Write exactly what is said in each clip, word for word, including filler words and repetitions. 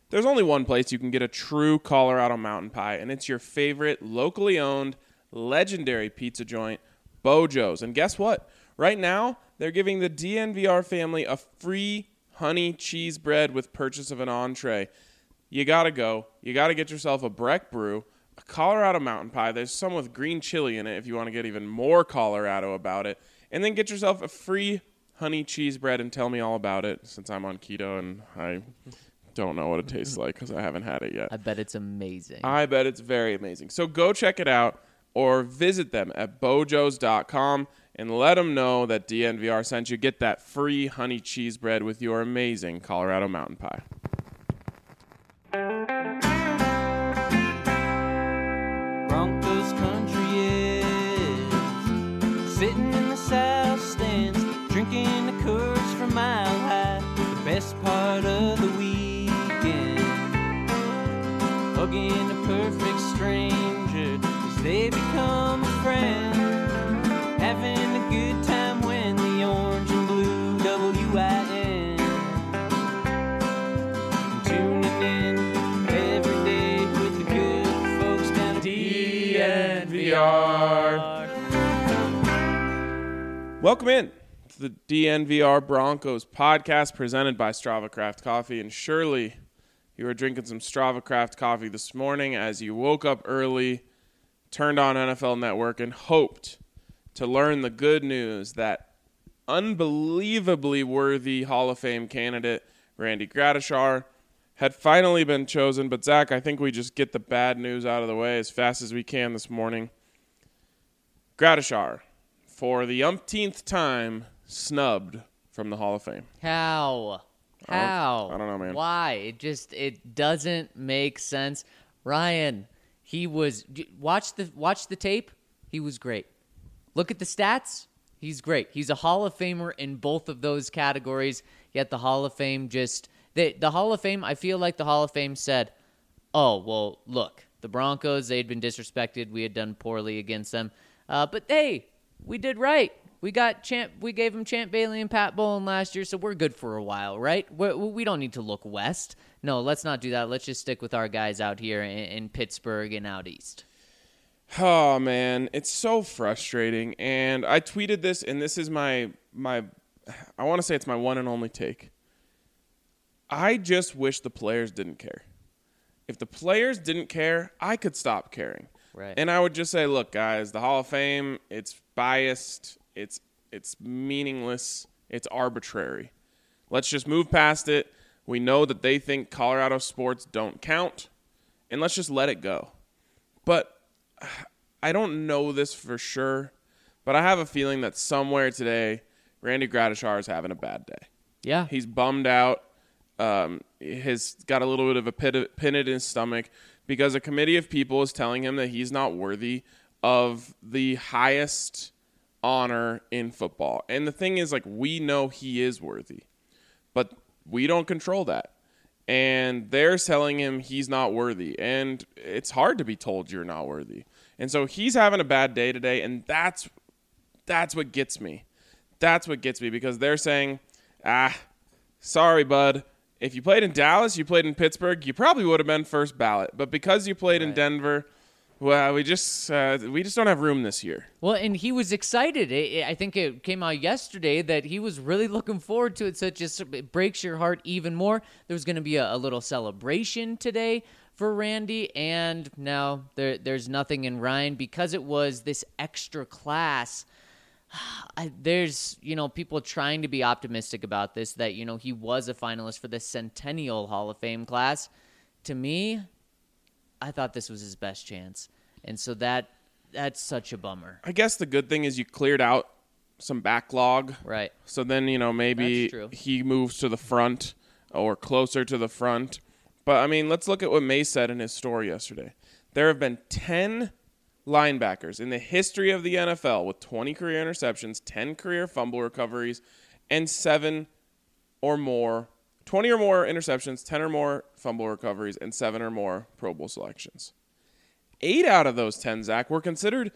There's only one place you can get a true Colorado mountain pie, and it's your favorite locally owned, legendary pizza joint, Bojo's. And guess what? Right now, they're giving the D N V R family a free honey cheese bread with purchase of an entree. You got to go. You got to get yourself a Breck Brew, a Colorado mountain pie. There's some with green chili in it if you want to get even more Colorado about it. And then get yourself a free honey cheese bread and tell me all about it, since I'm on keto and I don't know what it tastes like because I haven't had it yet. I bet it's amazing. I bet it's very amazing. So go check it out or visit them at bojos dot com and let them know that D N V R sent you. Get that free honey cheese bread with your amazing Colorado mountain pie. Broncos country is sitting in the south stands, drinking the Coors from Mile High. The best part of the weekend, hugging a perfect stranger as they become a friend, having a good time when the orange and blue W I N, tuning in every day with the good folks down at D N V R. Welcome in to the D N V R Broncos podcast presented by Strava Craft Coffee. And surely you were drinking some Strava Craft coffee this morning as you woke up early, turned on N F L Network, and hoped to learn the good news that unbelievably worthy Hall of Fame candidate Randy Gradishar had finally been chosen. But, Zach, I think we just get the bad news out of the way as fast as we can this morning. Gradishar, for the umpteenth time, snubbed from the Hall of Fame. How? I don't- How? I don't know, man. Why? It just it doesn't make sense. Ryan, he was watch the watch the tape. He was great. Look at the stats. He's great. He's a Hall of Famer in both of those categories. Yet the Hall of Fame just the the Hall of Fame. I feel like the Hall of Fame said, "Oh well, look, the Broncos. They'd been disrespected. We had done poorly against them. Uh, but hey, we did right. We got Champ. We gave him Champ Bailey and Pat Bowlen last year, so we're good for a while, right? We're, we don't need to look west. No, let's not do that. Let's just stick with our guys out here in, in Pittsburgh and out east." Oh, man, it's so frustrating. And I tweeted this, and this is my, my I want to say it's my one and only take. I just wish the players didn't care. If the players didn't care, I could stop caring. Right. And I would just say, look, guys, the Hall of Fame, it's biased, it's it's meaningless, it's arbitrary. Let's just move past it. We know that they think Colorado sports don't count, and let's just let it go. But I don't know this for sure, but I have a feeling that somewhere today, Randy Gradishar is having a bad day. Yeah. He's bummed out. Um, he's got a little bit of a pit, pin in his stomach because a committee of people is telling him that he's not worthy of the highest honor in football. And the thing is, like, we know he is worthy, but we don't control that. And they're telling him he's not worthy. And it's hard to be told you're not worthy. And so he's having a bad day today, and that's that's what gets me. That's what gets me because they're saying, ah, sorry, bud. If you played in Dallas, you played in Pittsburgh, you probably would have been first ballot. But because you played Right. in Denver, well, we just uh, we just don't have room this year. Well, and he was excited. I I think it came out yesterday that he was really looking forward to it, so it just it breaks your heart even more. There was going to be a, a little celebration today for Randy, and now there there's nothing in Ryan because it was this extra class. I, there's, you know, people trying to be optimistic about this, that, you know, he was a finalist for the Centennial Hall of Fame class. To me, I thought this was his best chance. And so that that's such a bummer. I guess the good thing is you cleared out some backlog. Right. So then, you know, maybe That's true. he moves to the front or closer to the front. But, I mean, let's look at what May said in his story yesterday. There have been ten linebackers in the history of the N F L with twenty career interceptions, ten career fumble recoveries, and seven or more, twenty or more interceptions, ten or more fumble recoveries, and seven or more Pro Bowl selections. Eight out of those ten, Zach, were considered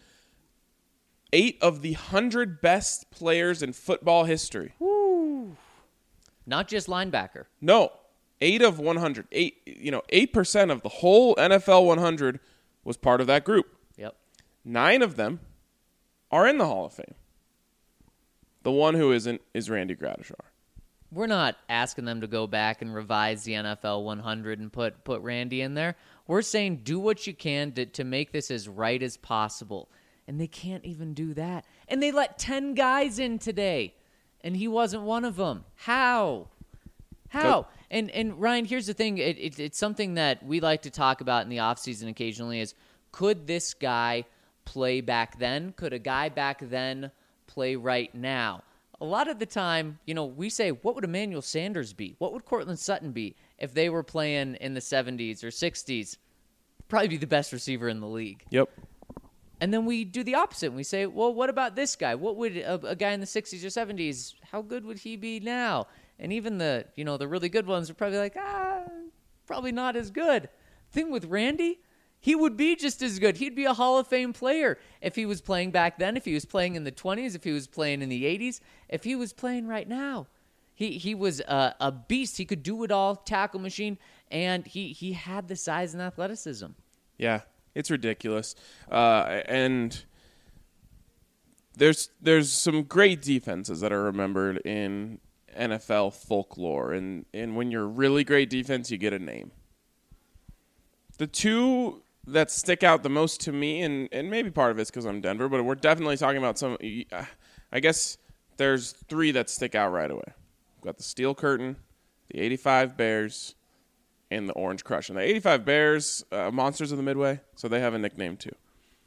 eight of the one hundred best players in football history. Woo. Not just linebacker. No, Eight of one hundred. Eight, you know, eight percent of the whole N F L one hundred was part of that group. Yep. Nine of them are in the Hall of Fame. The one who isn't is Randy Gradishar. We're not asking them to go back and revise the N F L one hundred and put, put Randy in there. We're saying do what you can to, to make this as right as possible. And they can't even do that. And they let ten guys in today, and he wasn't one of them. How? How? Go. And and Ryan, here's the thing. It, it, it's something that we like to talk about in the offseason occasionally is, could this guy play back then? Could a guy back then play right now? A lot of the time, you know, we say, what would Emmanuel Sanders be? What would Cortland Sutton be if they were playing in the seventies or sixties? Probably be the best receiver in the league. Yep. And then we do the opposite. We say, well, what about this guy? What would a, a guy in the sixties or seventies, how good would he be now? And even the, you know, the really good ones are probably like, ah, probably not as good. Thing with Randy, he would be just as good. He'd be a Hall of Fame player if he was playing back then, if he was playing in the twenties, if he was playing in the eighties, if he was playing right now. He he was a, a beast. He could do it all, tackle machine, and he, he had the size and athleticism. Yeah, it's ridiculous. Uh, and there's there's some great defenses that are remembered in N F L folklore. And, and when you're a really great defense, you get a name. The two that stick out the most to me, and, and maybe part of it's because I'm Denver, but we're definitely talking about some, I guess there's three that stick out right away. We've got the Steel Curtain, the eighty-five Bears, and the Orange Crush. And the eighty-five Bears, uh, Monsters of the Midway, so they have a nickname too.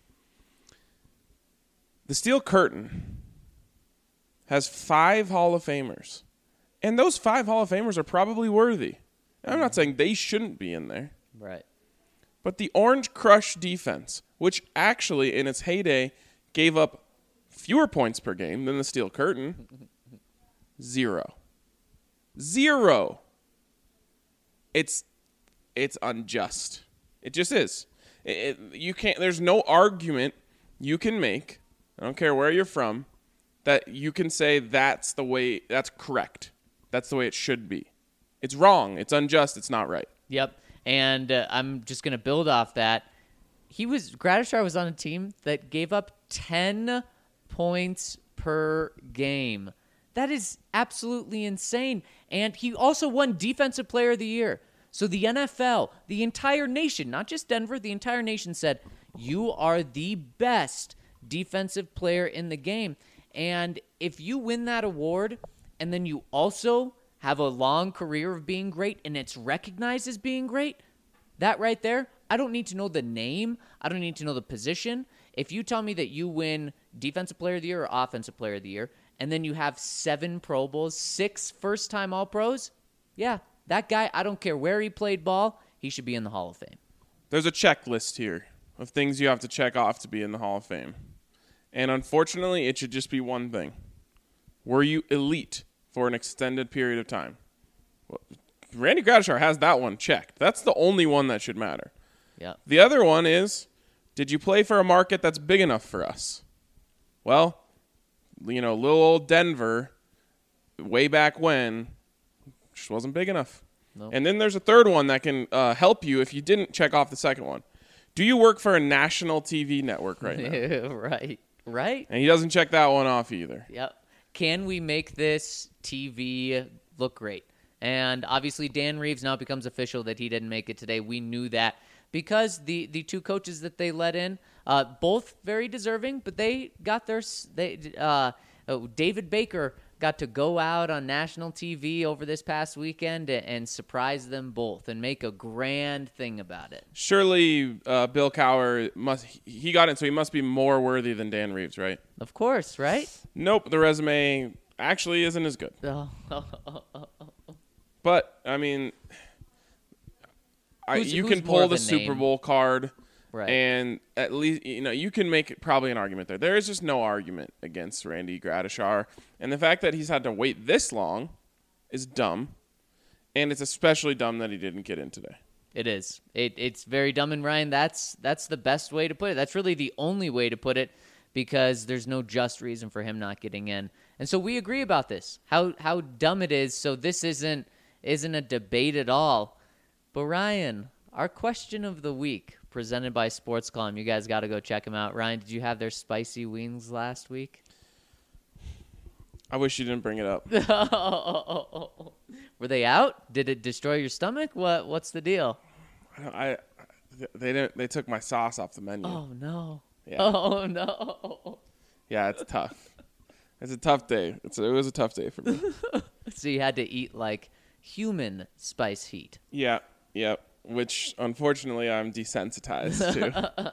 The Steel Curtain has five Hall of Famers. And those five Hall of Famers are probably worthy. And I'm not saying they shouldn't be in there. Right. But the Orange Crush defense, which actually in its heyday gave up fewer points per game than the Steel Curtain, zero. Zero. It's it's unjust. It just is. It, it, you can't. There's no argument you can make. I don't care where you're from, that you can say that's the way. That's correct. That's the way it should be. It's wrong. It's unjust. It's not right. Yep. And uh, I'm just going to build off that. He was Gradishar was on a team that gave up ten points per game. That is absolutely insane. And he also won Defensive Player of the Year. So the N F L, the entire nation, not just Denver, the entire nation said, you are the best defensive player in the game. And if you win that award and then you also have a long career of being great and it's recognized as being great, that right there, I don't need to know the name. I don't need to know the position. If you tell me that you win Defensive Player of the Year or Offensive Player of the Year, and then you have seven Pro Bowls, six first-time All-Pros, yeah, that guy, I don't care where he played ball, he should be in the Hall of Fame. There's a checklist here of things you have to check off to be in the Hall of Fame. And unfortunately, it should just be one thing. Were you elite for an extended period of time? Well, Randy Gradishar has that one checked. That's the only one that should matter. Yeah. The other one is, did you play for a market that's big enough for us? Well, you know, little old Denver, way back when, just wasn't big enough. Nope. And then there's a third one that can uh, help you if you didn't check off the second one. Do you work for a national T V network right now? Right. Right. And he doesn't check that one off either. Yep. Can we make this T V look great? And obviously Dan Reeves now becomes official that he didn't make it today. We knew that because the, the two coaches that they let in, uh, both very deserving, but they got their they uh, oh, David Baker got to go out on national T V over this past weekend and, and surprise them both and make a grand thing about it. Surely uh, Bill Cowher, must he got it, so he must be more worthy than Dan Reeves, right? Of course, right? Nope, the resume actually isn't as good. Oh. But, I mean, I, Who's- you who's can more pull of the a Super name? Bowl card, Right. and at least, you know, you can make probably an argument there. There is just no argument against Randy Gradishar. And the fact that he's had to wait this long is dumb, and it's especially dumb that he didn't get in today. It is. It, it's very dumb, and Ryan, that's that's the best way to put it. That's really the only way to put it because there's no just reason for him not getting in. And so we agree about this, how how dumb it is. So this isn't isn't a debate at all. But Ryan, our question of the week, presented by Sports Column. You guys got to go check them out. Ryan, did you have their spicy wings last week? I wish you didn't bring it up. Were they out? Did it destroy your stomach? What What's the deal? I, I they didn't. They took my sauce off the menu. Oh no! Yeah. Oh no! Yeah, it's tough. It's a tough day. It's a, it was a tough day for me. So you had to eat like human spice heat. Yeah, yeah. Which unfortunately I'm desensitized to.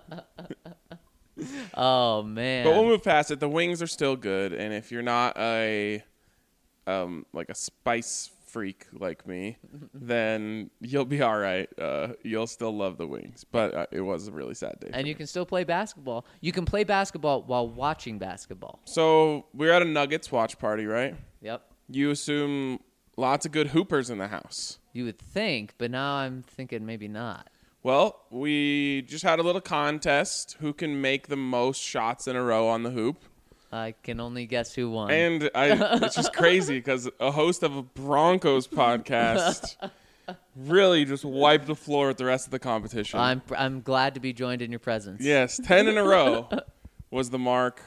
Oh man! But we'll move past it. The wings are still good, and if you're not a um like a spice freak like me, then you'll be all right. Uh, you'll still love the wings, but uh, it was a really sad day. And you can still play basketball. You can play basketball while watching basketball. So we're at a Nuggets watch party, right? Yep. You assume lots of good hoopers in the house. You would think, but now I'm thinking maybe not. Well, we just had a little contest. Who can make the most shots in a row on the hoop? I can only guess who won. And I, it's just crazy because a host of a Broncos podcast really just wiped the floor with the rest of the competition. I'm I'm glad to be joined in your presence. Yes, ten in a row was the mark.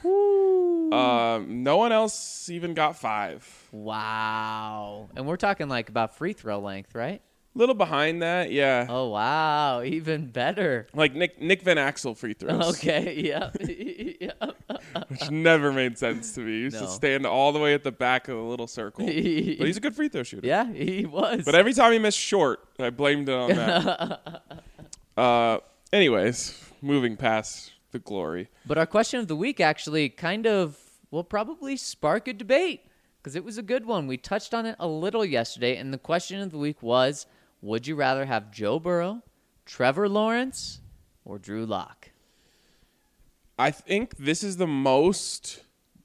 Um, no one else even got five. Wow. And we're talking like about free throw length, right? Little behind that, yeah. Oh, wow. Even better. Like Nick Nick Van Axel free throws. Okay, yeah. yeah. Which never made sense to me. He used No. to stand all the way at the back of the little circle. But he's a good free throw shooter. Yeah, he was. But every time he missed short, I blamed it on that. uh, anyways, moving past the glory. But our question of the week actually kind of will probably spark a debate because it was a good one. We touched on it a little yesterday, and the question of the week was, would you rather have Joe Burrow, Trevor Lawrence, or Drew Lock? I think this is the most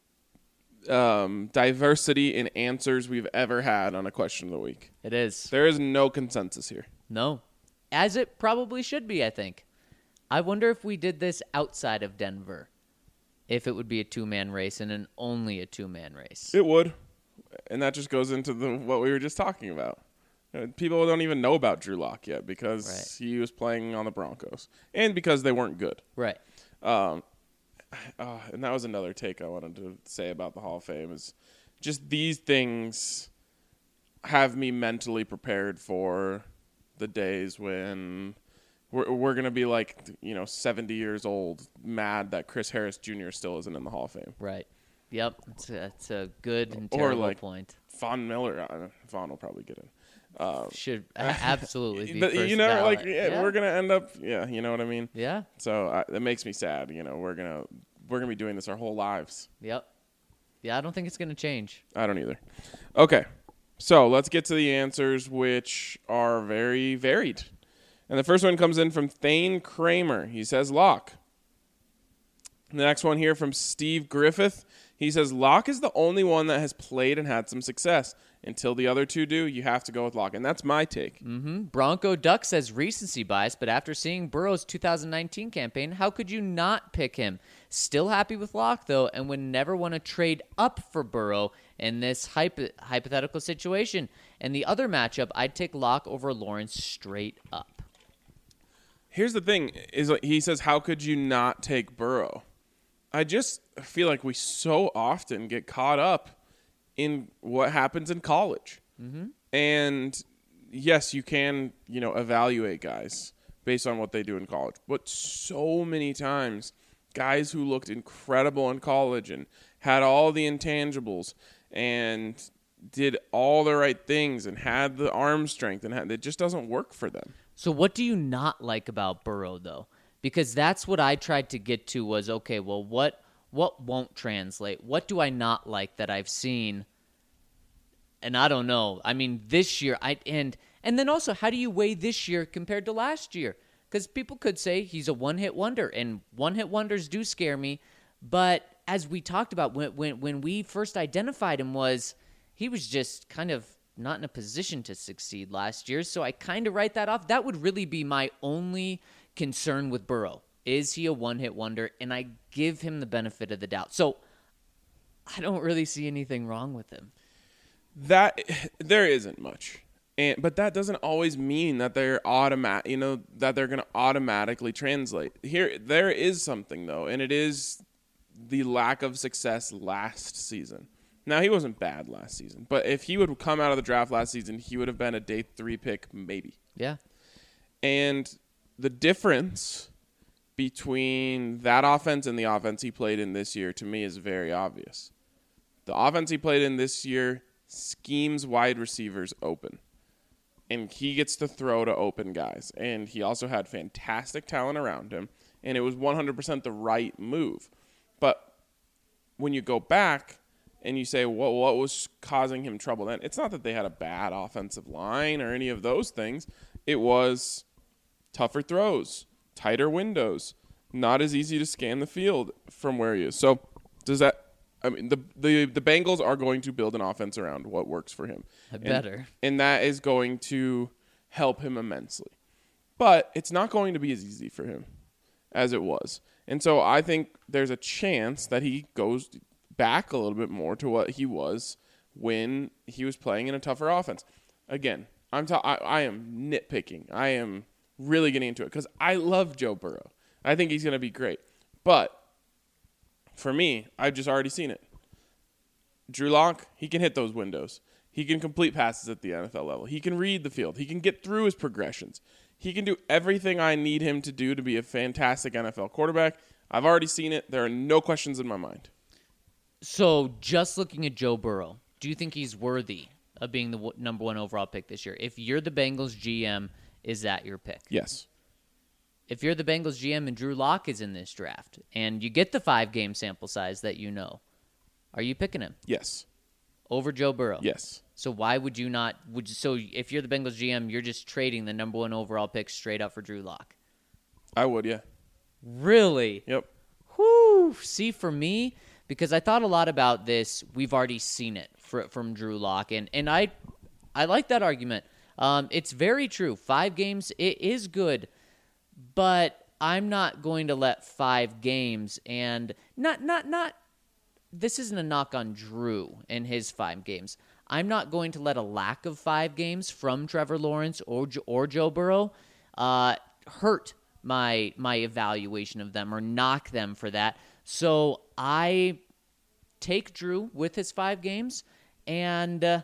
um, diversity in answers we've ever had on a question of the week. It is. There is no consensus here. No. As it probably should be, I think. I wonder if we did this outside of Denver, if it would be a two-man race and an only a two-man race. It would. And that just goes into the what we were just talking about. Uh, People don't even know about Drew Lock yet because Right. he was playing on the Broncos and because they weren't good. Right. Um, uh, and that was another take I wanted to say about the Hall of Fame is just these things have me mentally prepared for the days when we're, we're going to be like, you know, seventy years old, mad that Chris Harris Junior still isn't in the Hall of Fame. Right. Yep. It's a, it's a good and Or terrible like point. Von Miller. Uh, Von will probably get in. Um, Should a- absolutely be but, first you know, ballot. like yeah, yeah. we're going to end up, yeah, you know what I mean? Yeah. So uh, that makes me sad. You know, we're going to we're gonna be doing this our whole lives. Yep. Yeah, I don't think it's going to change. I don't either. Okay, so let's get to the answers, which are very varied. And the first one comes in from Thane Kramer. He says Locke. The next one here from Steve Griffith. He says Locke is the only one that has played and had some success. Until the other two do, you have to go with Locke. And that's my take. Mm-hmm. Bronco Duck says recency bias, but after seeing Burrow's two thousand nineteen campaign, how could you not pick him? Still happy with Locke, though, and would never want to trade up for Burrow in this hypo- hypothetical situation. And the other matchup, I'd take Locke over Lawrence straight up. Here's the thing: is like he says, how could you not take Burrow? I just feel like we so often get caught up in what happens in college. Mm-hmm. And yes, you can, you know, evaluate guys based on what they do in college. But so many times, guys who looked incredible in college and had all the intangibles and did all the right things and had the arm strength, and had, it just doesn't work for them. So what do you not like about Burrow, though? Because that's what I tried to get to was, okay, well, what what won't translate? What do I not like that I've seen? And I don't know. I mean, this year, I and and then also, how do you weigh this year compared to last year? Because people could say he's a one-hit wonder, and one-hit wonders do scare me. But as we talked about, when when when we first identified him, was he was just kind of not in a position to succeed last year. So I kind of write that off. That would really be my only concern with Burrow. Is he a one-hit wonder? And I give him the benefit of the doubt. So I don't really see anything wrong with him. That there isn't much. And but that doesn't always mean that they're automatic, you know, that they're going to automatically translate. Here there is something though, and it is the lack of success last season. Now, he wasn't bad last season, but if he would come out of the draft last season, he would have been a day three pick maybe. Yeah. And the difference between that offense and the offense he played in this year, to me, is very obvious. The offense he played in this year schemes wide receivers open. And he gets to throw to open guys. And he also had fantastic talent around him. And it was one hundred percent the right move. But when you go back and you say, what, what was causing him trouble then? It's not that they had a bad offensive line or any of those things. It was tougher throws, tighter windows, not as easy to scan the field from where he is. So does that – I mean, the, the the Bengals are going to build an offense around what works for him. I better. And, and that is going to help him immensely. But it's not going to be as easy for him as it was. And so I think there's a chance that he goes – back a little bit more to what he was when he was playing in a tougher offense. Again, I'm ta- I, I am nitpicking. I am really getting into it because I love Joe Burrow. I think he's going to be great. But for me, I've just already seen it. Drew Lock, he can hit those windows. He can complete passes at the N F L level. He can read the field. He can get through his progressions. He can do everything I need him to do to be a fantastic N F L quarterback. I've already seen it. There are no questions in my mind. So just looking at Joe Burrow, do you think he's worthy of being the w- number one overall pick this year? If you're the Bengals G M, is that your pick? Yes. If you're the Bengals G M and Drew Lock is in this draft and you get the five-game sample size that you know, are you picking him? Yes. Over Joe Burrow? Yes. So why would you not? Would you, so if you're the Bengals G M, you're just trading the number one overall pick straight up for Drew Lock? I would, yeah. Really? Yep. Whew. See, for me, because I thought a lot about this, we've already seen it for, from Drew Lock, and, and I I like that argument. Um, it's very true. Five games, it is good, but I'm not going to let five games and not not not. This isn't a knock on Drew and his five games. I'm not going to let a lack of five games from Trevor Lawrence or or Joe Burrow uh, hurt my my evaluation of them or knock them for that. So I take Drew with his five games, and uh,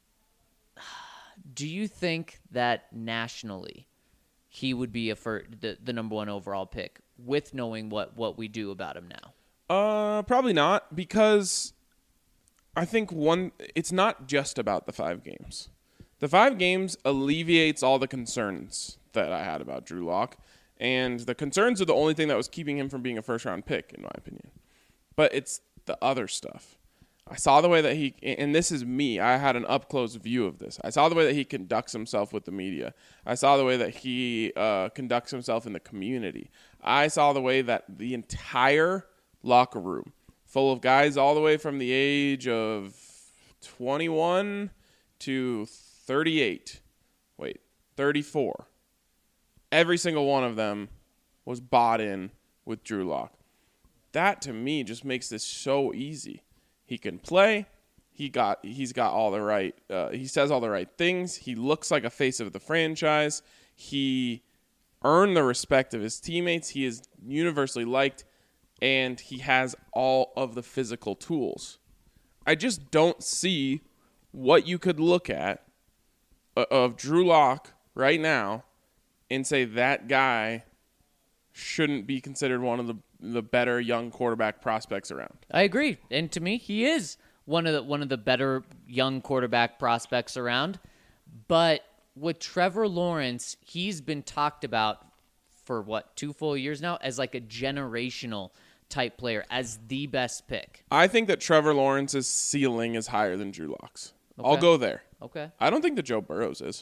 do you think that nationally he would be a fir- the, the number one overall pick with knowing what, what we do about him now? Uh, probably not, because I think one, it's not just about the five games. The five games alleviates all the concerns that I had about Drew Lock. And the concerns are the only thing that was keeping him from being a first-round pick, in my opinion. But it's the other stuff. I saw the way that he, and this is me, I had an up-close view of this. I saw the way that he conducts himself with the media. I saw the way that he uh, conducts himself in the community. I saw the way that the entire locker room, full of guys all the way from the age of twenty-one to thirty-eight, wait, thirty-four, every single one of them was bought in with Drew Lock. That, to me, just makes this so easy. He can play. He got, he's got all the right, uh, he says all the right things. He looks like a face of the franchise. He earned the respect of his teammates. He is universally liked, and he has all of the physical tools. I just don't see what you could look at of Drew Lock right now and say that guy shouldn't be considered one of the, the better young quarterback prospects around. I agree. And to me, he is one of the one of the better young quarterback prospects around. But with Trevor Lawrence, he's been talked about for what, two full years now as like a generational type player, as the best pick. I think that Trevor Lawrence's ceiling is higher than Drew Lock's. Okay. I'll go there. Okay. I don't think that Joe Burrow's is.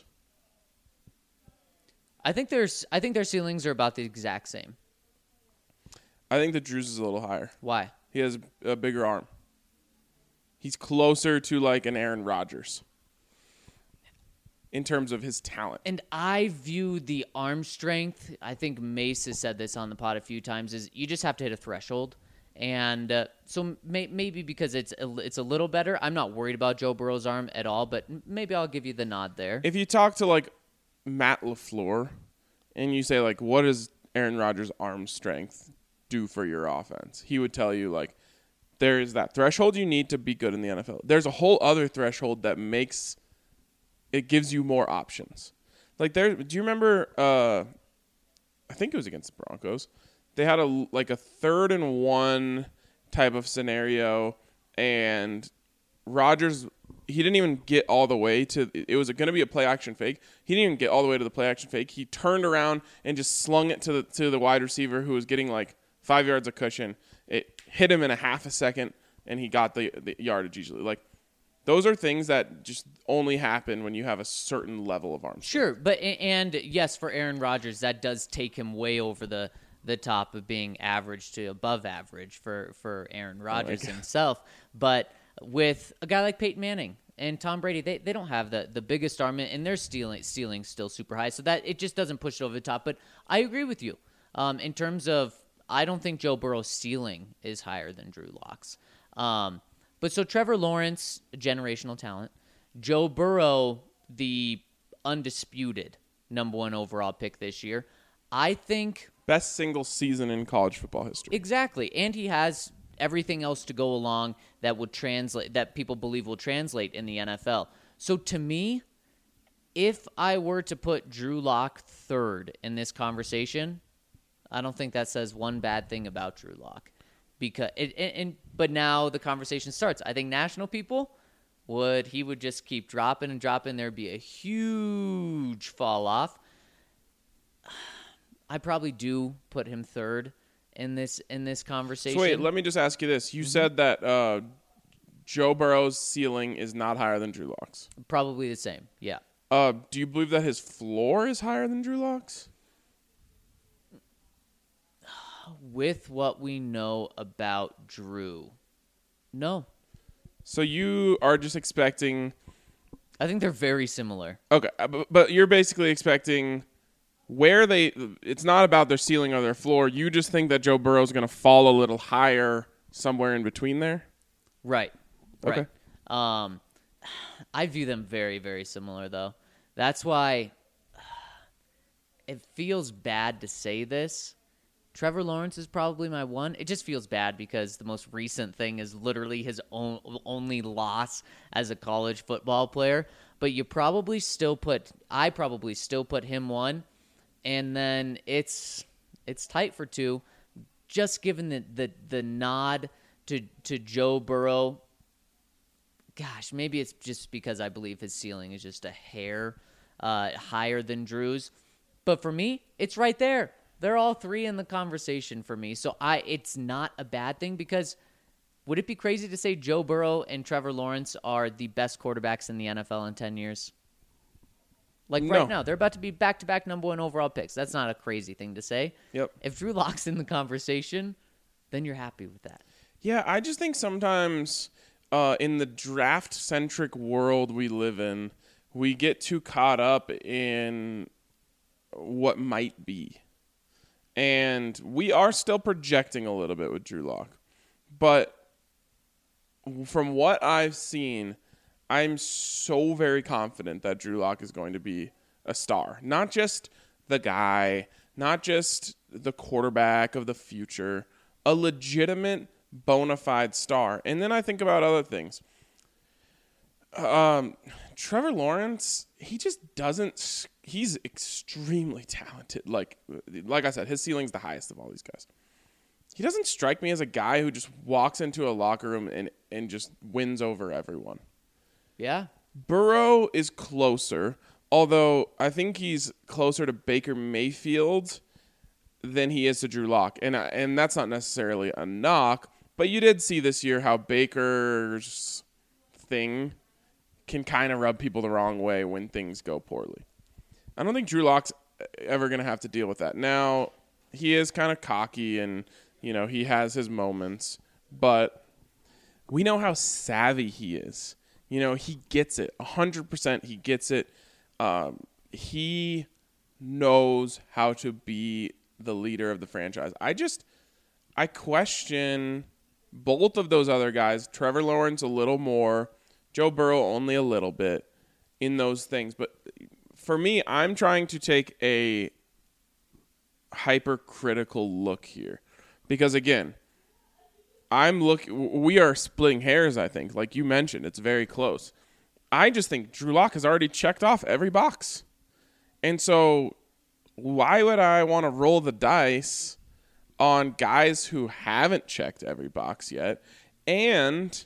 I think there's I think their ceilings are about the exact same. I think that Drew's is a little higher. Why? He has a bigger arm. He's closer to like an Aaron Rodgers in terms of his talent. And I view the arm strength, I think Mace has said this on the pod a few times, is you just have to hit a threshold. And uh, so may, maybe because it's a, it's a little better, I'm not worried about Joe Burrow's arm at all, but maybe I'll give you the nod there. If you talk to, like, Matt LaFleur and you say, like, what does Aaron Rodgers' arm strength do for your offense? He would tell you, like, there is that threshold you need to be good in the N F L. There's a whole other threshold that makes it gives you more options. Like, there, do you remember, uh, I think it was against the Broncos. They had a like a third and one type of scenario, and Rodgers, he didn't even get all the way to, it was going to be a play action fake. He didn't even get all the way to the play action fake. He turned around and just slung it to the to the wide receiver who was getting like five yards of cushion. It hit him in a half a second, and he got the, the yardage easily. Like, those are things that just only happen when you have a certain level of arm strength. Sure, but and yes, for Aaron Rodgers, that does take him way over the the top of being average to above average for, for Aaron Rodgers oh himself. But with a guy like Peyton Manning and Tom Brady, they, they don't have the, the biggest arm, and their ceiling ceiling's still super high. So that it just doesn't push it over the top. But I agree with you. Um, in terms of, I don't think Joe Burrow's ceiling is higher than Drew Lock's. Um, but so Trevor Lawrence, a generational talent. Joe Burrow, the undisputed number one overall pick this year. I think best single season in college football history. Exactly. And he has everything else to go along that would translate, that people believe will translate in the N F L. So to me, if I were to put Drew Lock third in this conversation, I don't think that says one bad thing about Drew Lock. Because it, and, and but now the conversation starts. I think national people would he would just keep dropping and dropping. There'd be a huge fall off. I probably do put him third in this in this conversation. So wait, let me just ask you this. You mm-hmm. said that uh, Joe Burrow's ceiling is not higher than Drew Lock's. Probably the same, yeah. Uh, do you believe that his floor is higher than Drew Lock's? With what we know about Drew, no. So you are just expecting... I think they're very similar. Okay, but, but you're basically expecting... Where they, it's not about their ceiling or their floor. You just think that Joe Burrow is going to fall a little higher somewhere in between there? Right. Okay. Right. Um, I view them very, very similar, though. That's why it feels bad to say this. Trevor Lawrence is probably my one. It just feels bad because the most recent thing is literally his own, only loss as a college football player. But you probably still put, I probably still put him one. And then it's it's tight for two, just given the, the, the nod to to Joe Burrow. Gosh, maybe it's just because I believe his ceiling is just a hair uh, higher than Drew's. But for me, it's right there. They're all three in the conversation for me. So I it's not a bad thing because would it be crazy to say Joe Burrow and Trevor Lawrence are the best quarterbacks in the N F L in ten years? Like no. right now, they're about to be back-to-back number one overall picks. That's not a crazy thing to say. Yep. If Drew Lock's in the conversation, then you're happy with that. Yeah, I just think sometimes uh, in the draft-centric world we live in, we get too caught up in what might be. And we are still projecting a little bit with Drew Lock. But from what I've seen, I'm so very confident that Drew Lock is going to be a star. Not just the guy, not just the quarterback of the future, a legitimate, bona fide star. And then I think about other things. Um, Trevor Lawrence, he just doesn't – he's extremely talented. Like, like I said, his ceiling's the highest of all these guys. He doesn't strike me as a guy who just walks into a locker room and, and just wins over everyone. Yeah. Burrow is closer, although I think he's closer to Baker Mayfield than he is to Drew Lock. And and that's not necessarily a knock, but you did see this year how Baker's thing can kind of rub people the wrong way when things go poorly. I don't think Drew Lock's ever going to have to deal with that. Now, he is kind of cocky and, you know, he has his moments, but we know how savvy he is. You know, he gets it. one hundred percent he gets it. Um, he knows how to be the leader of the franchise. I just, I question both of those other guys, Trevor Lawrence a little more, Joe Burrow only a little bit in those things. But for me, I'm trying to take a hypercritical look here. Because again, I'm look we are splitting hairs, I think. Like you mentioned, it's very close. I just think Drew Lock has already checked off every box. And so why would I want to roll the dice on guys who haven't checked every box yet and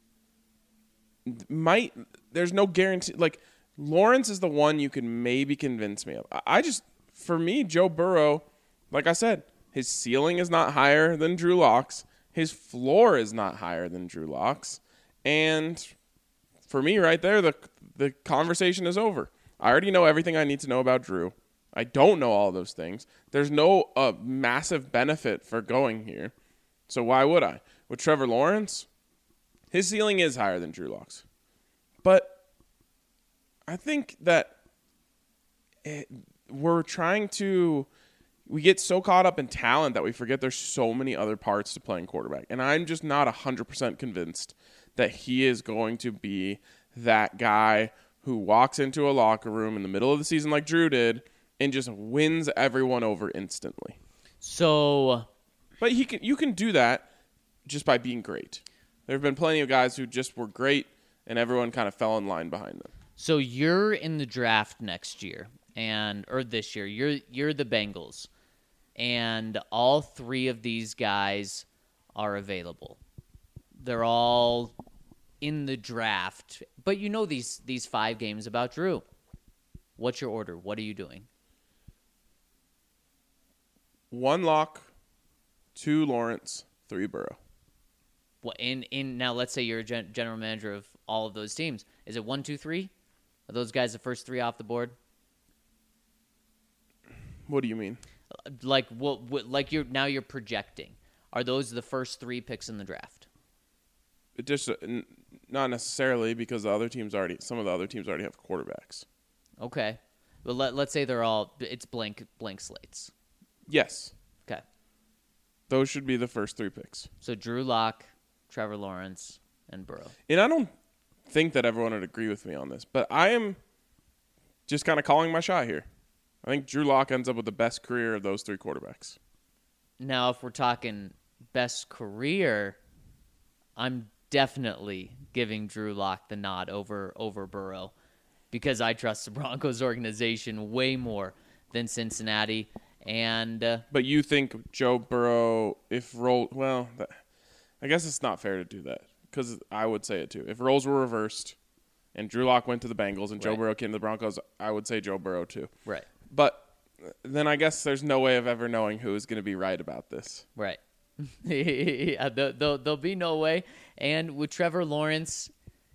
might there's no guarantee. Like Lawrence is the one you can maybe convince me of. I just for me Joe Burrow, like I said, his ceiling is not higher than Drew Lock's. His floor is not higher than Drew Lock's. And for me right there the the conversation is over. I already know everything I need to know about Drew. I don't know all those things. There's no uh, massive benefit for going here. So why would I? With Trevor Lawrence, his ceiling is higher than Drew Lock's. But I think that it, we're trying to – we get so caught up in talent that we forget there's so many other parts to playing quarterback. And I'm just not one hundred percent convinced that he is going to be that guy who walks into a locker room in the middle of the season like Drew did – and just wins everyone over instantly. So, but he can. You can do that just by being great. There have been plenty of guys who just were great, and everyone kind of fell in line behind them. So you're in the draft next year, and or this year. You're you're the Bengals, and all three of these guys are available. They're all in the draft, but you know these these five games about Drew. What's your order? What are you doing? One Lock, two Lawrence, three Burrow. Well, in in now, let's say you're a gen- general manager of all of those teams. Is it one, two, three? Are those guys the first three off the board? What do you mean? Like what? what like you're now you're projecting. Are those the first three picks in the draft? It just uh, n- not necessarily because the other teams already. Some of the other teams already have quarterbacks. Okay, well let let's say they're all it's blank blank slates. Yes. Okay. Those should be the first three picks. So Drew Lock, Trevor Lawrence, and Burrow. And I don't think that everyone would agree with me on this, but I am just kind of calling my shot here. I think Drew Lock ends up with the best career of those three quarterbacks. Now, if we're talking best career, I'm definitely giving Drew Lock the nod over over Burrow because I trust the Broncos organization way more than Cincinnati. And uh, but you think Joe Burrow, if roll well, that, I guess it's not fair to do that because I would say it too. If roles were reversed and Drew Lock went to the Bengals and Joe right. Burrow came to the Broncos, I would say Joe Burrow too. Right. But then I guess there's no way of ever knowing who is going to be right about this. Right. yeah, there'll, there'll, there'll be no way. And with Trevor Lawrence,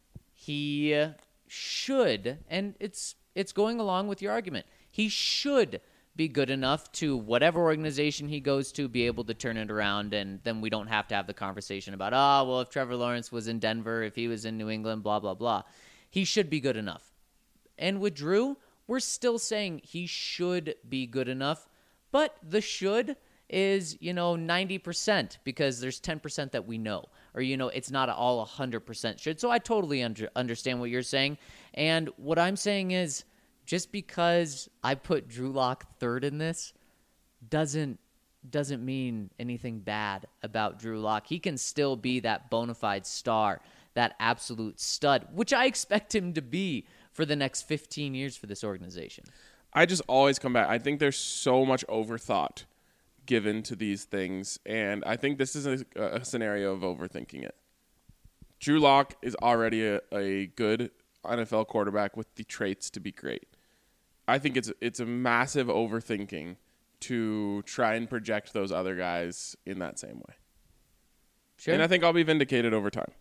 he should, and it's it's going along with your argument, he should be good enough to whatever organization he goes to be able to turn it around, and then we don't have to have the conversation about, oh, well, if Trevor Lawrence was in Denver, if he was in New England, blah, blah, blah. He should be good enough. And with Drew, we're still saying he should be good enough, but the should is, you know, ninety percent because there's ten percent that we know. Or, you know, it's not all one hundred percent should. So I totally under, understand what you're saying. And what I'm saying is, just because I put Drew Lock third in this doesn't doesn't mean anything bad about Drew Lock. He can still be that bona fide star, that absolute stud, which I expect him to be for the next fifteen years for this organization. I just always come back. I think there's so much overthought given to these things, and I think this is a, a scenario of overthinking it. Drew Lock is already a, a good N F L quarterback with the traits to be great. I think it's it's a massive overthinking to try and project those other guys in that same way. Sure. And I think I'll be vindicated over time.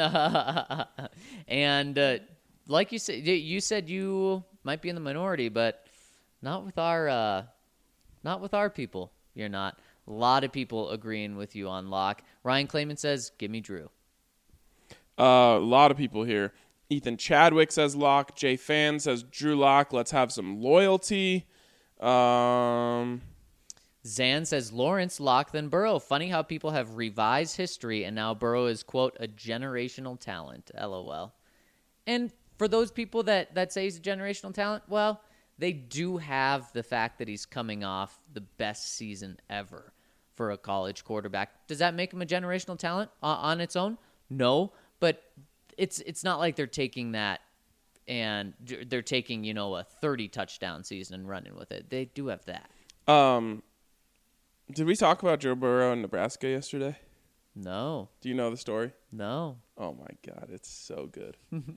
and uh, like you said, you said you might be in the minority, but not with our uh, not with our people. You're not. A lot of people agreeing with you on Lock. Ryan Clayman says, "Give me Drew." Uh, a lot of people here. Ethan Chadwick says Lock. Jay Fan says Drew Lock. Let's have some loyalty. Um, Zan says Lawrence, Locke, then Burrow. Funny how people have revised history and now Burrow is, quote, a generational talent. LOL. And for those people that, that say he's a generational talent, well, they do have the fact that he's coming off the best season ever for a college quarterback. Does that make him a generational talent uh, on its own? No, but it's it's not like they're taking that and they're taking, you know, a thirty touchdown season and running with it. They do have that. Um, did we talk about Joe Burrow in Nebraska yesterday? No. Do you know the story? No. Oh, my God. It's so good.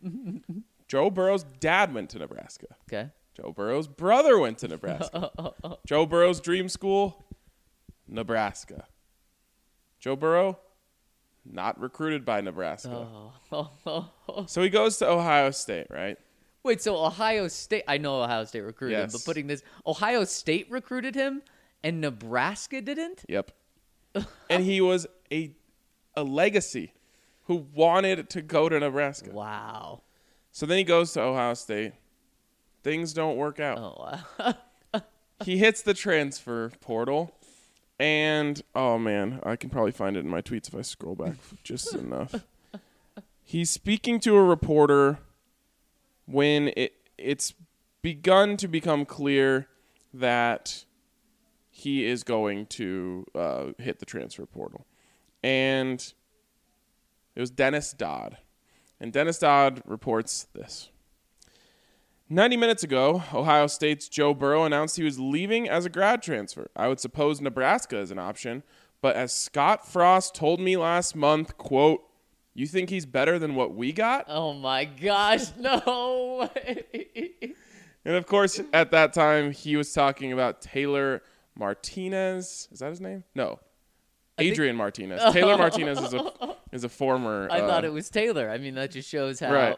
Joe Burrow's dad went to Nebraska. Okay. Joe Burrow's brother went to Nebraska. Joe Burrow's dream school, Nebraska. Joe Burrow, not recruited by Nebraska. Oh. So he goes to Ohio State, right? Wait, so Ohio State, I know Ohio State recruited him, Yes. but putting this, Ohio State recruited him and Nebraska didn't? Yep. And he was a a legacy who wanted to go to Nebraska. Wow. So then he goes to Ohio State. Things don't work out. Oh, wow. He hits the transfer portal, and oh man, I can probably find it in my tweets if I scroll back just enough. He's speaking to a reporter when it it's begun to become clear that he is going to uh, hit the transfer portal, and it was Dennis Dodd, and Dennis Dodd reports this. ninety minutes ago, Ohio State's Joe Burrow announced he was leaving as a grad transfer. I would suppose Nebraska is an option, but as Scott Frost told me last month, quote, "You think he's better than what we got?" Oh, my gosh. No way. And, of course, at that time, he was talking about Taylor Martinez. Is that his name? No. Adrian Martinez. Taylor Martinez is a is a former. I uh, thought it was Taylor. I mean, that just shows how. Right.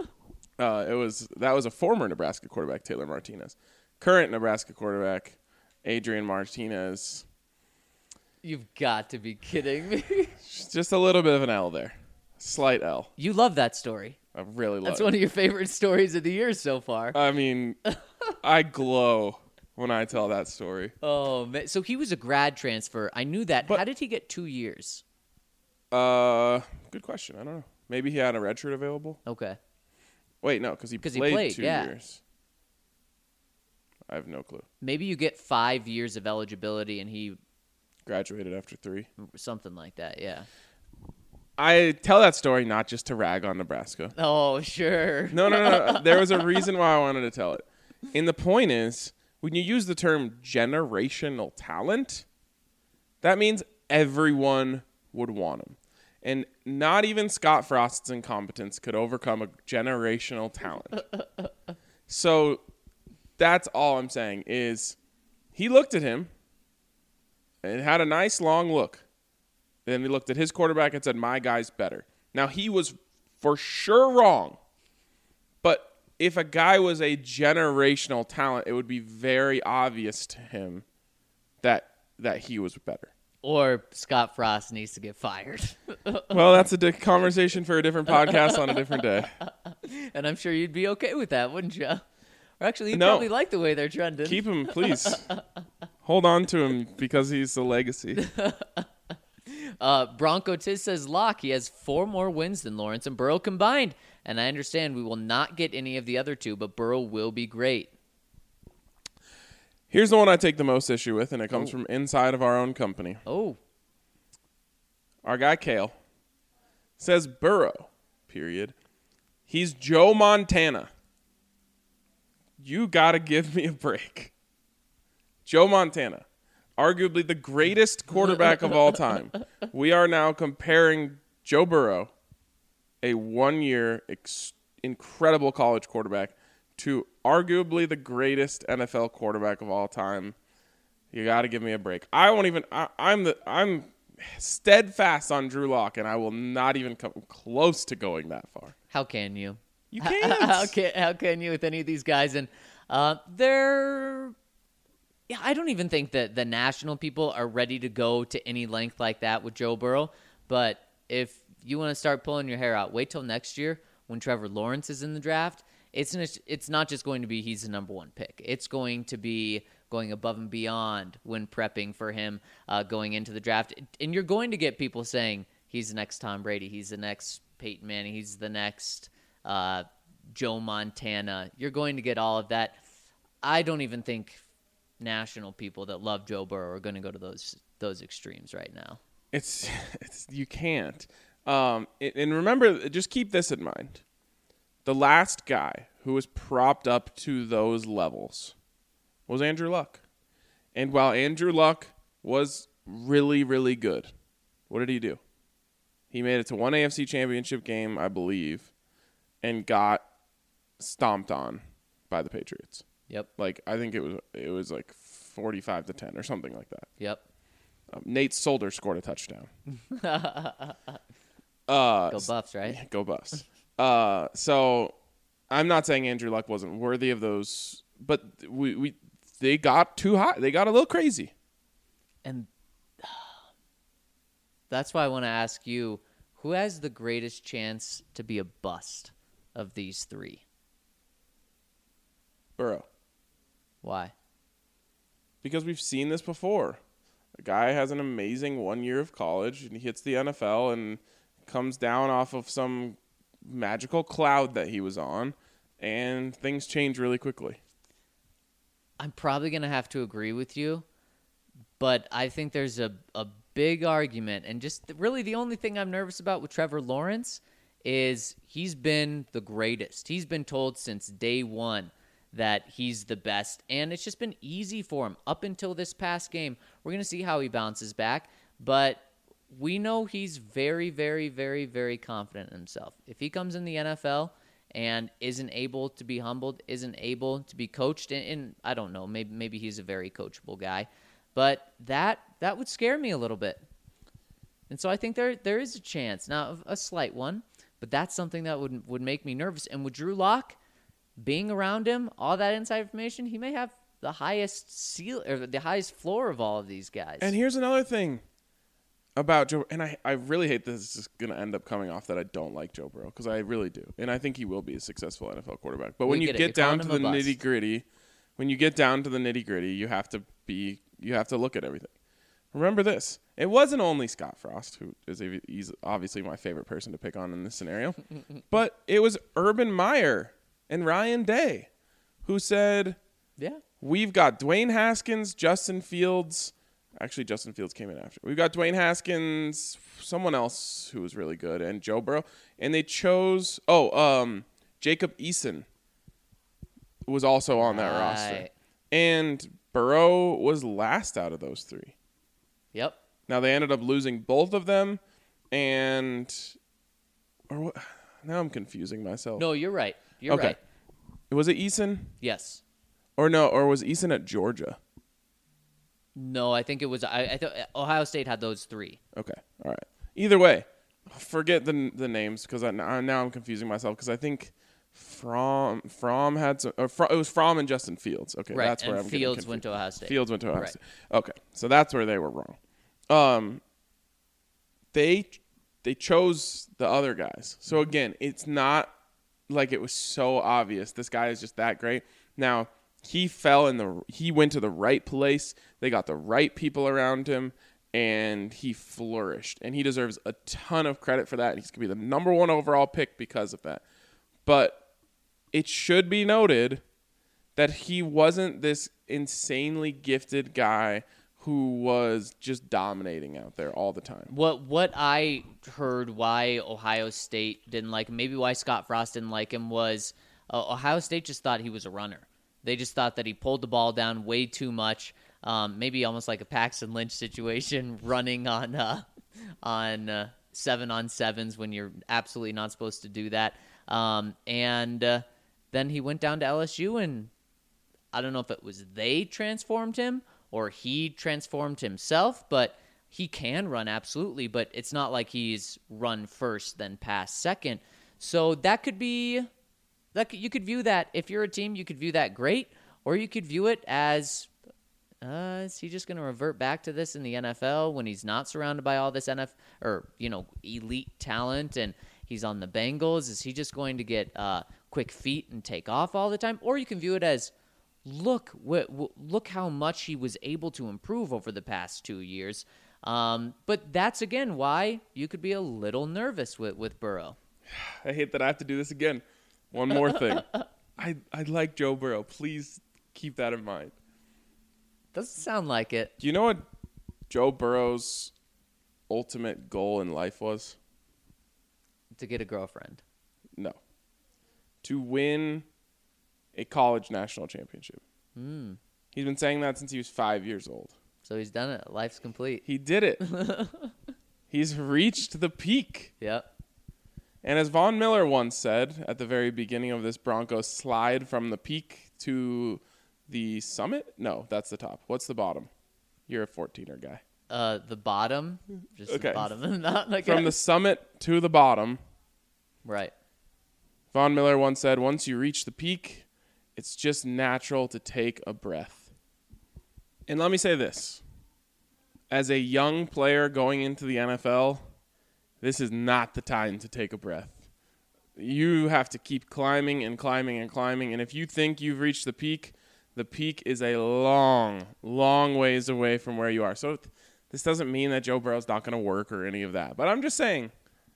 Uh, it was that was a former Nebraska quarterback, Taylor Martinez. Current Nebraska quarterback, Adrian Martinez. You've got to be kidding me. Just a little bit of an L there, slight L. You love that story. I really love. That's it. one of your favorite stories of the year so far. I mean, I glow when I tell that story. Oh, man. So he was a grad transfer. I knew that. But- How did he get two years? Uh, good question. I don't know. Maybe he had a red shirt available. Okay. Wait, no, because he, 'Cause he played played, two yeah. years. I have no clue. Maybe you get five years of eligibility and he, Graduated after three. something like that, yeah. I tell that story not just to rag on Nebraska. Oh, sure. No, no, no. There was a reason why I wanted to tell it. And the point is, when you use the term generational talent, that means everyone would want him. And not even Scott Frost's incompetence could overcome a generational talent. So that's all I'm saying is he looked at him and had a nice long look. Then he looked at his quarterback and said, my guy's better. Now, he was for sure wrong. But if a guy was a generational talent, it would be very obvious to him that that he was better. Or Scott Frost needs to get fired. Well, that's a di- conversation for a different podcast on a different day. And I'm sure you'd be okay with that, wouldn't you? Or actually, you'd No. probably like the way they're trending. Keep him, please. Hold on to him because he's a legacy. Uh, Bronco Tiz says Locke, he has four more wins than Lawrence and Burrow combined. And I understand we will not get any of the other two, but Burrow will be great. Here's the one I take the most issue with, and it comes Oh. from inside of our own company. Oh, Our guy Kale says Burrow, period. He's Joe Montana. You got to give me a break. Joe Montana, arguably the greatest quarterback of all time. We are now comparing Joe Burrow, a one-year ex- incredible college quarterback, to arguably the greatest N F L quarterback of all time. You got to give me a break. I won't even. I, I'm the. I'm steadfast on Drew Lock, and I will not even come close to going that far. how can you? You How- can't. How can, how can you with any of these guys? And uh, they're... Yeah, I don't even think that the national people are ready to go to any length like that with Joe Burrow. But if you want to start pulling your hair out, wait till next year when Trevor Lawrence is in the draft. It's n- it's not just going to be he's the number one pick. It's going to be going above and beyond when prepping for him uh, going into the draft. And you're going to get people saying he's the next Tom Brady, he's the next Peyton Manning, he's the next uh, Joe Montana. You're going to get all of that. I don't even think national people that love Joe Burrow are going to go to those those extremes right now. It's, it's you can't. Um, and remember, just keep this in mind. The last guy who was propped up to those levels was Andrew Luck. And while Andrew Luck was really, really good, what did he do? He made it to one A F C championship game, I believe, and got stomped on by the Patriots. Yep. Like, I think it was it was like forty-five to ten or something like that. Yep. Um, Nate Solder scored a touchdown. uh, go Buffs, right? Yeah, go Buffs. uh, so I'm not saying Andrew Luck wasn't worthy of those, but we, we they got too high. They got a little crazy. And that's why I want to ask you, who has the greatest chance to be a bust of these three? Burrow. Why? Because we've seen this before. A guy has an amazing one year of college, and he hits the N F L and comes down off of some magical cloud that he was on, and things change really quickly. I'm probably going to have to agree with you, but I think there's a, a big argument, and just really the only thing I'm nervous about with Trevor Lawrence is he's been the greatest. He's been told since day one that he's the best, and it's just been easy for him up until this past game. We're going to see how he bounces back, but we know he's very, very, very, very confident in himself. If he comes in the N F L and isn't able to be humbled, isn't able to be coached, and, and I don't know, maybe maybe he's a very coachable guy, but that that would scare me a little bit. And so I think there there is a chance, now a slight one, but that's something that would would make me nervous. And with Drew Lock being around him, all that inside information, he may have the highest seal or the highest floor of all of these guys. And here's another thing about Joe, and I, I really hate this is going to end up coming off that I don't like Joe Burrow, because I really do. And I think he will be a successful N F L quarterback. But We when you get it. get You're down calling to him the a bust. nitty gritty, when you get down to the nitty gritty, you have to be, you have to look at everything. Remember this. It wasn't only Scott Frost, who is a, he's obviously my favorite person to pick on in this scenario, but it was Urban Meyer and Ryan Day who said, yeah. we've got Dwayne Haskins, Justin Fields. Actually, Justin Fields came in after. We've got Dwayne Haskins, someone else who was really good, and Joe Burrow. And they chose, oh, um, Jacob Eason was also on that roster. Right. And Burrow was last out of those three. Yep. Now, they ended up losing both of them, and or what? Now I'm confusing myself. No, you're right. You're okay. right. Was it Eason? Yes. Or no, or was Eason at Georgia? No, I think it was. I, I thought Ohio State had those three. Okay, all right. Either way, forget the the names, because I, now I'm confusing myself, because I think Fromm Fromm had some. Or Fromm, it was Fromm and Justin Fields. Okay, Right, that's where and I'm Fields getting went to Ohio State. Fields went to Ohio Right. State. Okay, so that's where they were wrong. Um, they they chose the other guys. So again, it's not like it was so obvious this guy is just that great. Now, he fell in the he went to the right place. They got the right people around him, and he flourished. And he deserves a ton of credit for that. He's going to be the number one overall pick because of that. But it should be noted that he wasn't this insanely gifted guy who was just dominating out there all the time. What what I heard why Ohio State didn't like him, maybe why Scott Frost didn't like him, was uh, Ohio State just thought he was a runner. They just thought that he pulled the ball down way too much, um, maybe almost like a Paxton Lynch situation, running on uh, on uh, seven on sevens when you're absolutely not supposed to do that. Um, and uh, then he went down to L S U, and I don't know if it was they transformed him or he transformed himself, but he can run absolutely, but it's not like he's run first then pass second. So that could be that could, you could view that, if you're a team, you could view that great, or you could view it as uh, is he just going to revert back to this in the N F L when he's not surrounded by all this N F L or you know elite talent and he's on the Bengals? Is he just going to get uh, quick feet and take off all the time? Or you can view it as, look wh- wh- look how much he was able to improve over the past two years. Um, but that's, again, why you could be a little nervous with, with Burrow. I hate that I have to do this again. One more thing. I, I like Joe Burrow. Please keep that in mind. Doesn't sound like it. Do you know what Joe Burrow's ultimate goal in life was? To get a girlfriend. No. To win a college national championship. Mm. He's been saying that since he was five years old. So he's done it. Life's complete. He did it. He's reached the peak. Yep. And as Von Miller once said at the very beginning of this Broncos slide from the peak to the summit? No, that's the top. What's the bottom? You're a fourteener guy. Uh, the bottom. Just Okay. the bottom. Not like From the summit to the bottom. Right. Von Miller once said, once you reach the peak, it's just natural to take a breath. And let me say this. As a young player going into the N F L, this is not the time to take a breath. You have to keep climbing and climbing and climbing. And if you think you've reached the peak, the peak is a long, long ways away from where you are. So this doesn't mean that Joe Burrow's not going to work or any of that. But I'm just saying,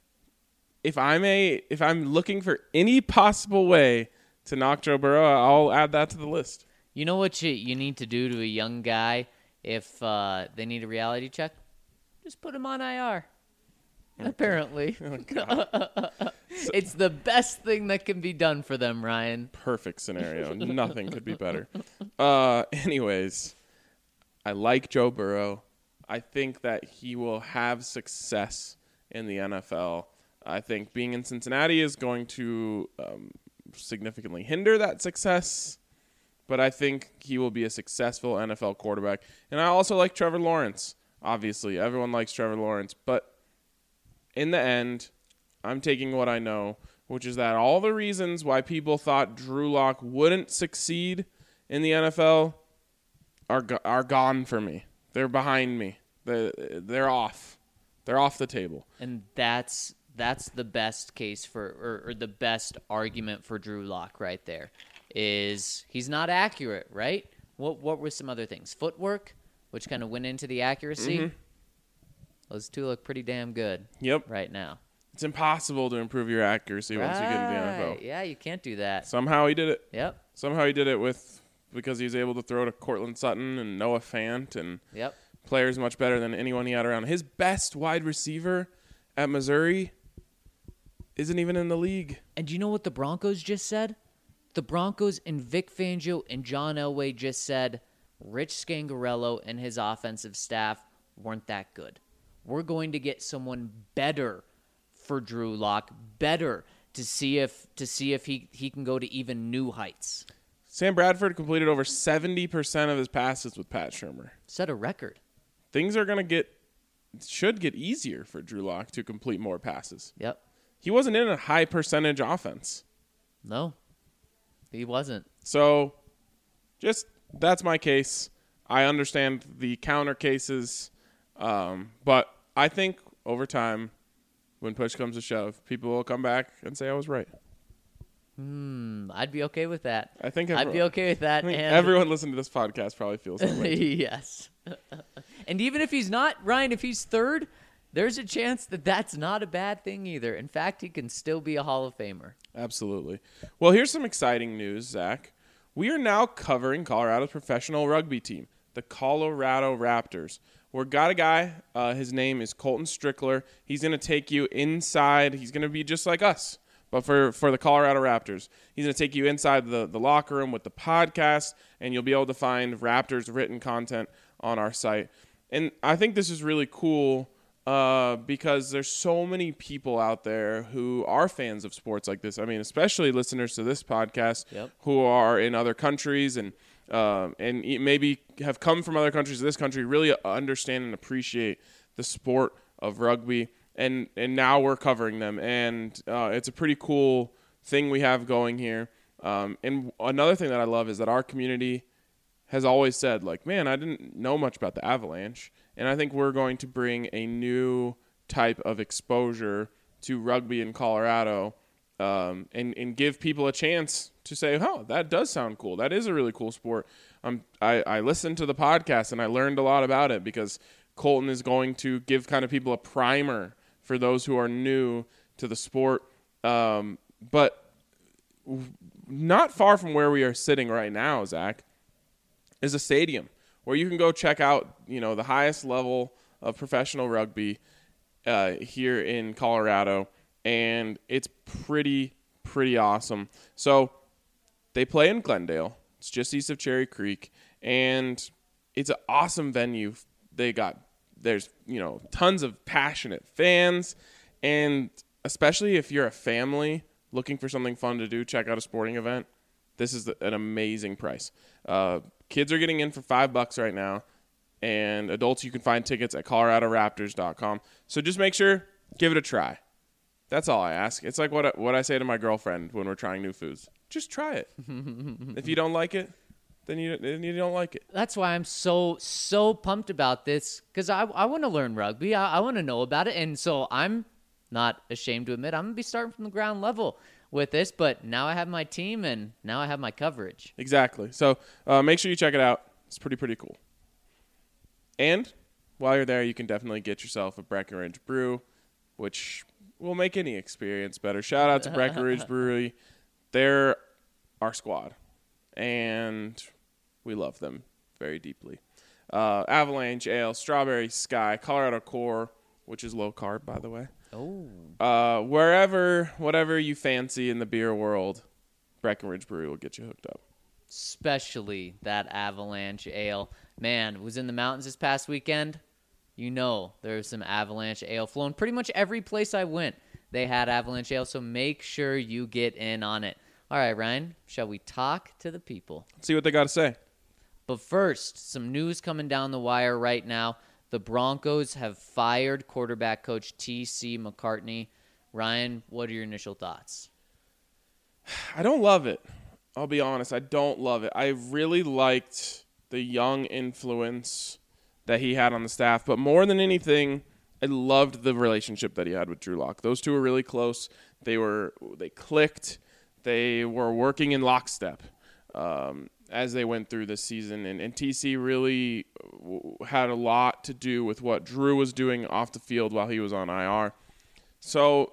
if I'm a if I'm looking for any possible way to knock Joe Burrow, I'll add that to the list. You know what you, you need to do to a young guy if uh, they need a reality check? Just put him on I R. Okay. Apparently. Oh, God. It's the best thing that can be done for them, Ryan. Perfect scenario. Nothing could be better. Uh, anyways, I like Joe Burrow. I think that he will have success in the N F L. I think being in Cincinnati is going to um, significantly hinder that success. But I think he will be a successful N F L quarterback. And I also like Trevor Lawrence. Obviously, everyone likes Trevor Lawrence. But in the end, I'm taking what I know, which is that all the reasons why people thought Drew Lock wouldn't succeed in the N F L are go- are gone for me. They're behind me. They're, they're off. They're off the table. And that's that's the best case for, or, or the best argument for Drew Lock right there. Is he's not accurate, right? What what were some other things? Footwork, which kind of went into the accuracy. Mm-hmm. Those two look pretty damn good. Yep. Right now. It's impossible to improve your accuracy once you get into the N F L. Right. Yeah, you can't do that. Somehow he did it. Yep. Somehow he did it with because he was able to throw to Cortland Sutton and Noah Fant and Yep. players much better than anyone he had around. His best wide receiver at Missouri isn't even in the league. And do you know what the Broncos just said? The Broncos and Vic Fangio and John Elway just said Rich Scangarello and his offensive staff weren't that good. We're going to get someone better for Drew Lock, better to see if to see if he, he can go to even new heights. Sam Bradford completed over seventy percent of his passes with Pat Shurmur. Set a record. Things are going to get should get easier for Drew Lock to complete more passes. Yep. He wasn't in a high percentage offense. No. He wasn't. So, just that's my case. I understand the counter cases, um, but I think over time, when push comes to shove, people will come back and say I was right. Hmm. I'd be okay with that. I think I'd everyone, be okay with that. I think and everyone listening to this podcast probably feels that way. Yes. And even if he's not, Ryan, if he's third, there's a chance that that's not a bad thing either. In fact, he can still be a Hall of Famer. Absolutely. Well, here's some exciting news, Zach. We are now covering Colorado's professional rugby team, the Colorado Raptors. We've got a guy. Uh, his name is Colton Strickler. He's going to take you inside. He's going to be just like us, but for, for the Colorado Raptors. He's going to take you inside the, the locker room with the podcast, and you'll be able to find Raptors written content on our site. And I think this is really cool uh, because there's so many people out there who are fans of sports like this. I mean, especially listeners to this podcast Yep. who are in other countries and um, and maybe have come from other countries to this country, really understand and appreciate the sport of rugby. And, and now we're covering them. And uh, it's a pretty cool thing we have going here. Um, and another thing that I love is that our community has always said, like, man, I didn't know much about the Avalanche. And I think we're going to bring a new type of exposure to rugby in Colorado um, and, and give people a chance to say, oh, that does sound cool. That is a really cool sport. Um, I, I listened to the podcast and I learned a lot about it because Colton is going to give kind of people a primer for those who are new to the sport. Um, but not far from where we are sitting right now, Zach, is a stadium where you can go check out, you know, the highest level of professional rugby uh, here in Colorado, and it's pretty, pretty awesome. So they play in Glendale. It's just east of Cherry Creek, and it's an awesome venue. They got there's you know tons of passionate fans, and especially if you're a family looking for something fun to do, check out a sporting event. This is an amazing price. Uh, kids are getting in for five bucks right now, and adults you can find tickets at colorado raptors dot com. So just make sure, give it a try. That's all I ask. It's like what I, what I say to my girlfriend when we're trying new foods. Just try it. If you don't like it, then you then you don't like it. That's why I'm so so pumped about this, because I I want to learn rugby. I, I want to know about it, and so I'm not ashamed to admit I'm gonna be starting from the ground level with this. But now I have my team, and now I have my coverage. Exactly. So uh, make sure you check it out. It's pretty pretty cool. And while you're there, you can definitely get yourself a Breckenridge Brew, which will make any experience better. Shout out to Breckenridge Brewery. They're our squad, and we love them very deeply. Uh, Avalanche Ale, Strawberry Sky, Colorado Core, which is low carb, by the way. Oh. Uh, wherever, whatever you fancy in the beer world, Breckenridge Brewery will get you hooked up. Especially that Avalanche Ale. Man, was in the mountains this past weekend. You know there's some Avalanche Ale flowing. Pretty much every place I went, they had Avalanche Ale, so make sure you get in on it. All right, Ryan, shall we talk to the people? Let's see what they got to say. But first, some news coming down the wire right now. The Broncos have fired quarterback coach T C McCartney. Ryan, what are your initial thoughts? I don't love it. I'll be honest. I don't love it. I really liked the young influence that he had on the staff, but more than anything, I loved the relationship that he had with Drew Lock. Those two were really close. They were they clicked. They were working in lockstep um, as they went through this season, and, and T C really had a lot to do with what Drew was doing off the field while he was on I R. So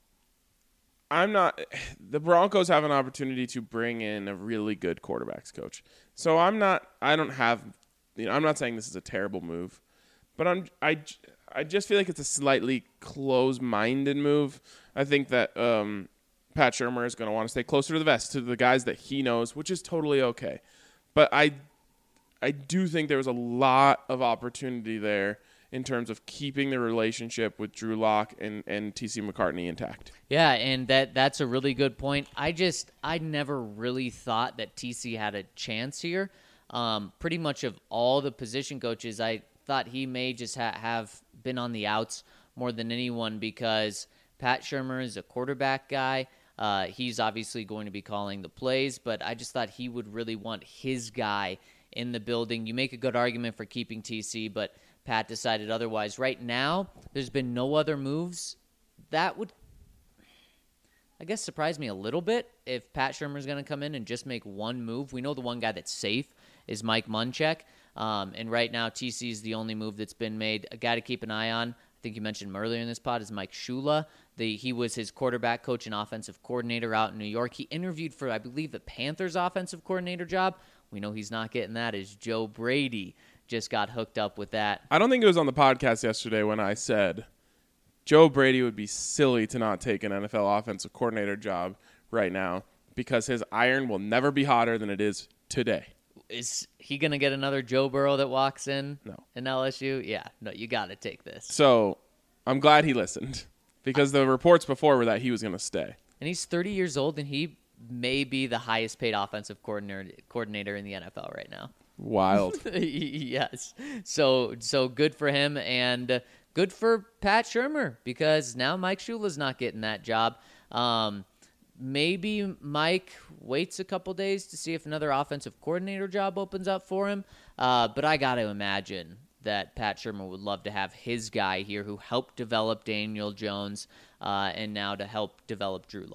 I'm not – the Broncos have an opportunity to bring in a really good quarterbacks coach. So I'm not – I don't have – you know, I'm not saying this is a terrible move, but I'm I, I just feel like it's a slightly close-minded move. I think that um, Pat Shurmur is going to want to stay closer to the vest, to the guys that he knows, which is totally okay. But I I do think there was a lot of opportunity there in terms of keeping the relationship with Drew Lock and, and T C McCartney intact. Yeah, and that that's a really good point. I just I never really thought that T C had a chance here. Um, pretty much of all the position coaches, I thought he may just ha- have been on the outs more than anyone, because Pat Shurmur is a quarterback guy. Uh, he's obviously going to be calling the plays, but I just thought he would really want his guy in the building. You make a good argument for keeping T C, but Pat decided otherwise. Right now, there's been no other moves. That would, I guess, surprise me a little bit if Pat Shurmur is going to come in and just make one move. We know the one guy that's safe is Mike Munchak. Um, and right now, T C is the only move that's been made. A guy to keep an eye on, I think you mentioned him earlier in this pod, is Mike Shula. The, he was his quarterback coach and offensive coordinator out in New York. He interviewed for, I believe, the Panthers offensive coordinator job. We know he's not getting that, as Joe Brady just got hooked up with that. I don't think it was on the podcast yesterday when I said Joe Brady would be silly to not take an N F L offensive coordinator job right now, because his iron will never be hotter than it is today. Is he going to get another Joe Burrow that walks in No. in L S U? Yeah, no, you got to take this. So I'm glad he listened, because the reports before were that he was going to stay. And he's thirty years old, and he may be the highest paid offensive coordinator coordinator in the N F L right now. Wild. Yes. So so good for him, and good for Pat Shurmur, because now Mike Shula's not getting that job. Um, maybe Mike waits a couple days to see if another offensive coordinator job opens up for him. Uh, but I got to imagine that Pat Shurmur would love to have his guy here who helped develop Daniel Jones uh, and now to help develop Drew Lock.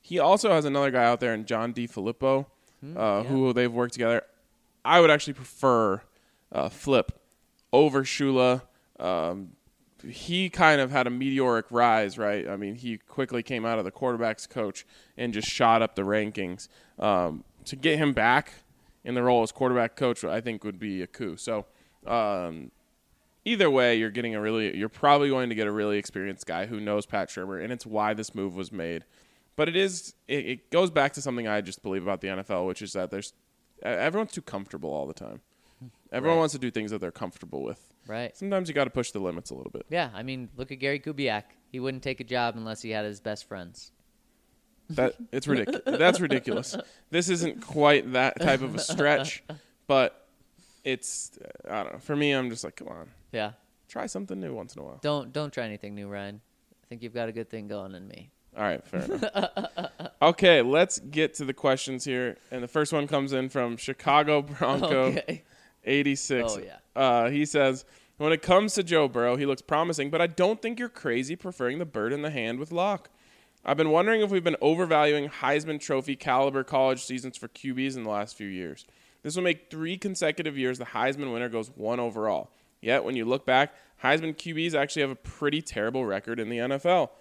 He also has another guy out there in John DeFilippo, Hmm, uh, yeah. who they've worked together. I would actually prefer uh, Flip over Shula. Um, he kind of had a meteoric rise, right? I mean, he quickly came out of the quarterback's coach and just shot up the rankings. Um, to get him back in the role as quarterback coach, I think would be a coup. So um, either way, you're getting a really, you're probably going to get a really experienced guy who knows Pat Shurmur, and it's why this move was made. But it is, it, it goes back to something I just believe about the N F L, which is that there's everyone's too comfortable all the time. Everyone Right. wants to do things that they're comfortable with. Right. Sometimes you got to push the limits a little bit. Yeah, I mean, look at Gary Kubiak. He wouldn't take a job unless he had his best friends. That it's ridiculous. That's ridiculous. This isn't quite that type of a stretch, but it's I don't know. For me, I'm just like, come on, Yeah. try something new once in a while. Don't don't try anything new, Ryan. I think you've got a good thing going in me. All right, fair enough. Okay, let's get to the questions here, and the first one comes in from Chicago Bronco Okay. eighty-six. Oh, yeah. Uh, he says, when it comes to Joe Burrow, he looks promising, but I don't think you're crazy preferring the bird in the hand with Locke. I've been wondering if we've been overvaluing Heisman Trophy caliber college seasons for Q Bs in the last few years. This will make three consecutive years the Heisman winner goes one overall. Yet, when you look back, Heisman Q Bs actually have a pretty terrible record in the N F L.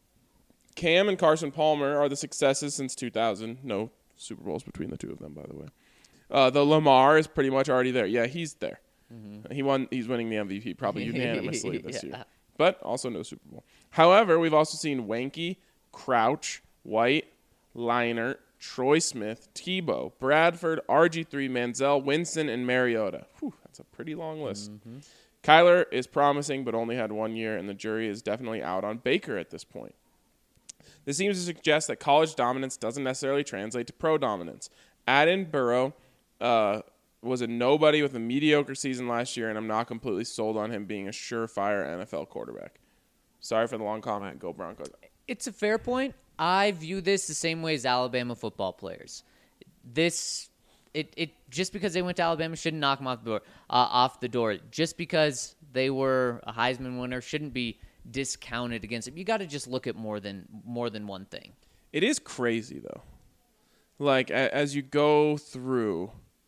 Cam and Carson Palmer are the successes since two thousand. No Super Bowls between the two of them, by the way. Uh, the Lamar is pretty much already there. Yeah, he's there. Mm-hmm. He won. He's winning the M V P probably unanimously this Yeah. year. But also no Super Bowl. However, we've also seen Wanky, Crouch, White, Leinart, Troy Smith, Tebow, Bradford, R G three, Manziel, Winston, and Mariota. Whew, that's a pretty long list. Mm-hmm. Kyler is promising, but only had one year, and the jury is definitely out on Baker at this point. This seems to suggest that college dominance doesn't necessarily translate to pro dominance. Add in Burrow uh, was a nobody with a mediocre season last year, and I'm not completely sold on him being a surefire N F L quarterback. Sorry for the long comment. Go Broncos. It's a fair point. I view this the same way as Alabama football players. This, it, it just because they went to Alabama shouldn't knock them off the door. Uh, off the door. Just because they were a Heisman winner shouldn't be discounted against it. You got to just look at more than more than one thing. It is crazy though. Like a, as you go through,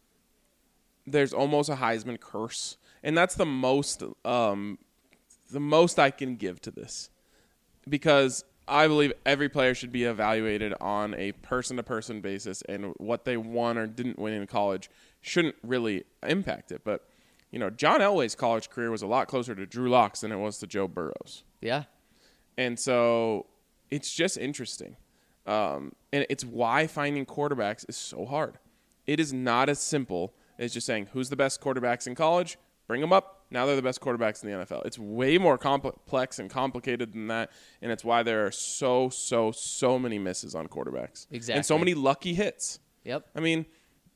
there's almost a Heisman curse, and that's the most um, the most I can give to this, because I believe every player should be evaluated on a person-to-person basis, and what they won or didn't win in college shouldn't really impact it. But, you know, John Elway's college career was a lot closer to Drew Lock's than it was to Joe Burrow's. Yeah. And so it's just interesting. Um, and it's why finding quarterbacks is so hard. It is not as simple as just saying, who's the best quarterbacks in college? Bring them up. Now they're the best quarterbacks in the N F L. It's way more complex and complicated than that, and it's why there are so, so, so many misses on quarterbacks. Exactly. And so many lucky hits. Yep. I mean,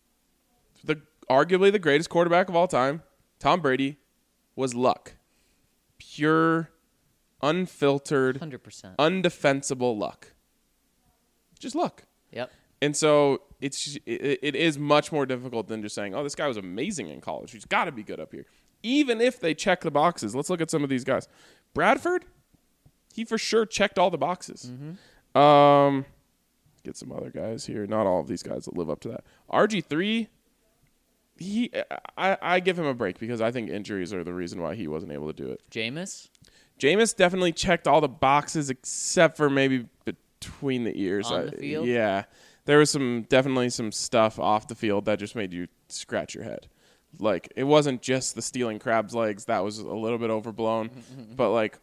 the arguably the greatest quarterback of all time, Tom Brady, was luck. Pure, unfiltered, one hundred percent. undefensible luck. Just luck. Yep. And so it's it, it is much more difficult than just saying, oh, this guy was amazing in college. He's got to be good up here. Even if they check the boxes. Let's look at some of these guys. Bradford, he for sure checked all the boxes. Mm-hmm. Um, get some other guys here. Not all of these guys that live up to that. R G three, he, I, I give him a break because I think injuries are the reason why he wasn't able to do it. Jameis? Jameis definitely checked all the boxes except for maybe between the ears. On the field? Yeah. There was some definitely some stuff off the field that just made you scratch your head. Like, it wasn't just the stealing crab's legs. That was a little bit overblown. But, like,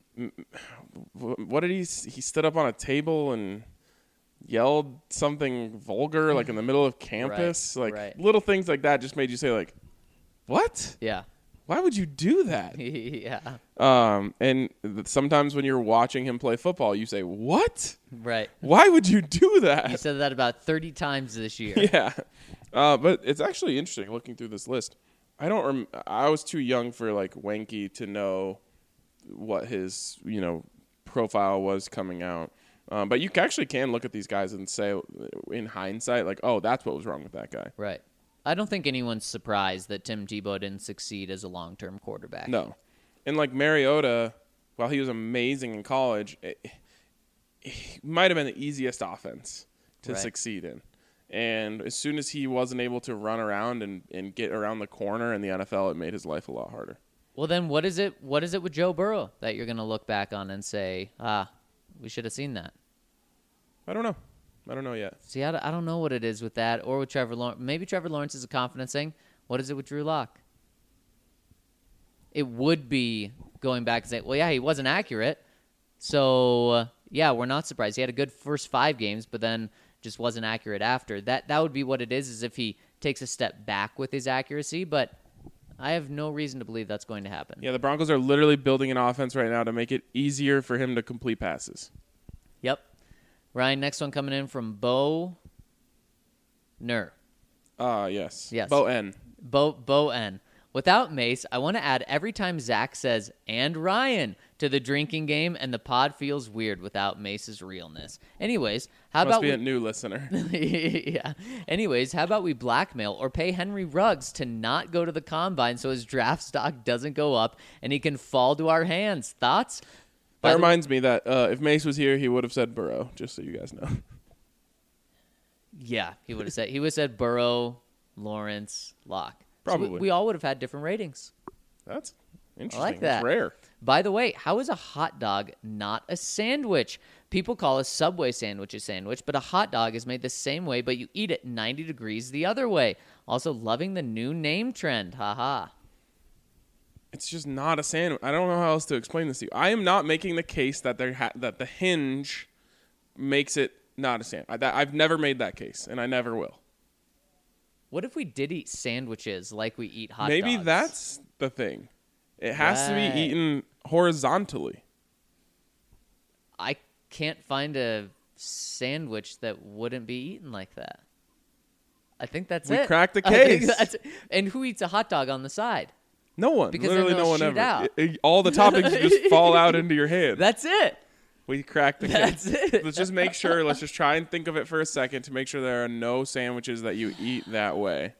what did he – he stood up on a table and yelled something vulgar, like, in the middle of campus. Right, like, right. little things like that just made you say, like, what? Yeah. Why would you do that? Yeah. Um, and th- sometimes when you're watching him play football, you say, what? Right. Why would you do You that? said that about thirty times this year. Yeah. Uh, but it's actually interesting looking through this list. I don't rem- I was too young for like Wanky to know what his, you know, profile was coming out. Um, but you actually can look at these guys and say in hindsight, like, oh, that's what was wrong with that guy. Right. I don't think anyone's surprised that Tim Tebow didn't succeed as a long-term quarterback. No. And like Mariota, while he was amazing in college, it, might have been the easiest offense to Right. succeed in. And as soon as he wasn't able to run around and, and get around the corner in the N F L, it made his life a lot harder. Well, then what is it? What is it with Joe Burrow that you're going to look back on and say, ah, we should have seen that? I don't know. I don't know yet. See, I, don't- I don't know what it is with that or with Trevor Lawrence. Maybe Trevor Lawrence is a confidence thing. What is it with Drew Lock? It would be going back and saying, well, yeah, he wasn't accurate. So, uh, yeah, we're not surprised. He had a good first five games, but then just wasn't accurate after. That that would be what it is, is if he takes a step back with his accuracy. But I have no reason to believe that's going to happen. Yeah, the Broncos are literally building an offense right now to make it easier for him to complete passes. Yep. Ryan, next one coming in from Bo Ner. Ah, uh, yes. Yes. Bo N. Bo Bo N. Without Mace, I want to add every time Zach says "and Ryan" to the drinking game, and the pod feels weird without Mace's realness. Anyways, how Must about be we, a new listener. yeah. Anyways, how about we blackmail or pay Henry Ruggs to not go to the combine so his draft stock doesn't go up and he can fall to our hands? Thoughts? By That the- reminds me that uh, if Mace was here, he would have said Burrow, just so you guys know. Yeah, he would have said he would have said Burrow, Lawrence, Locke. So we- Probably. we all would have had different ratings. That's interesting. I like That's that. rare. By the way, how is a hot dog not a sandwich? People call a Subway sandwich a sandwich, but a hot dog is made the same way, but you eat it ninety degrees the other way. Also, loving the new name trend. Haha. It's just not a sandwich. I don't know how else to explain this to you. I am not making the case that there ha- that the hinge makes it not a sandwich. I, that, I've never made that case, and I never will. What if we did eat sandwiches like we eat hot Maybe dogs? that's the thing. It has to Right. be eaten horizontally. I can't find a sandwich that wouldn't be eaten like that. I think that's We it. cracked the I think case. that's- And who eats a hot dog on the side? No one. Because then Literally they'll no one shoot ever. out. It- it- all the toppings just fall out into your hand. That's it. We cracked the That's case. it. Let's just make sure. Let's just try and think of it for a second to make sure there are no sandwiches that you eat that way.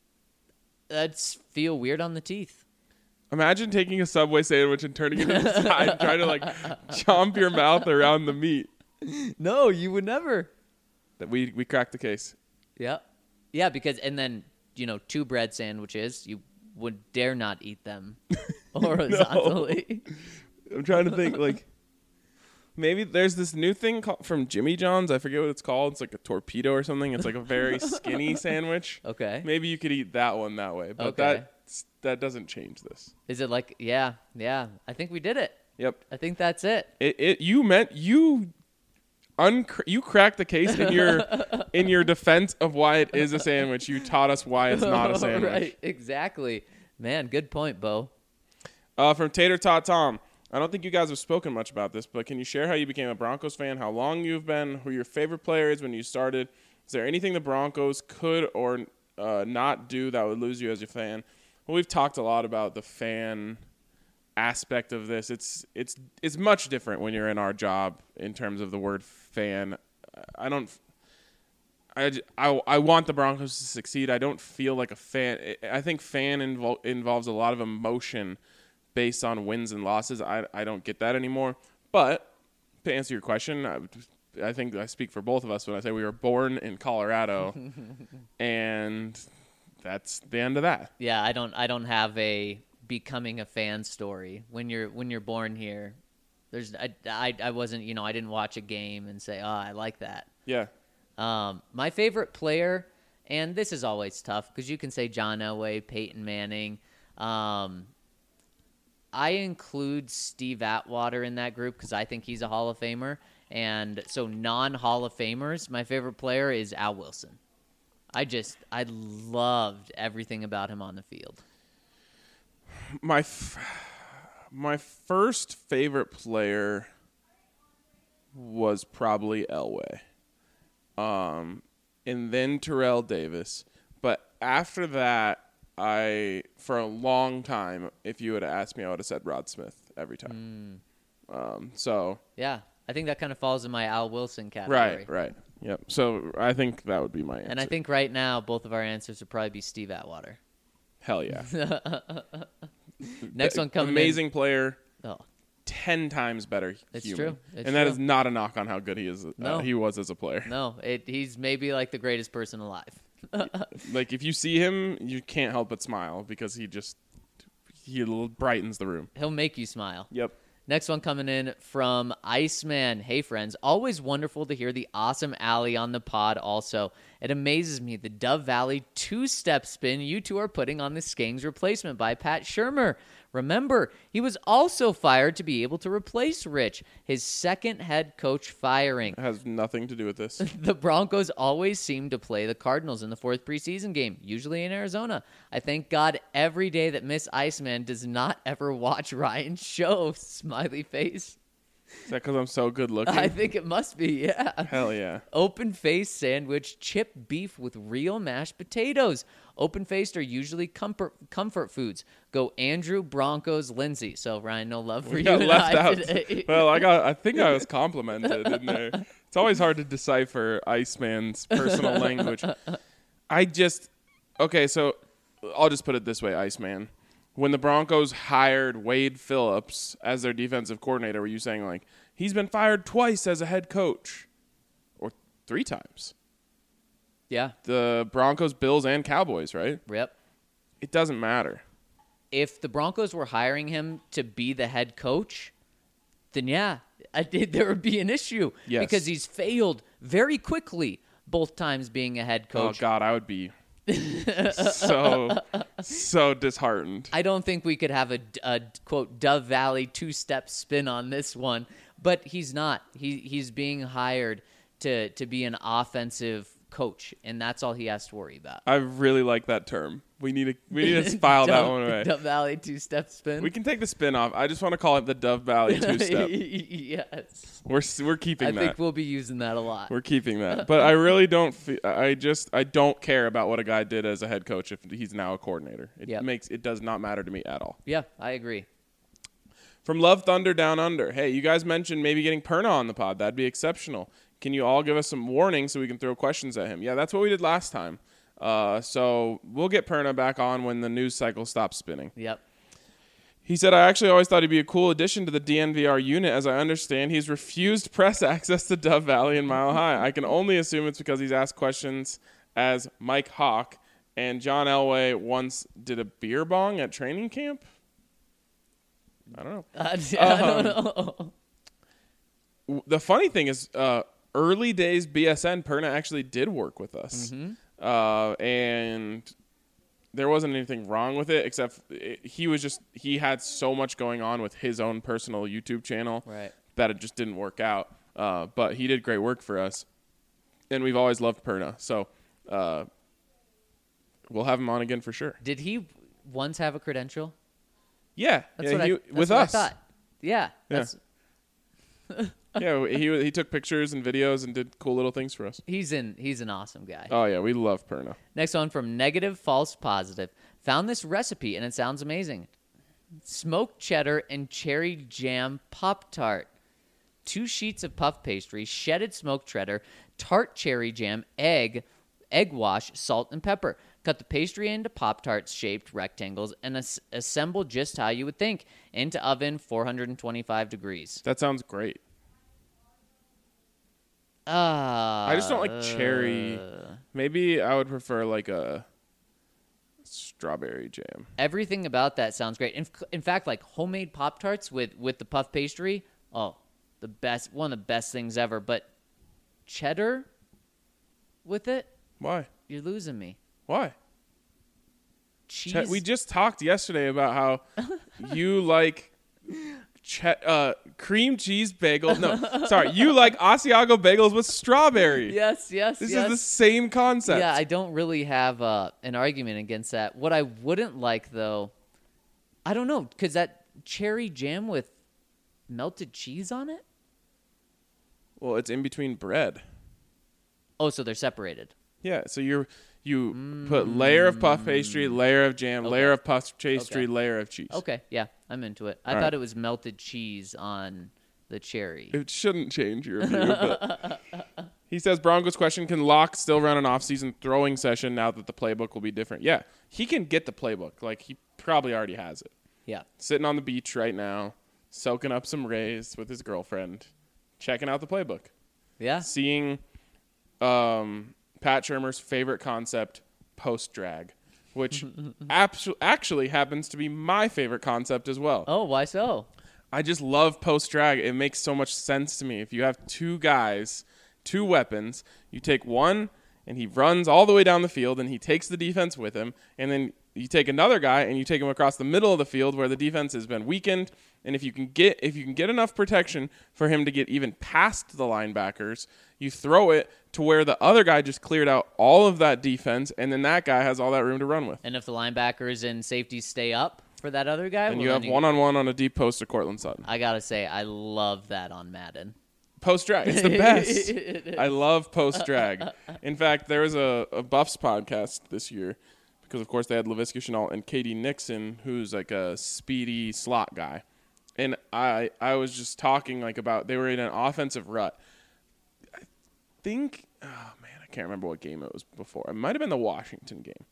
That's feel weird on the teeth. Imagine taking a Subway sandwich and turning it inside and trying to like chomp your mouth around the meat. No, you would never. That we we cracked the case. Yeah. Yeah, because, and then, you know, two bread sandwiches, you would dare not eat them horizontally. I'm trying to think like maybe there's this new thing called, from Jimmy John's. I forget what it's called. It's like a torpedo or something. It's like a very skinny sandwich. Okay. Maybe you could eat that one that way, but Okay. that that doesn't change this. Is it like, yeah, yeah, I think we did it. Yep. I think that's it. It, it you meant you uncr- you cracked the case in your in your defense of why it is a sandwich. You taught us why it's not a sandwich. Right, exactly. Man, good point, Bo. Uh, from Tater Tot Tom. I don't think you guys have spoken much about this, but can you share how you became a Broncos fan, how long you've been, who your favorite player is when you started? Is there anything the Broncos could or uh, not do that would lose you as a fan? Well, we've talked a lot about the fan aspect of this. It's it's it's much different when you're in our job in terms of the word fan. I don't. I, j- I, I want the Broncos to succeed. I don't feel like a fan. I think fan invol- involves a lot of emotion based on wins and losses. I, I don't get that anymore. But to answer your question, I, I think I speak for both of us when I say we were born in Colorado, and that's the end of that. Yeah, I don't I don't have a becoming a fan story. When you're when you're born here, there's I, I, I wasn't, you know, I didn't watch a game and say, "Oh, I like that." Yeah. Um, my favorite player, and this is always tough because you can say John Elway, Peyton Manning. Um, I include Steve Atwater in that group because I think he's a Hall of Famer. And so non-Hall of Famers, my favorite player is Al Wilson. I just, I loved everything about him on the field. My f- my first favorite player was probably Elway. Um, and then Terrell Davis. But after that, I, for a long time, if you would have asked me, I would have said Rod Smith every time. Mm. Um, so. Yeah, I think that kind of falls in my Al Wilson category. Right, right. Yep. So I think that would be my answer. And I think right now, both of our answers would probably be Steve Atwater. Hell yeah. Next one coming in. Amazing player. Oh, ten times better It's human. true. It's and that true. is not a knock on how good he is. No. Uh, he was as a player. No, it, he's maybe like the greatest person alive. Like if you see him, you can't help but smile because he just he l- brightens the room. He'll make you smile. Yep. Next one coming in from Iceman. Hey, friends. Always wonderful to hear the awesome Allie on the pod also. It amazes me the Dove Valley two-step spin you two are putting on the Skangs replacement by Pat Shurmur. Remember, he was also fired to be able to replace Rich, his second head coach firing. It has nothing to do with this. The Broncos always seem to play the Cardinals in the fourth preseason game, usually in Arizona. I thank God every day that Miss Iceman does not ever watch Ryan's show. Smiley face. Is that because I'm so good looking? I think it must be, yeah. Hell yeah. Open face sandwich, chip beef with real mashed potatoes. Open faced are usually comfort comfort foods. Go Andrew, Broncos, Lindsay. So Ryan, no love for We you got and left I out. today. Well, I got. I think I was complimented in there. It's always hard to decipher Iceman's personal language. I just okay. So I'll just put it this way, Iceman. When the Broncos hired Wade Phillips as their defensive coordinator, were you saying like he's been fired twice as a head coach, or three times? Yeah. The Broncos, Bills, and Cowboys, right? Yep. It doesn't matter. If the Broncos were hiring him to be the head coach, then yeah, I did. There would be an issue Yes. because he's failed very quickly both times being a head coach. Oh God, I would be so so disheartened. I don't think we could have a, a quote Dove Valley two-step spin on this one, but he's not. He he's being hired to to be an offensive coach, and that's all he has to worry about. I really like that term. We need to we need to file that Dove- one away. Dove Valley two-step spin. We can take the spin off. I just want to call it the Dove Valley two step. Yes, We're s- we're keeping I that. think we'll be using that a lot. We're keeping that. But I really don't. Fe- I just I don't care about what a guy did as a head coach if he's now a coordinator. It Yep. makes it does not matter to me at all. Yeah, I agree. From Love Thunder Down Under. Hey, you guys mentioned maybe getting Perna on the pod. That'd be exceptional. Can you all give us some warning so we can throw questions at him? Yeah, that's what we did last time. Uh, so we'll get Perna back on when the news cycle stops spinning. Yep. He said, I actually always thought he'd be a cool addition to the D N V R unit. As I understand, he's refused press access to Dove Valley and Mile High. I can only assume it's because he's asked questions as Mike Hawk, and John Elway once did a beer bong at training camp. I don't know. I, I don't Um, know. W- The funny thing is, uh, early days B S N, Perna actually did work with us. Mm-hmm. Uh, and there wasn't anything wrong with it, except it, he was just, he had so much going on with his own personal YouTube channel Right. that it just didn't work out. Uh, but he did great work for us. And we've always loved Perna. So uh, we'll have him on again for sure. Did he once have a credential? Yeah. That's yeah, what he, I. That's with what us. I thought. Yeah. That's, Yeah, he he took pictures and videos and did cool little things for us. He's in. He's an awesome guy. Oh yeah, we love Perna. Next one from Negative False Positive. Found this recipe and it sounds amazing. Smoked cheddar and cherry jam Pop-Tart. Two sheets of puff pastry, shedded smoked cheddar, tart cherry jam, egg, egg wash, salt, and pepper. Cut the pastry into Pop-Tarts shaped rectangles and as- assemble just how you would think. Into oven, four hundred twenty-five degrees. That sounds great. Ah, I just don't like cherry. Maybe I would prefer like a strawberry jam. Everything about that sounds great. In, in fact, like homemade Pop-Tarts with, with the puff pastry, oh, the best, one of the best things ever. But cheddar with it, Why? you're losing me. Why? Cheese. Che- we just talked yesterday about how you like che- uh, cream cheese bagel. No, sorry. You like Asiago bagels with strawberry. yes, yes, This yes. is the same concept. Yeah, I don't really have uh, an argument against that. What I wouldn't like, though, I don't know, because that cherry jam with melted cheese on it? Well, it's in between bread. Oh, so they're separated. Yeah, so you're you put layer of puff pastry, layer of jam, Okay. layer of puff pastry, Okay. layer of cheese. Okay, yeah, I'm into it. I All thought right. it was melted cheese on the cherry. It shouldn't change your view. But he says Broncos question: can Locke still run an off-season throwing session now that the playbook will be different? Yeah, he can get the playbook. Like he probably already has it. Yeah. Sitting on the beach right now, soaking up some rays with his girlfriend, checking out the playbook. Yeah. Seeing um, Pat Shurmur's favorite concept, post-drag, which abso- actually happens to be my favorite concept as well. Oh, why so? I just love post-drag. It makes so much sense to me. If you have two guys, two weapons, you take one and he runs all the way down the field and he takes the defense with him, and then you take another guy and you take him across the middle of the field where the defense has been weakened, and if you can get if you can get enough protection for him to get even past the linebackers, you throw it to where the other guy just cleared out all of that defense, and then that guy has all that room to run with. And if the linebackers and safeties stay up for that other guy, And well, you have then you- one-on-one on a deep post to Cortland Sutton. I gotta say, I love that on Madden. Post-drag. It's the best. I love post-drag. In fact, there was a, a Buffs podcast this year because, of course, they had Laviska Shenault and Katie Nixon, who's like a speedy slot guy. And I I was just talking like about they were in an offensive rut. I think, oh, man, I can't remember what game it was before. It might have been the Washington game.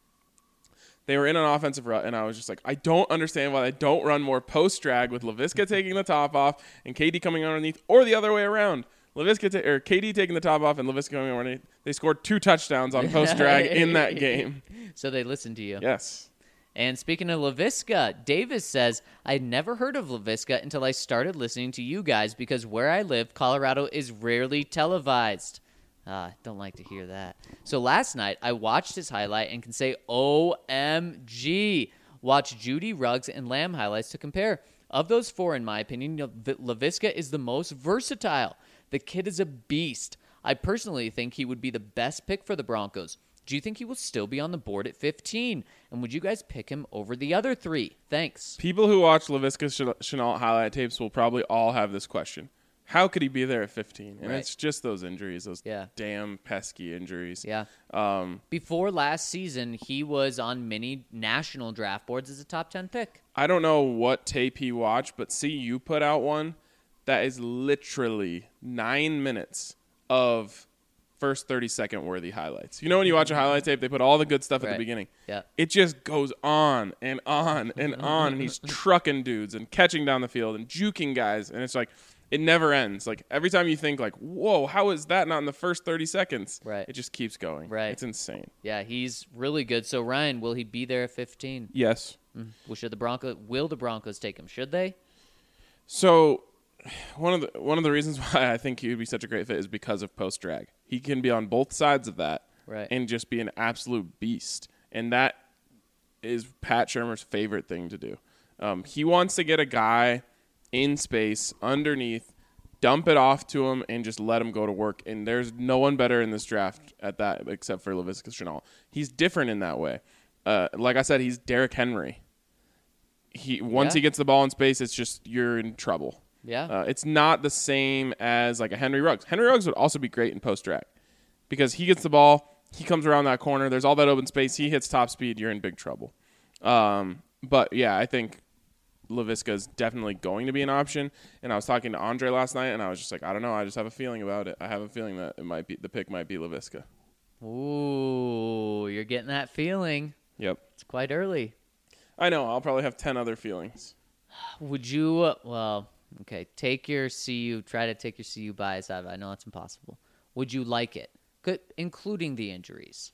They were in an offensive rut, and I was just like, I don't understand why they don't run more post-drag with Laviska taking the top off and K D coming underneath, or the other way around. Laviska ta- or K D taking the top off and Laviska coming underneath. They scored two touchdowns on post-drag in that game. So they listened to you. Yes. And speaking of Laviska, Davis says, I'd never heard of Laviska until I started listening to you guys because where I live, Colorado is rarely televised. Ah, don't like to hear that. So last night, I watched his highlight and can say, O M G. Watch Judy, Ruggs, and Lamb highlights to compare. Of those four, in my opinion, Laviska is the most versatile. The kid is a beast. I personally think he would be the best pick for the Broncos. Do you think he will still be on the board at fifteen? And would you guys pick him over the other three? Thanks. People who watch Laviska Shenault highlight tapes will probably all have this question. How could he be there at fifteen? And Right. it's just those injuries, those Yeah. damn pesky injuries. Yeah. Um, Before last season, he was on many national draft boards as a top ten pick. I don't know what tape he watched, but C U put out one that is literally nine minutes of first thirty-second worthy highlights. You know when you watch a highlight tape, they put all the good stuff at Right. the beginning. Yeah. It just goes on and on and on, and he's trucking dudes and catching down the field and juking guys, and it's like it never ends. Like every time you think like, whoa, how is that not in the first thirty seconds? Right. It just keeps going. Right. It's insane. Yeah, he's really good. So, Ryan, will he be there at fifteen? Yes. Well, should the Broncos, will the Broncos take him? Should they? So one of the one of the reasons why I think he would be such a great fit is because of post drag. He can be on both sides of that Right. and just be an absolute beast. And that is Pat Shurmur's favorite thing to do. Um, he wants to get a guy in space underneath, dump it off to him, and just let him go to work. And there's no one better in this draft at that except for Laviska Shenault. He's different in that way. Uh, like I said, he's Derrick Henry. He once Yeah. he gets the ball in space, it's just you're in trouble. Yeah. Uh, it's not the same as like a Henry Ruggs. Henry Ruggs would also be great in post drag because he gets the ball, he comes around that corner, there's all that open space, he hits top speed, you're in big trouble. Um, but yeah, I think Laviska is definitely going to be an option. And I was talking to Andre last night, and I was just like, I don't know, I just have a feeling about it. I have a feeling that it might be the pick might be Laviska. Ooh, you're getting that feeling. Yep, It's quite early. I know. I'll probably have ten other feelings. Would you, uh, well, okay, take your C U, try to take your C U bias out of it. I know it's impossible. Would you like it, Could, including the injuries?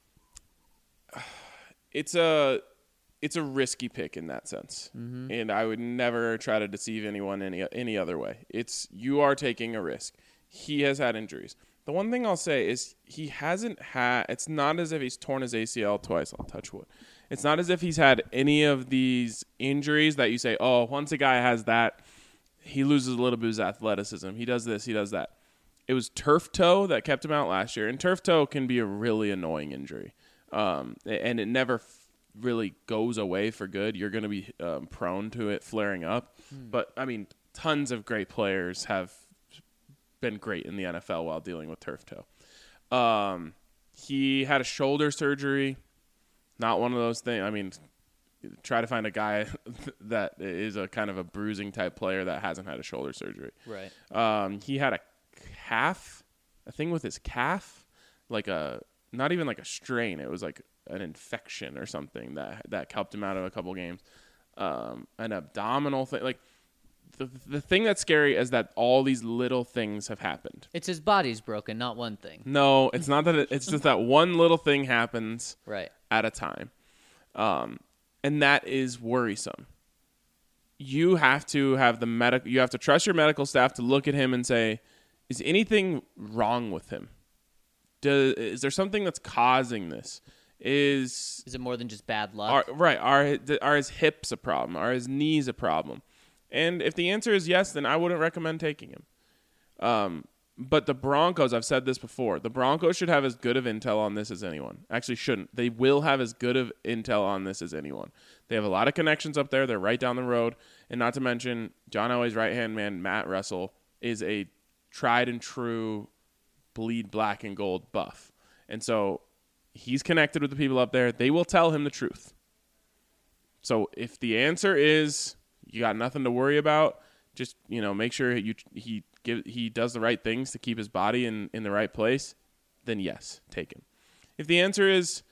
It's a it's a risky pick in that sense, Mm-hmm. and I would never try to deceive anyone any any other way. It's you are taking a risk. He has had injuries. The one thing I'll say is he hasn't had. It's not as if he's torn his A C L twice. I'll touch wood. It's not as if he's had any of these injuries that you say, oh, once a guy has that, he loses a little bit of his athleticism. He does this, he does that. It was turf toe that kept him out last year, and turf toe can be a really annoying injury, um, and it never f- really goes away for good. You're going to be um, prone to it flaring up. Hmm. But, I mean, tons of great players have been great in the N F L while dealing with turf toe. Um, he had a shoulder surgery. Not one of those things. I mean, try to find a guy that is a kind of a bruising type player that hasn't had a shoulder surgery. Right. Um, he had a calf, a thing with his calf, like a not even like a strain. It was like an infection or something that that kept him out of a couple games. Um, an abdominal thing. Like the, the thing that's scary is that all these little things have happened. It's his body's broken, not one thing. No, it's not that. It, it's just that one little thing happens Right. at a time. Um, and that is worrisome. You have to have the medic. You have to trust your medical staff to look at him and say, "Is anything wrong with him? Does, is there something that's causing this? Is Is it more than just bad luck? are, right? Are are his hips a problem? Are his knees a problem?" And if the answer is yes, then I wouldn't recommend taking him. Um, but the Broncos, I've said this before, the Broncos should have as good of intel on this as anyone. Actually, shouldn't. They will have as good of intel on this as anyone. They have a lot of connections up there. They're right down the road. And not to mention, John Elway's right-hand man, Matt Russell, is a tried and true bleed black and gold buff. And so he's connected with the people up there. They will tell him the truth. So if the answer is you got nothing to worry about, just, you know, make sure you he give he does the right things to keep his body in, in the right place, then yes, take him. If the answer is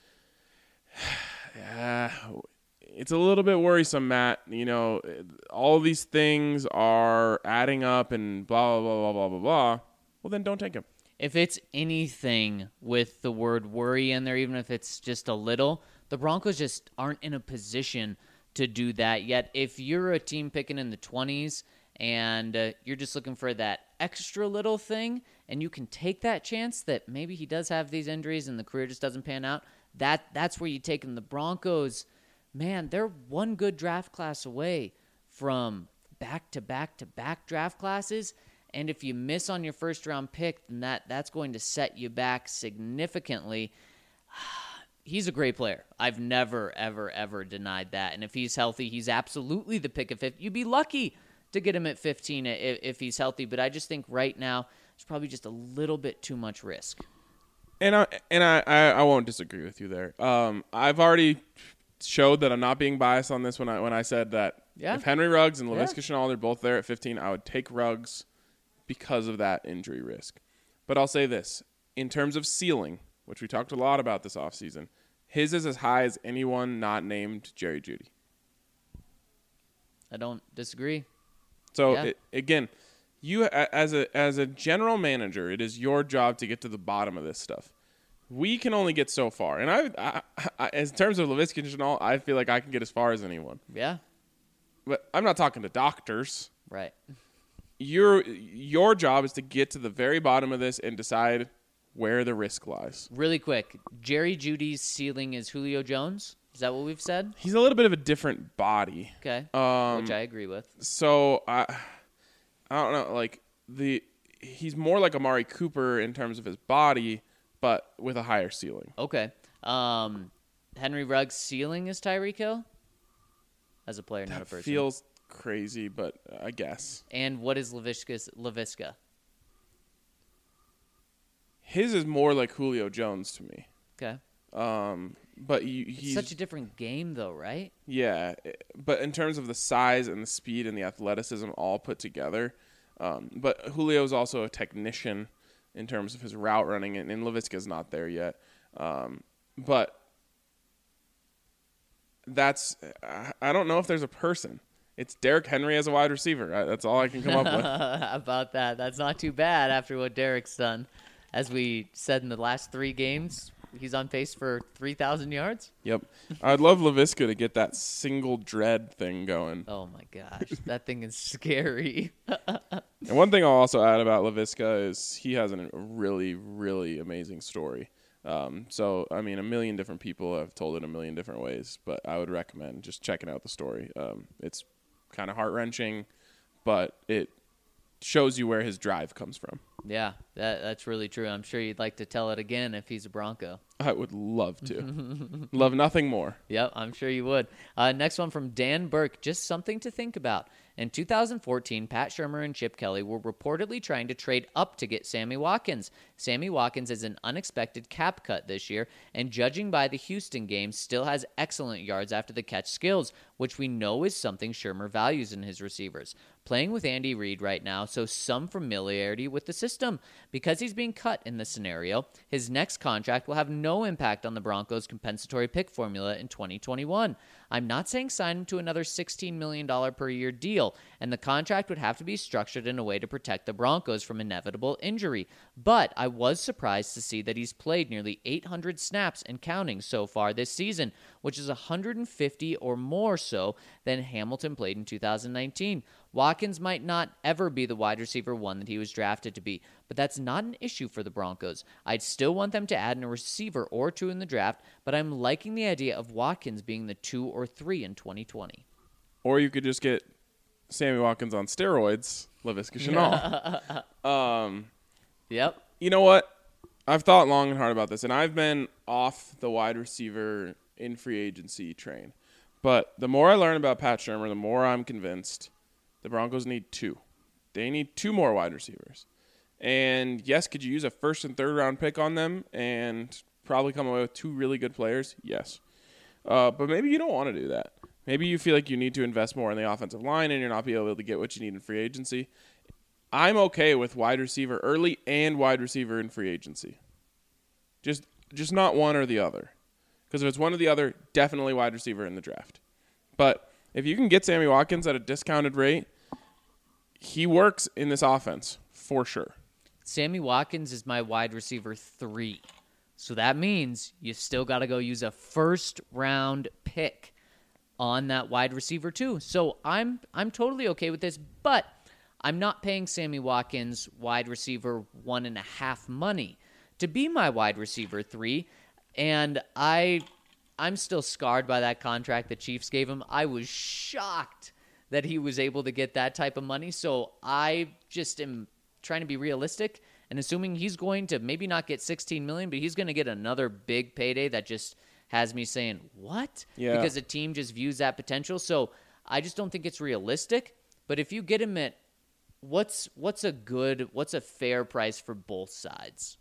uh, it's a little bit worrisome, Matt, you know, all these things are adding up and blah, blah, blah, blah, blah, blah, blah, well, then don't take him. If it's anything with the word worry in there, even if it's just a little, the Broncos just aren't in a position to do that yet. If you're a team picking in the twenties and uh, you're just looking for that extra little thing and you can take that chance that maybe he does have these injuries and the career just doesn't pan out, that that's where you take him. The Broncos, man, they're one good draft class away from back-to-back-to-back draft classes. And if you miss on your first-round pick, then that, that's going to set you back significantly. He's a great player. I've never, ever, ever denied that. And if he's healthy, he's absolutely the pick of fifty. You'd be lucky to get him at fifteen if, if he's healthy. But I just think right now it's probably just a little bit too much risk. And I and I, I, I won't disagree with you there. Um, I've already showed that I'm not being biased on this when I when I said that Yeah. if Henry Ruggs and Yeah. Laviska Shenault are both there at fifteen, I would take Ruggs because of that injury risk. But I'll say this. In terms of ceiling, which we talked a lot about this offseason, his is as high as anyone not named Jerry Jeudy. I don't disagree. So, Yeah. it, again, you a- as a as a general manager, it is your job to get to the bottom of this stuff. We can only get so far. And I, I, I in terms of Laviska Shenault, I feel like I can get as far as anyone. Yeah, But I'm not talking to doctors. right. Your your job is to get to the very bottom of this and decide where the risk lies. Really quick, Jerry Jeudy's ceiling is Julio Jones? Is that what we've said? He's a little bit of a different body. Okay, Um, which I agree with. So I I don't know, like the he's more like Amari Cooper in terms of his body, but with a higher ceiling. Okay. Um, Henry Ruggs' ceiling is Tyreek Hill? As a player, not a That person. feels crazy, but I guess. And what is Laviska's, Laviska? His is more like Julio Jones to me. Okay. Um, but he, It's he's such a different game, though, right? yeah. But in terms of the size and the speed and the athleticism all put together, um, but Julio's also a technician in terms of his route running, and, and Laviska's not there yet. Um, but that's I- I don't know if there's a person. It's Derrick Henry as a wide receiver. I, that's all I can come up with. How about that? That's not too bad after what Derek's done. As we said in the last three games, he's on pace for three thousand yards. Yep. I'd love Laviska to get that single dread thing going. Oh, my gosh. That thing is scary. And one thing I'll also add about Laviska is he has a really, really amazing story. Um, so, I mean, a million different people have told it a million different ways, but I would recommend just checking out the story. Um, it's kind of heart-wrenching, but it shows you where his drive comes from. Yeah, that, that's really true. I'm sure you'd like to tell it again if he's a Bronco. I would love to. Love nothing more. Yep, I'm sure you would. Uh, next one from Dan Burke. Just something to think about. In two thousand fourteen, Pat Shurmur and Chip Kelly were reportedly trying to trade up to get Sammy Watkins. Sammy Watkins is an unexpected cap cut this year, and judging by the Houston game, still has excellent yards after the catch skills, which we know is something Shurmur values in his receivers. Playing with Andy Reid right now, so some familiarity with the system. Because he's being cut in this scenario, his next contract will have no impact on the Broncos' compensatory pick formula in twenty twenty-one. I'm not saying sign him to another sixteen million dollars per year deal, and the contract would have to be structured in a way to protect the Broncos from inevitable injury. But I was surprised to see that he's played nearly eight hundred snaps and counting so far this season, which is one hundred fifty or more so than Hamilton played in two thousand nineteen. Watkins might not ever be the wide receiver one that he was drafted to be, but that's not an issue for the Broncos. I'd still want them to add in a receiver or two in the draft, but I'm liking the idea of Watkins being the two or three in twenty twenty. Or you could just get Sammy Watkins on steroids, Laviska Shenault. um, Yep. you know what? I've thought long and hard about this, and I've been off the wide receiver in free agency train. But the more I learn about Pat Shurmur, the more I'm convinced the Broncos need two. They need two more wide receivers. And yes, could you use a first and third round pick on them and probably come away with two really good players? Yes. Uh, but maybe you don't want to do that. Maybe you feel like you need to invest more in the offensive line and you're not be able to get what you need in free agency. I'm okay with wide receiver early and wide receiver in free agency. Just just not one or the other. Because if it's one or the other, definitely wide receiver in the draft. But if you can get Sammy Watkins at a discounted rate, he works in this offense for sure. Sammy Watkins is my wide receiver three. So that means you still got to go use a first round pick on that wide receiver too. So I'm I'm totally okay with this, but I'm not paying Sammy Watkins wide receiver one and a half money to be my wide receiver three. And I, I'm still scarred by that contract the Chiefs gave him. I was shocked that he was able to get that type of money. So I just am trying to be realistic and assuming he's going to maybe not get sixteen million dollars, but he's going to get another big payday that just has me saying, what? Yeah. Because the team just views that potential. So I just don't think it's realistic. But if you get him at what's what's a good, what's a fair price for both sides?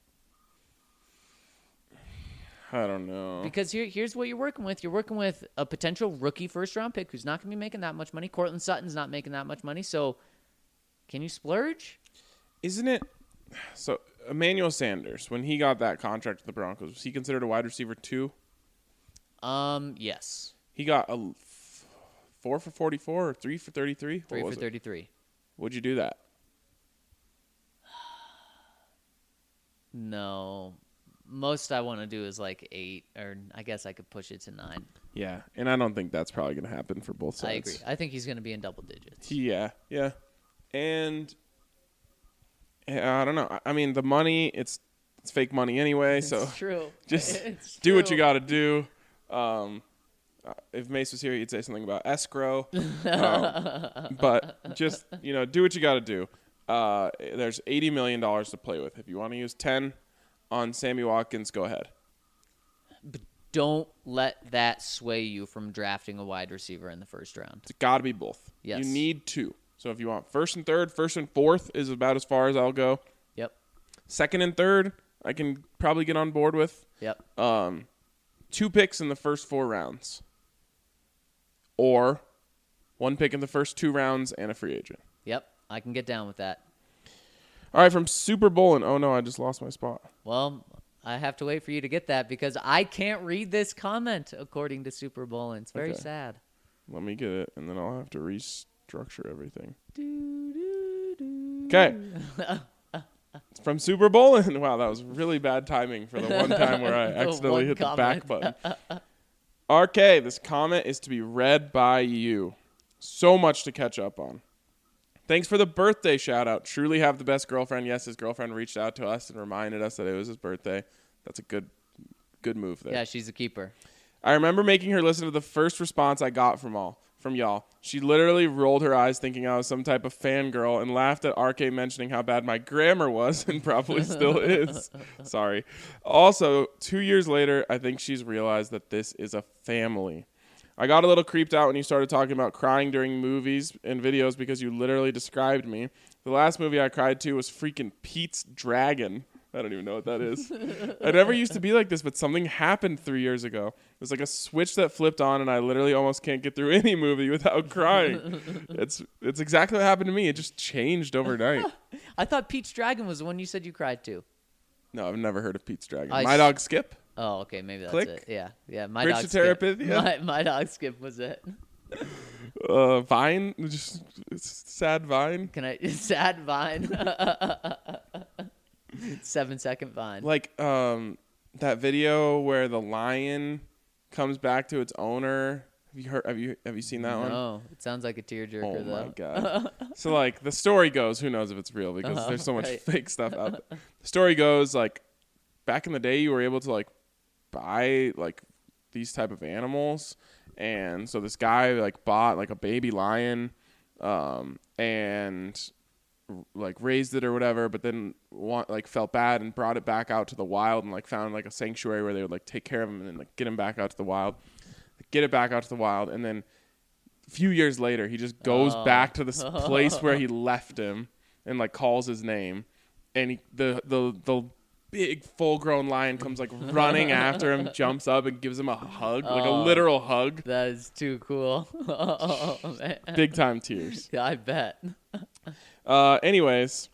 I don't know. Because here, here's what you're working with. You're working with a potential rookie first-round pick who's not going to be making that much money. Cortland Sutton's not making that much money. So can you splurge? Isn't it? So Emmanuel Sanders, when he got that contract with the Broncos, was he considered a wide receiver two? Um, yes. He got a f- four for forty-four or three for thirty-three? Three for thirty-three. Would you do that? No. Most I want to do is like eight, or I guess I could push it to nine. Yeah, and I don't think that's probably going to happen for both sides. I agree. I think he's going to be in double digits. Yeah, yeah. And yeah, I don't know. I mean, the money, it's it's fake money anyway, so It's true. just It's do what true. you got to do. Um, uh, if Mace was here, he'd say something about escrow. um, but just, you know, do what you got to do. Uh, there's eighty million dollars to play with. If you want to use ten on Sammy Watkins, go ahead. But don't let that sway you from drafting a wide receiver in the first round. It's got to be both. Yes. You need two. So if you want first and third, first and fourth is about as far as I'll go. Yep. Second and third, I can probably get on board with. Yep. Um, two picks in the first four rounds. Or one pick in the first two rounds and a free agent. Yep. I can get down with that. All right, from Super Bowl, and oh no, I just lost my spot. Well, I have to wait for you to get that because I can't read this comment according to Super Bowl, and it's very Okay. sad. Let me get it, and then I'll have to restructure everything. Okay. It's from Super Bowl, and wow, that was really bad timing for the one time where I The accidentally one hit the back comment. button. R K, this comment is to be read by you. So much to catch up on. Thanks for the birthday shout out. Truly have the best girlfriend. Yes, his girlfriend reached out to us and reminded us that it was his birthday. That's a good good move there. Yeah, she's a keeper. I remember making her listen to the first response I got from all from y'all. She literally rolled her eyes thinking I was some type of fangirl and laughed at R K mentioning how bad my grammar was and probably still is. Sorry. Also, two years later, I think she's realized that this is a family. I got a little creeped out when you started talking about crying during movies and videos because you literally described me. The last movie I cried to was freaking Pete's Dragon. I don't even know what that is. I never used to be like this, but something happened three years ago. It was like a switch that flipped on, and I literally almost can't get through any movie without crying. It's it's exactly what happened to me. It just changed overnight. I thought Pete's Dragon was the one you said you cried to. No, I've never heard of Pete's Dragon. I My s- dog Skip? Oh, okay, maybe that's Click. it. Yeah, yeah. My Bridge dog to skip. Terabithia? My, my dog skip was it. Uh, Vine, just sad Vine. Can I sad Vine? Seven second Vine. Like um, that video where the lion comes back to its owner. Have you heard? Have you have you seen that one? No, it sounds like a tearjerker Oh though. my god! So like the story goes, who knows if it's real because Uh-huh, there's so much right. fake stuff out there. The story goes like back in the day, you were able to like buy like these type of animals, and so this guy like bought like a baby lion, um, and like raised it or whatever, but then want like felt bad and brought it back out to the wild and like found like a sanctuary where they would like take care of him and then like get him back out to the wild, get it back out to the wild, and then a few years later he just goes Oh. back to this place where he left him and like calls his name, and he, the the the big full grown lion comes like running after him, jumps up and gives him a hug, like a Oh. literal hug. That is too cool. Oh, man. Big time tears. Yeah, I bet. Uh, anyways,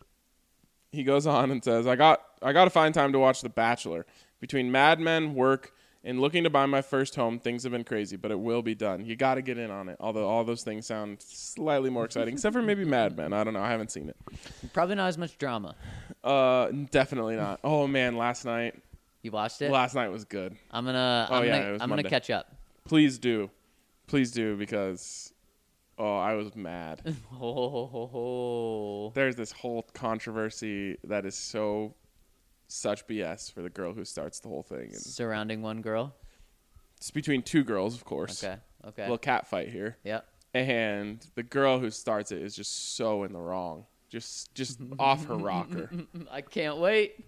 he goes on and says, I got I got to find time to watch The Bachelor. Between Mad Men, work, and looking to buy my first home, things have been crazy, but it will be done. You got to get in on it, although all those things sound slightly more exciting, except for maybe Mad Men. I don't know. I haven't seen it. Probably not as much drama. Uh, definitely not. Oh, man, last night. You watched it? Last night was good. I'm gonna. Oh, I'm yeah, gonna, it was I'm Monday. gonna catch up. Please do. Please do, because, oh, I was mad. Ho, ho, ho, ho. There's this whole controversy that is so such B S for the girl who starts the whole thing. And Surrounding one girl. it's between two girls, of course. Okay. Okay. A little cat fight here. Yep. And the girl who starts it is just so in the wrong. Just just off her rocker. I can't wait.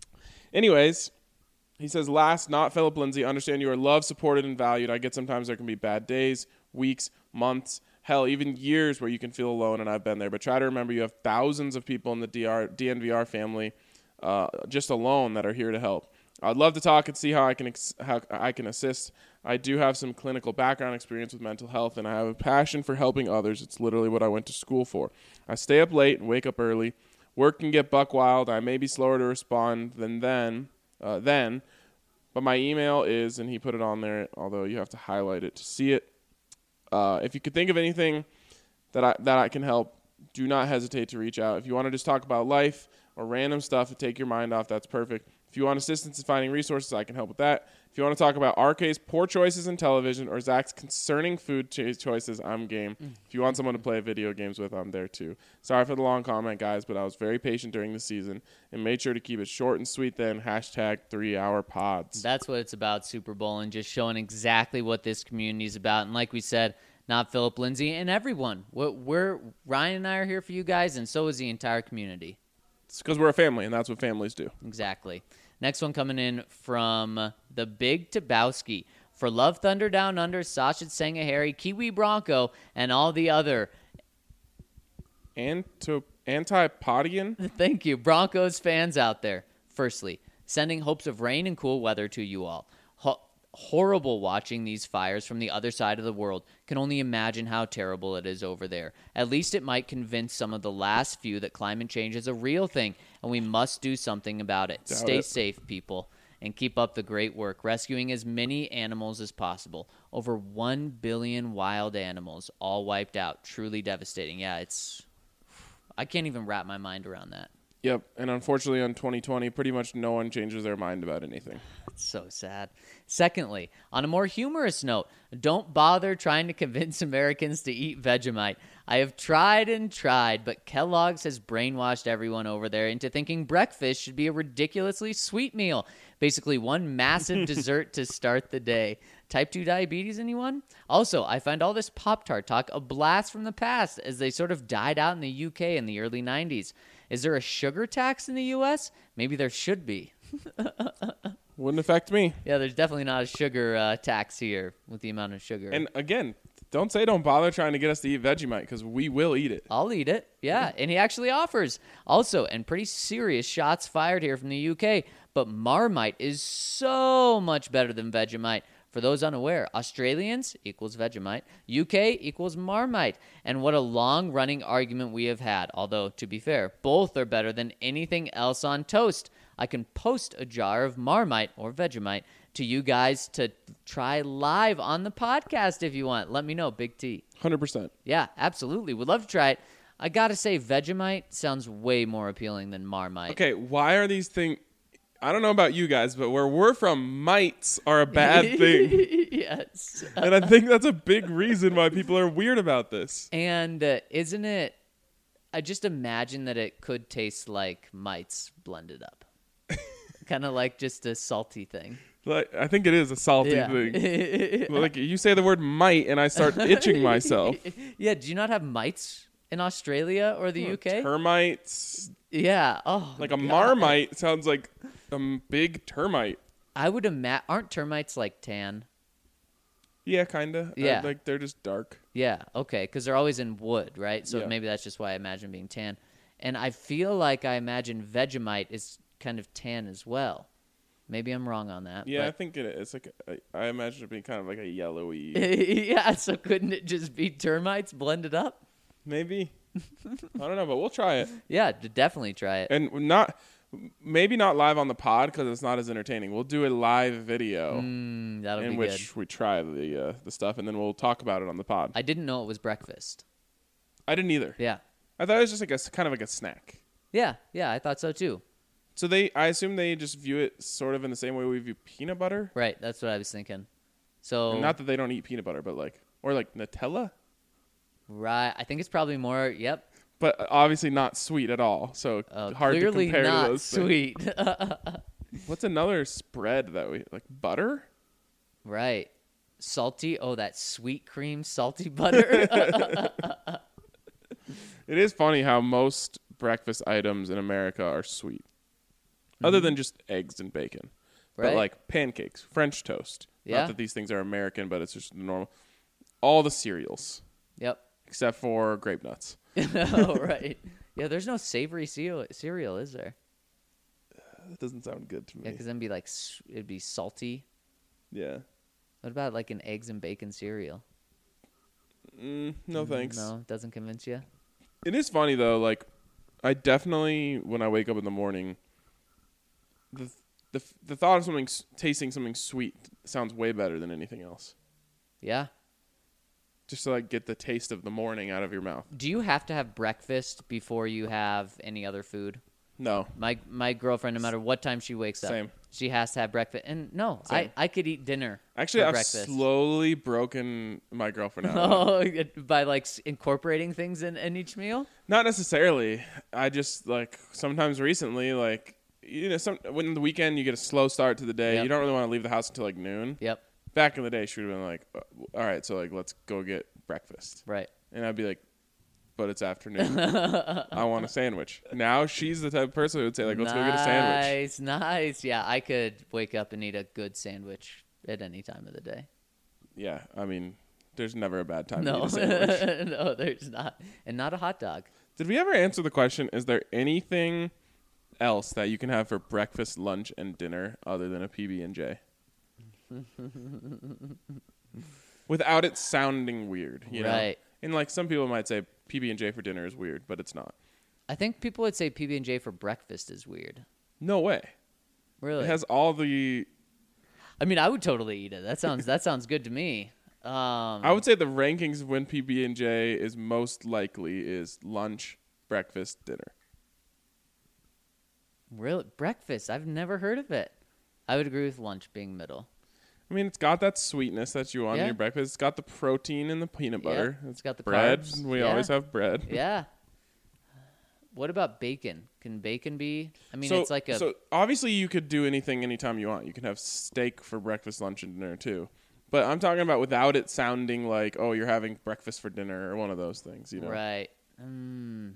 Anyways, he says, last, not Philip Lindsay, understand you are loved, supported, and valued. I get sometimes there can be bad days, weeks, months, hell, even years where you can feel alone, and I've been there. But try to remember you have thousands of people in the D R, D N V R family uh, just alone that are here to help. I'd love to talk and see how I can ex- how I can assist. I do have some clinical background experience with mental health, and I have a passion for helping others. It's literally what I went to school for. I stay up late and wake up early. Work can get buck wild. I may be slower to respond than then, uh, then, but my email is, and he put it on there, although you have to highlight it to see it. Uh, if you could think of anything that I that I can help, do not hesitate to reach out. If you want to just talk about life or random stuff to take your mind off, that's perfect. If you want assistance in finding resources, I can help with that. If you want to talk about R K's poor choices in television or Zach's concerning food cho- choices, I'm game. Mm. If you want someone to play video games with, I'm there too. Sorry for the long comment, guys, but I was very patient during the season and made sure to keep it short and sweet then. Hashtag three-hour pods. That's what it's about, Super Bowl, and just showing exactly what this community is about. And like we said, not Philip Lindsay and everyone. We're, we're Ryan and I are here for you guys, and so is the entire community. It's because we're a family, and that's what families do. Exactly. Next one coming in from the Big Tabowski. For Love Thunder Down Under, Sasha Sangahari, Kiwi Bronco, and all the other. Anto- Antipodian? Thank you, Broncos fans out there. Firstly, sending hopes of rain and cool weather to you all. Ho- horrible watching these fires from the other side of the world. Can only imagine how terrible it is over there. At least it might convince some of the last few that climate change is a real thing, and we must do something about it. Doubt Stay it. safe, people, and keep up the great work, rescuing as many animals as possible. Over one billion wild animals, all wiped out. Truly devastating. Yeah, it's... I can't even wrap my mind around that. Yep, and unfortunately on twenty twenty, pretty much no one changes their mind about anything. It's so sad. Secondly, on a more humorous note, don't bother trying to convince Americans to eat Vegemite. I have tried and tried, but Kellogg's has brainwashed everyone over there into thinking breakfast should be a ridiculously sweet meal. Basically, one massive dessert to start the day. Type two diabetes, anyone? Also, I find all this Pop-Tart talk a blast from the past, as they sort of died out in the U K in the early nineties. Is there a sugar tax in the U S? Maybe there should be. Wouldn't affect me. Yeah, there's definitely not a sugar uh, tax here with the amount of sugar. And again, don't say don't bother trying to get us to eat Vegemite, because we will eat it. I'll eat it. Yeah, and he actually offers. Also, and pretty serious shots fired here from the U K, but Marmite is so much better than Vegemite. For those unaware, Australians equals Vegemite, U K equals Marmite. And what a long-running argument we have had. Although, to be fair, both are better than anything else on toast. I can post a jar of Marmite or Vegemite to you guys to try live on the podcast if you want. Let me know, Big T. one hundred percent. Yeah, absolutely. Would love to try it. I got to say, Vegemite sounds way more appealing than Marmite. Okay, why are these things... I don't know about you guys, but where we're from, mites are a bad thing. Yes. And I think that's a big reason why people are weird about this. And uh, isn't it... I just imagine that it could taste like mites blended up. Kind of like just a salty thing. Like, I think it is a salty Yeah. thing. Like, you say the word mite, and I start itching myself. Yeah, do you not have mites in Australia or the U K? Termites. Yeah. Oh, Like a God. marmite sounds like a m- big termite. I would imagine. Aren't termites like tan? Yeah, kind of. Yeah. like, they're just dark. Yeah. Okay. Because they're always in wood, right? So Yeah. maybe that's just why I imagine being tan. And I feel like I imagine Vegemite is kind of tan as well. Maybe I'm wrong on that. Yeah, I but- think it is. It's like a, I imagine it being kind of like a yellowy. yeah. So couldn't it just be termites blended up? Maybe. I don't know, but we'll try it. Yeah. d- Definitely try it. And not, maybe not live on the pod because it's not as entertaining. We'll do a live video Mm, that'll in be which good. we try the uh, the stuff, and then we'll talk about it on the pod. I, I didn't know it was breakfast. didn't either. Yeah. I thought it was just like a s- kind of like a snack. Yeah. Yeah. I thought so too. So they, I assume they just view it sort of in the same way we view peanut butter. Right. That's what I was thinking. So And not that they don't eat peanut butter, but like, or like Nutella, right. I think it's probably more. Yep. but obviously not sweet at all. So Uh, hard to clearly compare not to those things. sweet. What's another spread that we like? Butter? Right. Salty. Oh, that sweet cream salty butter. It is funny how most breakfast items in America are sweet, other than just eggs and bacon. Right. But like pancakes, French toast. Yeah. Not that these things are American, but it's just normal. All the cereals, Yep. except for grape nuts. Oh, right. Yeah, there's no savory cereal, cereal is there? That doesn't sound good to Yeah, me. because then be like s- it'd be salty. Yeah. What about like an eggs and bacon cereal? Mm, no thanks. No, doesn't convince you. It is funny though. Like, I definitely when I wake up in the morning, the the the thought of something s- tasting something sweet sounds way better than anything else. Yeah. Just to like get the taste of the morning out of your mouth. Do you have to have breakfast before you have any other food? No. My my girlfriend, no matter what time she wakes up, Same. she has to have breakfast. And no, Same. I, I could eat dinner. Actually, for I've breakfast. slowly broken my girlfriend out. Oh, by like s- incorporating things in, in each meal? Not necessarily. I just like sometimes recently, like you know, some when the weekend you get a slow start to the day. Yep. You don't really want to leave the house until like noon. Yep. Back in the day, she would have been like, uh, "All right, so like let's go get breakfast," Right. and I'd be like, "But it's afternoon. I want a sandwich." Now she's the type of person who would say like, "Let's go get a sandwich." Nice, nice. Yeah, I could wake up and eat a good sandwich at any time of the day. Yeah, I mean, there's never a bad time to No, eat a sandwich. no, there's not, and not a hot dog. Did we ever answer the question? Is there anything else that you can have for breakfast, lunch, and dinner other than a P B and J? Without it sounding weird, you know? Right. And like some people might say P B and J for dinner is weird, but it's not. I think people would say P B and J for breakfast is weird. No way. Really? It has all the. I mean, I would totally eat it. That sounds that sounds good to me. Um, I would say the rankings of when P B and J is most likely is lunch, breakfast, dinner. really breakfast. I've never heard of it. I would agree with lunch being middle. I mean, it's got that sweetness that you want Yeah. in your breakfast. It's got the protein in the peanut butter. Yeah, it's got the bread. carbs. We Yeah. always have bread. Yeah. What about bacon? Can bacon be? I mean, so, it's like a so obviously you could do anything anytime you want. You can have steak for breakfast, lunch, and dinner too. But I'm talking about without it sounding like, oh, you're having breakfast for dinner or one of those things. You know, right. Mm.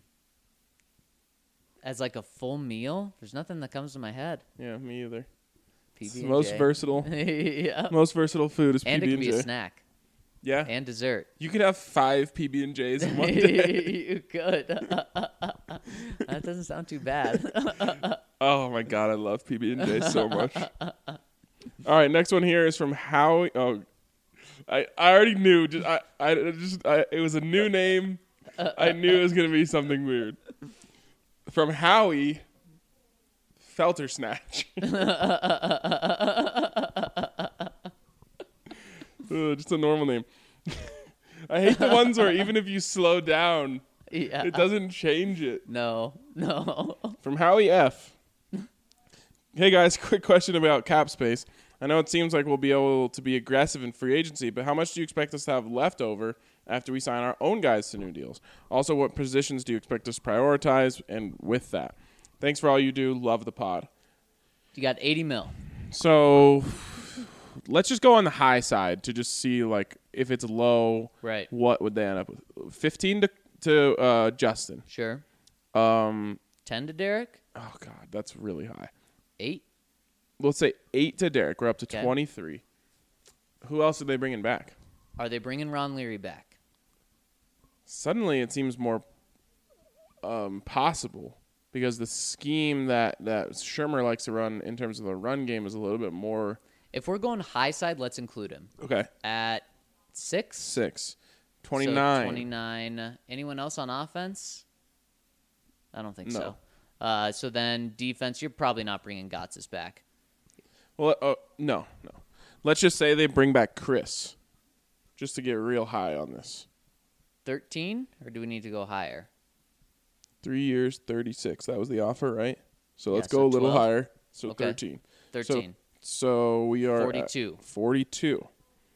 As like a full meal, there's nothing that comes to my head. Yeah, me either. P It's B the and most J. versatile. Yeah. Most versatile food is And it P B could and be a J. snack Yeah, and dessert. you could have five P B and J's in one day. You could. That doesn't sound too bad. Oh my god, I love P B and J so much. All right, next one here is from Howie. Oh, I, I already knew. Just I, I just I, it was a new name. I knew it was gonna be something weird. From Howie, Felter Snatch. Uh, just a normal name. I hate the ones where even if you slow down, Yeah. it doesn't change it. No, no. From Howie F. Hey guys, quick question about cap space. I know it seems like we'll be able to be aggressive in free agency, but how much do you expect us to have left over after we sign our own guys to new deals? Also, what positions do you expect us to prioritize? And with that, thanks for all you do. Love the pod. You got eighty mil. So let's just go on the high side to just see like if it's low. Right. What would they end up with? Fifteen to to uh, Justin. Sure. Um. ten to Derek. Oh God, that's really high. Eight. Let's say eight to Derek. We're up to Okay. twenty-three. Who else are they bringing back? Are they bringing Ron Leary back? Suddenly, it seems more um, possible because the scheme that that Shermer likes to run in terms of the run game is a little bit more. If we're going high side, let's include him. Okay. At six? Six. So twenty-nine. twenty-nine. Anyone else on offense? I don't think No. so. Uh, so then defense, you're probably not bringing Gotsis back. Well, uh, no, no. Let's just say they bring back Chris, just to get real high on this. thirteen? Or do we need to go higher? Three years, thirty-six. That was the offer, right? So Yeah, let's so go a little twelve. higher. So Okay. thirteen. thirteen. So, so we are forty-two. At forty-two.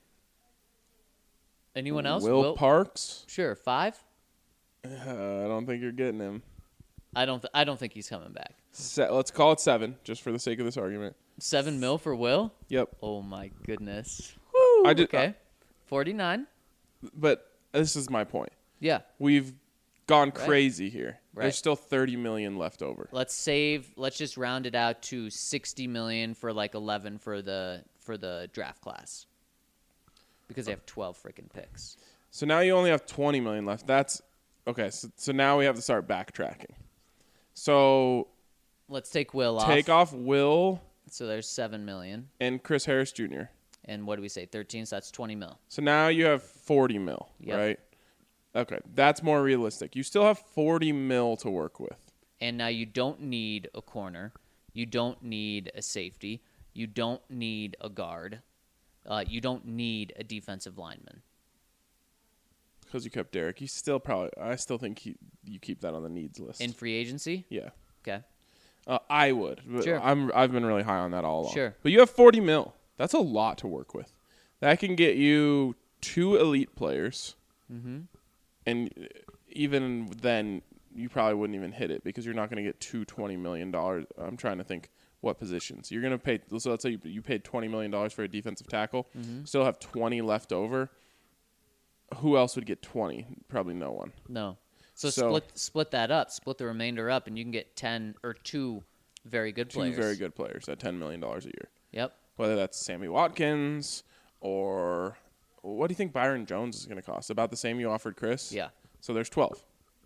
Anyone else? Will, Parks? Sure. Five? Uh, I don't think you're getting him. I don't. Th- I don't think he's coming back. Se- let's call it seven, just for the sake of this argument. Seven mil for Will? Yep. Oh my goodness. Woo, I did- okay. Forty-nine. But this is my point. Yeah. We've gone Right. crazy here. Right. There's still thirty million left over. Let's save. Let's just round it out to sixty million for like eleven for the for the draft class, because they have twelve freaking picks. So now you only have twenty million left. That's okay. So, so now we have to start backtracking. So Let's take Will off. take off Will So there's seven million. and Chris Harris Junior And what do we say? Thirteen. So that's twenty mil. So now you have forty mil, Yep. right? Okay, that's more realistic. You still have forty mil to work with. And now you don't need a corner. You don't need a safety. You don't need a guard. Uh, you don't need a defensive lineman. Because you kept Derek. You still probably, I still think he, you keep that on the needs list. In free agency? yeah. Okay. Uh, I would. But Sure. I'm, I've been really high on that all along. Sure. But you have forty mil. That's a lot to work with. That can get you two elite players. Mm-hmm. And even then, you probably wouldn't even hit it because you're not going to get two twenty million dollars. I'm trying to think what positions. You're going to pay, so let's say you, you paid twenty million dollars for a defensive tackle, Mm-hmm. still have twenty left over. Who else would get twenty? Probably no one. No. So, So- split split that up. Split the remainder up, and you can get ten or two very good Two players. very good players at ten million dollars a year. Yep. Whether that's Sammy Watkins or what do you think Byron Jones is going to cost? About the same you offered Chris? Yeah. So there's twelve.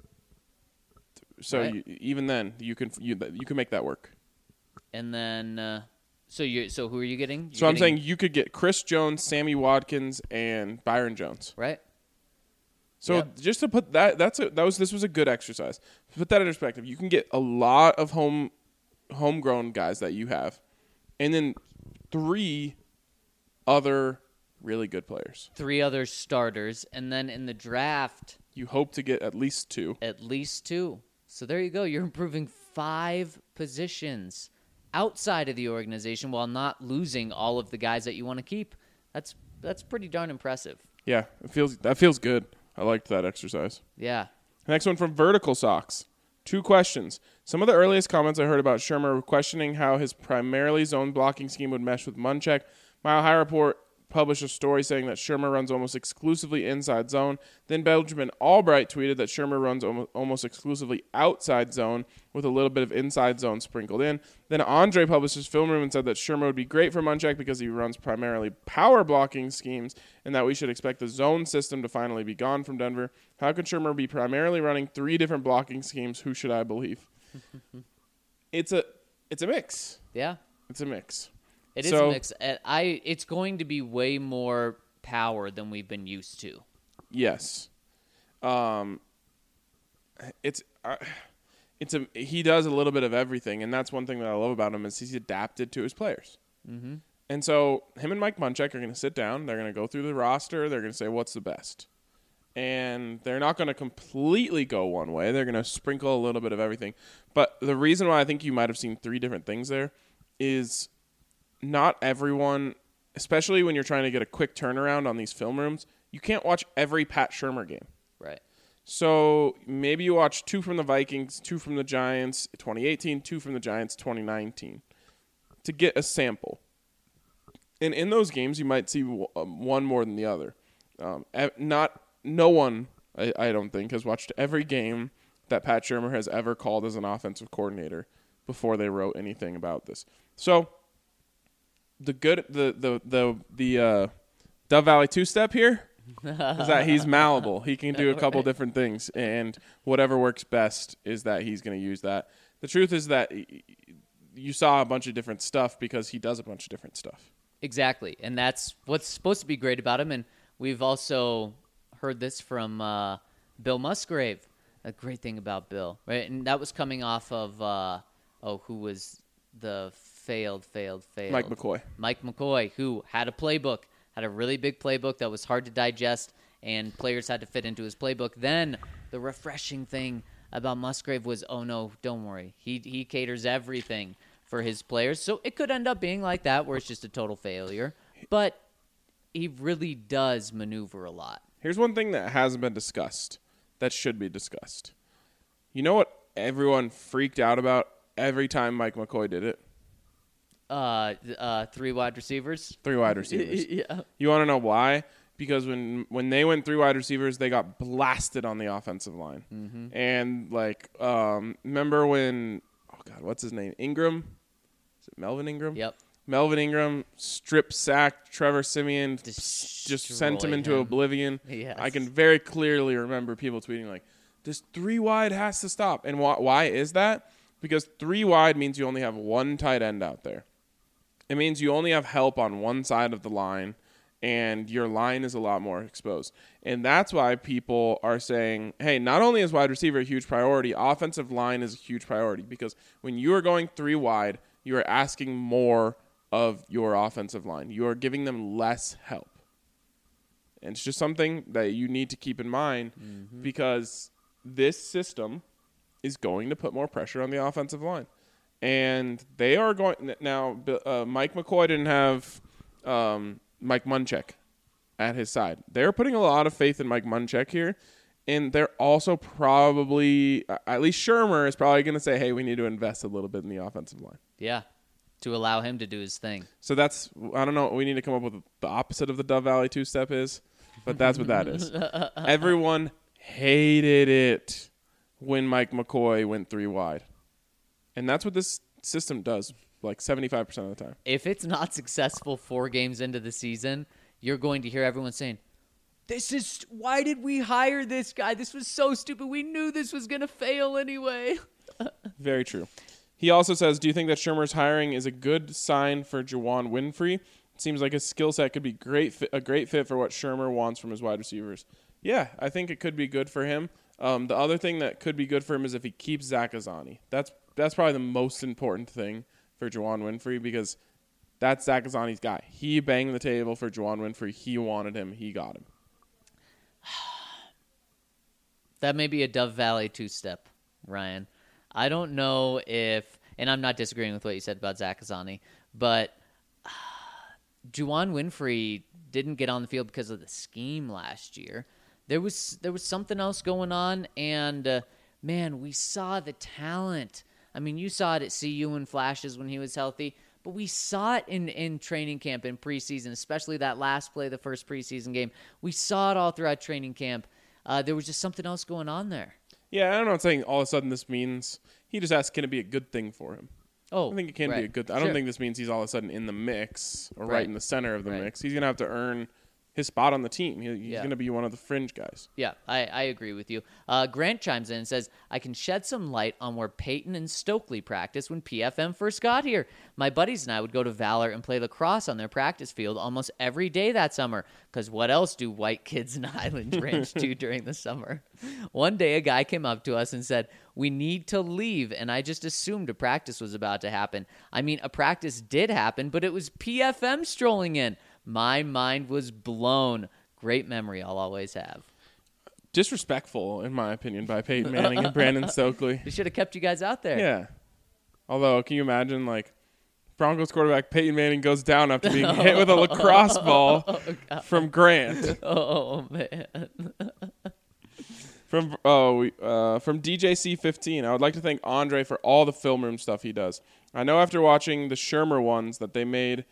So Right. you, even then, you can you, you can make that work. And then, uh, so you so who are you getting? You're So I'm getting- saying you could get Chris Jones, Sammy Watkins, and Byron Jones. right. So Yep. just to put that, that's a, that was this was a good exercise. To put that in perspective, you can get a lot of home, homegrown guys that you have, and then three other really good players. Three other starters, and then in the draft, You hope to get at least two. at least two. So there you go. You're improving five positions outside of the organization while not losing all of the guys that you want to keep. That's that's pretty darn impressive. Yeah, it feels that feels good. I liked that exercise. Yeah. Next one from Vertical Socks. Two questions. Some of the earliest comments I heard about Shermer were questioning how his primarily zone blocking scheme would mesh with Munchak. Mile High Report published a story saying that Shermer runs almost exclusively inside zone. Then Benjamin Albright tweeted that Shermer runs almo- almost exclusively outside zone with a little bit of inside zone sprinkled in. Then Andre published his film room and said that Shermer would be great for Munchak because he runs primarily power blocking schemes and that we should expect the zone system to finally be gone from Denver. How could Shermer be primarily running three different blocking schemes? Who should I believe? it's a it's a mix. Yeah. It's a mix. It is So- a mix. Uh, I it's going to be way more power than we've been used to. Yes. Um. It's uh, it's a he does a little bit of everything, and that's one thing that I love about him is he's adapted to his players. Mm-hmm. And so him and Mike Munchak are going to sit down. They're going to go through the roster. They're going to say, what's the best? And they're not going to completely go one way. They're going to sprinkle a little bit of everything. But the reason why I think you might have seen three different things there is not everyone, especially when you're trying to get a quick turnaround on these film rooms, you can't watch every Pat Shurmur game. Right. So maybe you watch two from the Vikings, two from the Giants twenty eighteen, two from the Giants twenty nineteen to get a sample. And in those games, you might see one more than the other. Um, not no one, I, I don't think, has watched every game that Pat Shurmur has ever called as an offensive coordinator before they wrote anything about this. So the good, the the the the uh, Dove Valley two-step here is that he's malleable. He can do a couple Right. different things, and whatever works best is that he's going to use that. The truth is that you saw a bunch of different stuff because he does a bunch of different stuff. Exactly, and that's what's supposed to be great about him. And we've also heard this from uh, Bill Musgrave. A great thing about Bill, right? And that was coming off of uh, oh, who was the failed, failed, failed Mike McCoy. Mike McCoy, who had a playbook, had a really big playbook that was hard to digest, and players had to fit into his playbook. Then the refreshing thing about Musgrave was, oh no, don't worry, he he caters everything for his players. So it could end up being like that, where it's just a total failure. But he really does maneuver a lot. Here's one thing that hasn't been discussed that should be discussed. You know what everyone freaked out about every time Mike McCoy did it? Uh, uh, three wide receivers. Three wide receivers. Yeah. You want to know why? Because when when they went three wide receivers, they got blasted on the offensive line. Mm-hmm. And, like, um, remember when, oh, God, what's his name? Ingram? Is it Melvin Ingram? Yep. Melvin Ingram strip sacked Trevor Siemian, Destroy just sent him into him. oblivion. Yes. I can very clearly remember people tweeting like, this three wide has to stop. And wh- why is that? Because three wide means you only have one tight end out there. It means you only have help on one side of the line, and your line is a lot more exposed. And that's why people are saying, hey, not only is wide receiver a huge priority, offensive line is a huge priority. Because when you are going three wide, you are asking more of your offensive line. You are giving them less help. And it's just something that you need to keep in mind mm-hmm. because this system is going to put more pressure on the offensive line. And they are going – now, uh, Mike McCoy didn't have um, Mike Munchak at his side. They're putting a lot of faith in Mike Munchak here. And they're also probably – at least Shurmur is probably going to say, hey, we need to invest a little bit in the offensive line. Yeah, to allow him to do his thing. So that's – I don't know. We need to come up with the opposite of the Dove Valley two-step is, but that's what that is. Everyone hated it when Mike McCoy went three wide. And that's what this system does, like seventy-five percent of the time. If it's not successful four games into the season, you're going to hear everyone saying, this is, why did we hire this guy? This was so stupid. We knew this was going to fail anyway. Very true. He also says, do you think that Shurmur's hiring is a good sign for Juwann Winfree? It seems like his skill set could be great, fi- a great fit for what Shurmur wants from his wide receivers. Yeah, I think it could be good for him. Um, the other thing that could be good for him is if he keeps Zach Azzanni. That's That's probably the most important thing for Juwann Winfree because that's Zach Azzanni's guy. He banged the table for Juwann Winfree. He wanted him. He got him. That may be a Dove Valley two-step, Ryan. I don't know if, and I'm not disagreeing with what you said about Zach Azzanni, but uh, Juwann Winfree didn't get on the field because of the scheme last year. There was there was something else going on, and uh, man, we saw the talent. I mean, you saw it at C U in flashes when he was healthy, but we saw it in, in training camp and preseason, especially that last play, the first preseason game. We saw it all throughout training camp. Uh, there was just something else going on there. Yeah, I'm not saying all of a sudden this means he just asked, can it be a good thing for him? Oh, I think it can right. be a good thing. I Sure. don't think this means he's all of a sudden in the mix or right, Right. in the center of the Right. mix. He's going to have to earn his spot on the team. He, he's Yeah. going to be one of the fringe guys. Yeah, I, I agree with you. Uh, Grant chimes in and says, I can shed some light on where Peyton and Stokely practiced when P F M first got here. My buddies and I would go to Valor and play lacrosse on their practice field almost every day that summer, because what else do white kids in Highland Ranch do during the summer? One day, a guy came up to us and said, we need to leave, and I just assumed a practice was about to happen. I mean, a practice did happen, but it was P F M strolling in. My mind was blown. Great memory I'll always have. Disrespectful, in my opinion, by Peyton Manning and Brandon Stokely. They should have kept you guys out there. Yeah. Although, can you imagine, like, Broncos quarterback Peyton Manning goes down after being hit with a lacrosse ball oh, from Grant. Oh, man. From oh we, uh, from D J C fifteen, I would like to thank Andre for all the film room stuff he does. I know after watching the Shermer ones that they made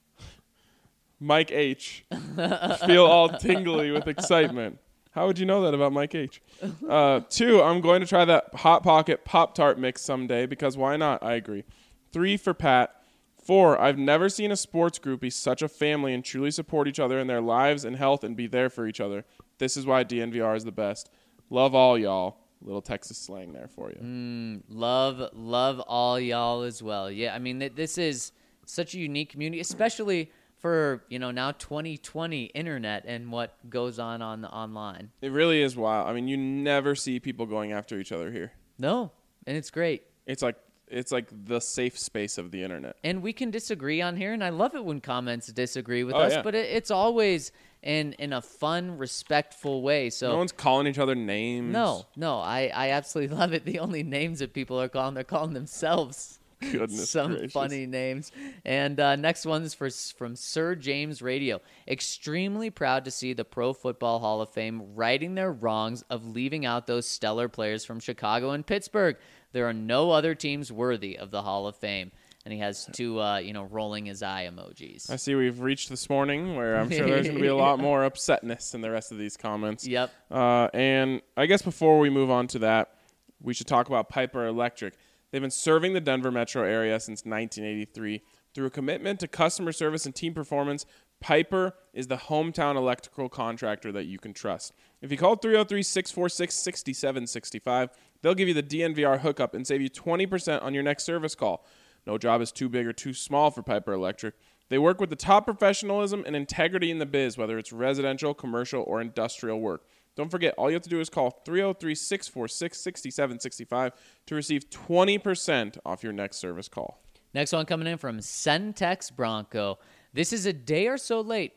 Mike H feel all tingly with excitement. How would you know that about Mike H? Uh, two, I'm going to try that Hot Pocket Pop-Tart mix someday because why not? I agree. Three for Pat. Four, I've never seen a sports group be such a family and truly support each other in their lives and health and be there for each other. This is why D N V R is the best. Love all y'all. Little Texas slang there for you. Mm, love, love all y'all as well. Yeah, I mean, th- this is such a unique community, especially for, you know, now twenty twenty internet and what goes on on the online. It really is wild. I mean, you never see people going after each other here. No, and it's great. It's like it's like the safe space of the internet. And we can disagree on here, and I love it when comments disagree with Oh, us, yeah. but it, it's always in in a fun, respectful way. So No one's calling each other names. no, no, I, I absolutely love it. The only names that people are calling, they're calling themselves. Goodness Some gracious. funny names. And uh, next one's for, from Sir James Radio. Extremely proud to see the Pro Football Hall of Fame righting their wrongs of leaving out those stellar players from Chicago and Pittsburgh. There are no other teams worthy of the Hall of Fame. And he has two, uh, you know, rolling his eye emojis. I see we've reached this morning where I'm sure there's going to be a lot more upsetness in the rest of these comments. Yep. Uh, and I guess before we move on to that, we should talk about Piper Electric. They've been serving the Denver metro area since nineteen eighty-three. Through a commitment to customer service and team performance, Piper is the hometown electrical contractor that you can trust. If you call three oh three, six four six, six seven six five, they'll give you the D N V R hookup and save you twenty percent on your next service call. No job is too big or too small for Piper Electric. They work with the top professionalism and integrity in the biz, whether it's residential, commercial, or industrial work. Don't forget, all you have to do is call three oh three, six four six, six seven six five to receive twenty percent off your next service call. Next one coming in from Centex Bronco. This is a day or so late,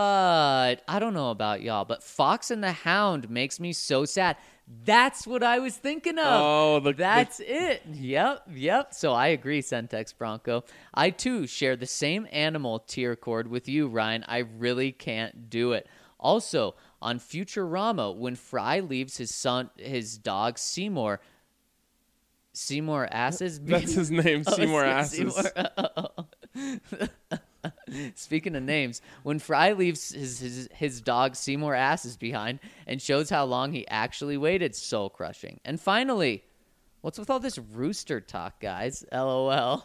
but I don't know about y'all, but Fox and the Hound makes me so sad. That's what I was thinking of. Oh, the- That's it. Yep, yep. So I agree, Centex Bronco. I, too, share the same animal tier cord with you, Ryan. I really can't do it. Also, on Futurama, when Fry leaves his son, his dog Seymour, Seymour Asses. That's his name, Oh, Seymour Se- Asses. Seymour- Speaking of names, when Fry leaves his, his his dog Seymour Asses behind and shows how long he actually waited, soul crushing. And finally, what's with all this rooster talk, guys? LOL.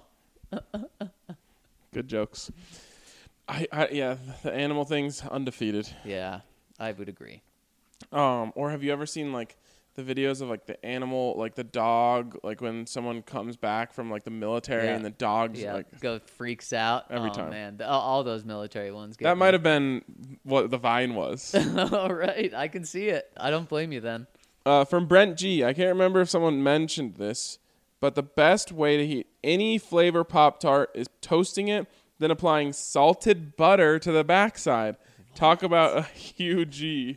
Good jokes. I, I yeah, the animal thing's undefeated. Yeah, I would agree. Um, or have you ever seen like the videos of like the animal, like the dog, like when someone comes back from like the military Yeah. and the dog's Yeah, like go freaks out Every oh, time. Man, the, all, all those military ones. Get that me. might have been what the Vine was. All right, I can see it. I don't blame you then. Uh, from Brent G. I can't remember if someone mentioned this, but the best way to heat any flavor Pop-Tart is toasting it, then applying salted butter to the backside. What? Talk about a huge G.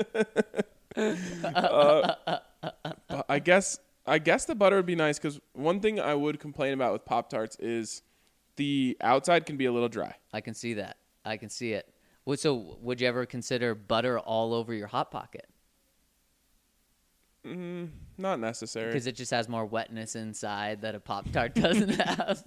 uh, I guess I guess the butter would be nice because one thing I would complain about with Pop-Tarts is the outside can be a little dry. I can see that. I can see it. Well, so would you ever consider butter all over your Hot Pocket? Mm, not necessary. Because it just has more wetness inside that a Pop-Tart doesn't have.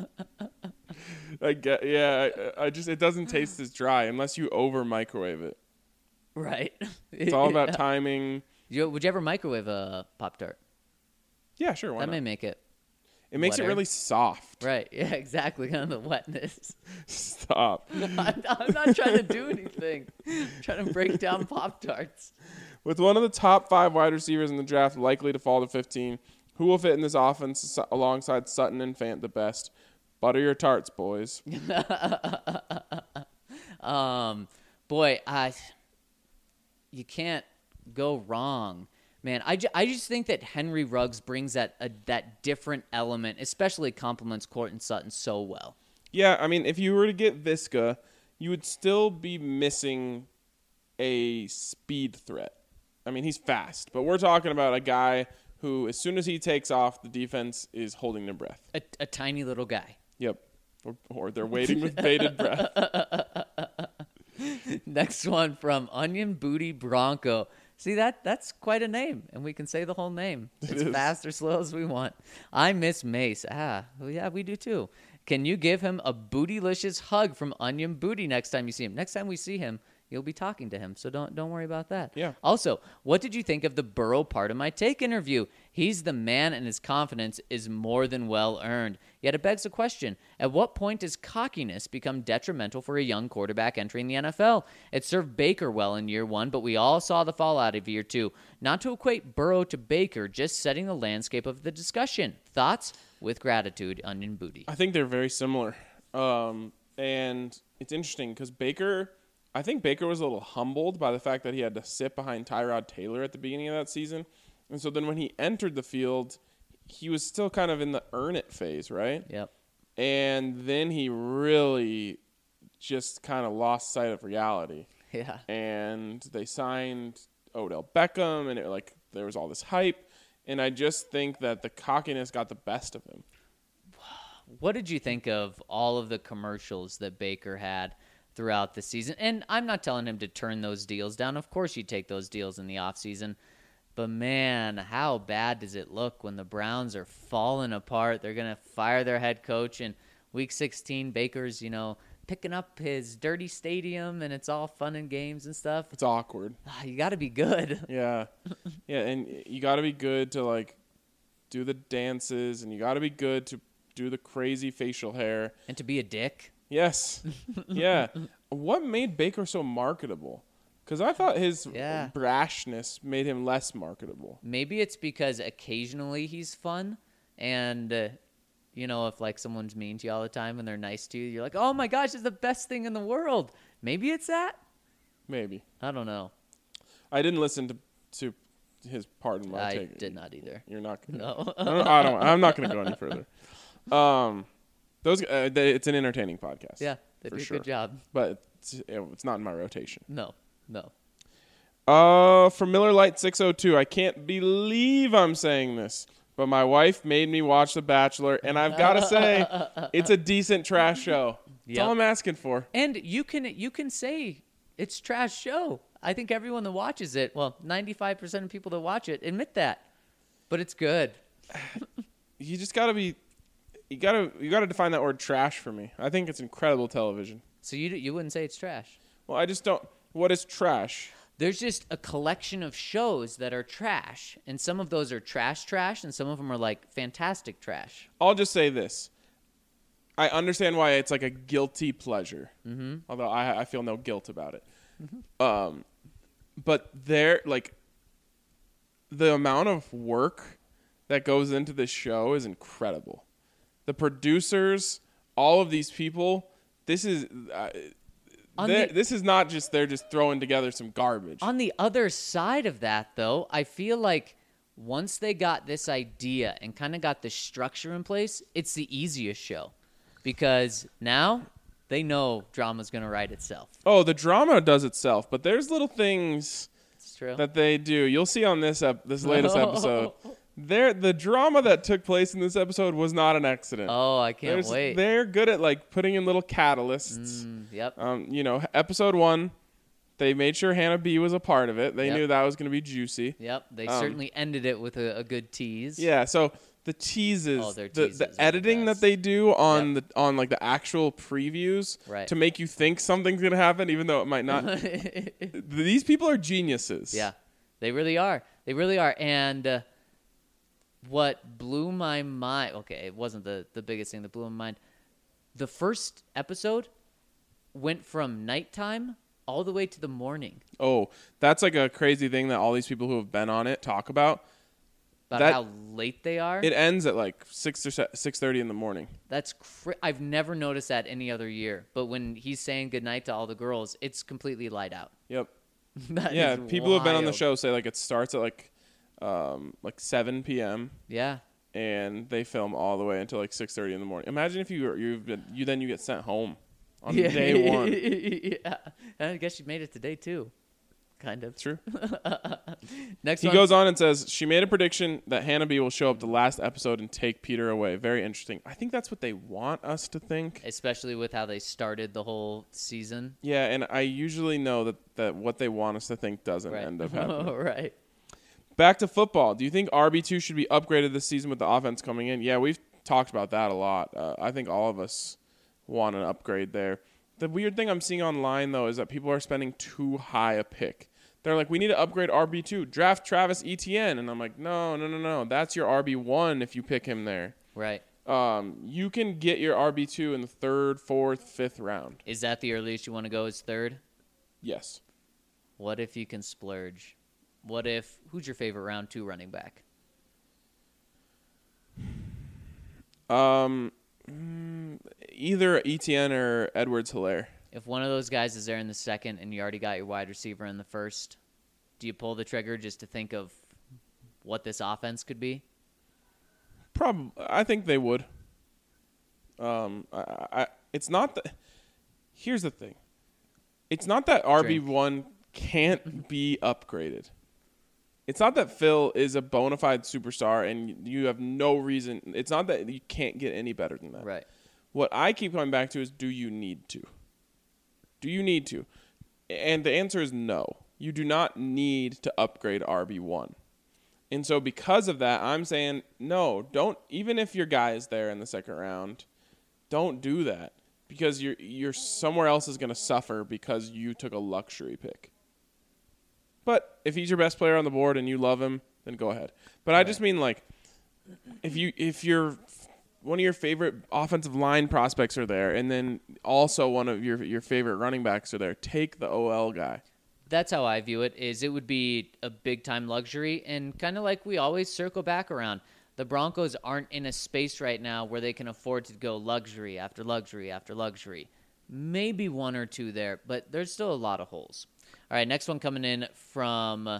I get, yeah, I, I just it doesn't taste as dry unless you over microwave it. Right. It's all about timing. You, would you ever microwave a Pop-Tart? Yeah, sure. Why That not? may make it. It makes wetter. it really soft. Right. Yeah, exactly. Kind of the wetness. Stop. I'm, I'm not trying to do anything. I'm trying to break down Pop-Tarts. With one of the top five wide receivers in the draft likely to fall to fifteen, who will fit in this offense alongside Sutton and Fant the best? Butter your tarts, boys. um, boy, I you can't go wrong. Man, I, ju- I just think that Henry Ruggs brings that a, that different element, especially complements Courtland Sutton so well. Yeah, I mean, if you were to get Visca, you would still be missing a speed threat. I mean, he's fast, but we're talking about a guy who, as soon as he takes off, the defense is holding their breath. A, a tiny little guy. Yep. Or, or they're waiting with bated breath. Next one from Onion Booty Bronco. See, that that's quite a name, and we can say the whole name. It's is. fast or slow as we want. I miss Mace. Ah, well, yeah, we do too. Can you give him a bootylicious hug from Onion Booty next time you see him? Next time we see him, you'll be talking to him, so don't don't worry about that. Yeah. Also, what did you think of the Burrow part of my take interview? He's the man, and his confidence is more than well earned. Yet it begs the question, at what point does cockiness become detrimental for a young quarterback entering the N F L? It served Baker well in year one, but we all saw the fallout of year two. Not to equate Burrow to Baker, just setting the landscape of the discussion. Thoughts? With gratitude, Onion Booty. I think they're very similar. Um, and it's interesting because Baker, I think Baker was a little humbled by the fact that he had to sit behind Tyrod Taylor at the beginning of that season. And so then when he entered the field, he was still kind of in the earn it phase, right? Yep. And then he really just kind of lost sight of reality. Yeah. And they signed Odell Beckham, and it like there was all this hype. And I just think that the cockiness got the best of him. What did you think of all of the commercials that Baker had throughout the season? And I'm not telling him to turn those deals down. Of course you take those deals in the offseason. But, man, how bad does it look when the Browns are falling apart? They're going to fire their head coach in Week sixteen. Baker's, you know, picking up his dirty stadium, and it's all fun and games and stuff. It's awkward. Ah, you got to be good. Yeah. Yeah, and you got to be good to, like, do the dances, and you got to be good to do the crazy facial hair. And to be a dick. Yes. Yeah. What made Baker so marketable? Because I thought his Yeah. brashness made him less marketable. Maybe it's because occasionally he's fun, and uh, you know, if like someone's mean to you all the time and they're nice to you, you're like, oh my gosh, it's the best thing in the world. Maybe it's that. Maybe. I don't know. I didn't listen to to his part in my I take. did not either. You're not gonna. No. I don't. I don't I'm not going to go any further. Um, those. Uh, they, it's an entertaining podcast. Yeah, they for did a sure. good job. But it's, it's not in my rotation. No, no. Uh, from Miller Lite six oh two, I can't believe I'm saying this, but my wife made me watch The Bachelor, and I've got to say, it's a decent trash show. That's Yep. all I'm asking for. And you can you can say it's trash show. I think everyone that watches it, well, ninety-five percent of people that watch it admit that. But it's good. You just got to be, you got to you got to define that word trash for me. I think it's incredible television. So you you wouldn't say it's trash. Well, I just don't. What is trash? There's just a collection of shows that are trash, and some of those are trash trash, and some of them are like fantastic trash. I'll just say this. I understand why it's like a guilty pleasure, mm-hmm. although I, I feel no guilt about it. Mm-hmm. Um, but there, like, the amount of work that goes into this show is incredible. The producers, all of these people, this is uh, the, this is not just they're just throwing together some garbage. On the other side of that, though, I feel like once they got this idea and kind of got the structure in place, it's the easiest show. Because now they know drama's going to write itself. Oh, the drama does itself, but there's little things It's true. that they do. You'll see on this ep- this latest episode. There, the drama that took place in this episode was not an accident. Oh, I can't There's- wait. They're good at like putting in little catalysts. Mm, yep. Um, you know, episode one, they made sure Hannah B was a part of it. They Yep. knew that was going to be juicy. Yep. They um, certainly ended it with a, a good tease. Yeah. So the teases, Oh, their the, teases are the the editing that best. they do on Yep. the on like the actual previews Right. to make you think something's going to happen, even though it might not. These people are geniuses. Yeah, they really are. They really are. And uh, what blew my mind, okay, it wasn't the, the biggest thing that blew my mind. The first episode went from nighttime all the way to the morning. Oh, that's like a crazy thing that all these people who have been on it talk about. About That- how late they are. It ends at like six or six thirty in the morning. That's cra- I've never noticed that any other year. But when he's saying goodnight to all the girls, it's completely light out. Yep. That Yeah, is people who have been on the wild. show say like it starts at like um like seven p.m. Yeah. and they film all the way until like six thirty in the morning. Imagine if you were you've been, you then you get sent home on yeah. day one. yeah. And I guess you made it to day two. Kind of. It's true. Next He one. goes on and says she made a prediction that Hannah B will show up the last episode and take Peter away. Very interesting. I think that's what they want us to think. Especially with how they started the whole season. Yeah, and I usually know that, that what they want us to think doesn't Right. end up happening. right. Back to football. Do you think R B two should be upgraded this season with the offense coming in? Yeah, we've talked about that a lot. Uh, I think all of us want an upgrade there. The weird thing I'm seeing online, though, is that people are spending too high a pick. They're like, we need to upgrade R B two. Draft Travis Etienne. And I'm like, no, no, no, no. That's your R B one if you pick him there. Right. Um, you can get your R B two in the third, fourth, fifth round. Is that the earliest you want to go as third? Yes. What if you can splurge? What if, who's your favorite round two running back? Um, mm, either Etienne or Edwards-Helaire. If one of those guys is there in the second and you already got your wide receiver in the first, do you pull the trigger just to think of what this offense could be? Probably, I think they would. Um, I, I, it's not that. Here's the thing. It's not that R B one can't be upgraded. It's not that Phil is a bona fide superstar and you have no reason. It's not that you can't get any better than that. Right. What I keep coming back to is, do you need to? Do you need to? And the answer is no. You do not need to upgrade R B one. And so because of that, I'm saying, no, don't, even if your guy is there in the second round, don't do that. Because you're you're somewhere else is going to suffer because you took a luxury pick. But if he's your best player on the board and you love him, then go ahead. But I just mean, like, if you if you're one of your favorite offensive line prospects are there, and then also one of your your favorite running backs are there, take the O L guy. That's how I view it, is it would be a big-time luxury, and kind of like we always circle back around. The Broncos aren't in a space right now where they can afford to go luxury after luxury after luxury. Maybe one or two there, but there's still a lot of holes. All right, next one coming in from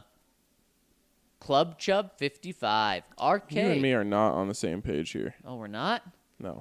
Club Chub fifty-five. R K. You and me are not on the same page here. Oh, we're not? No.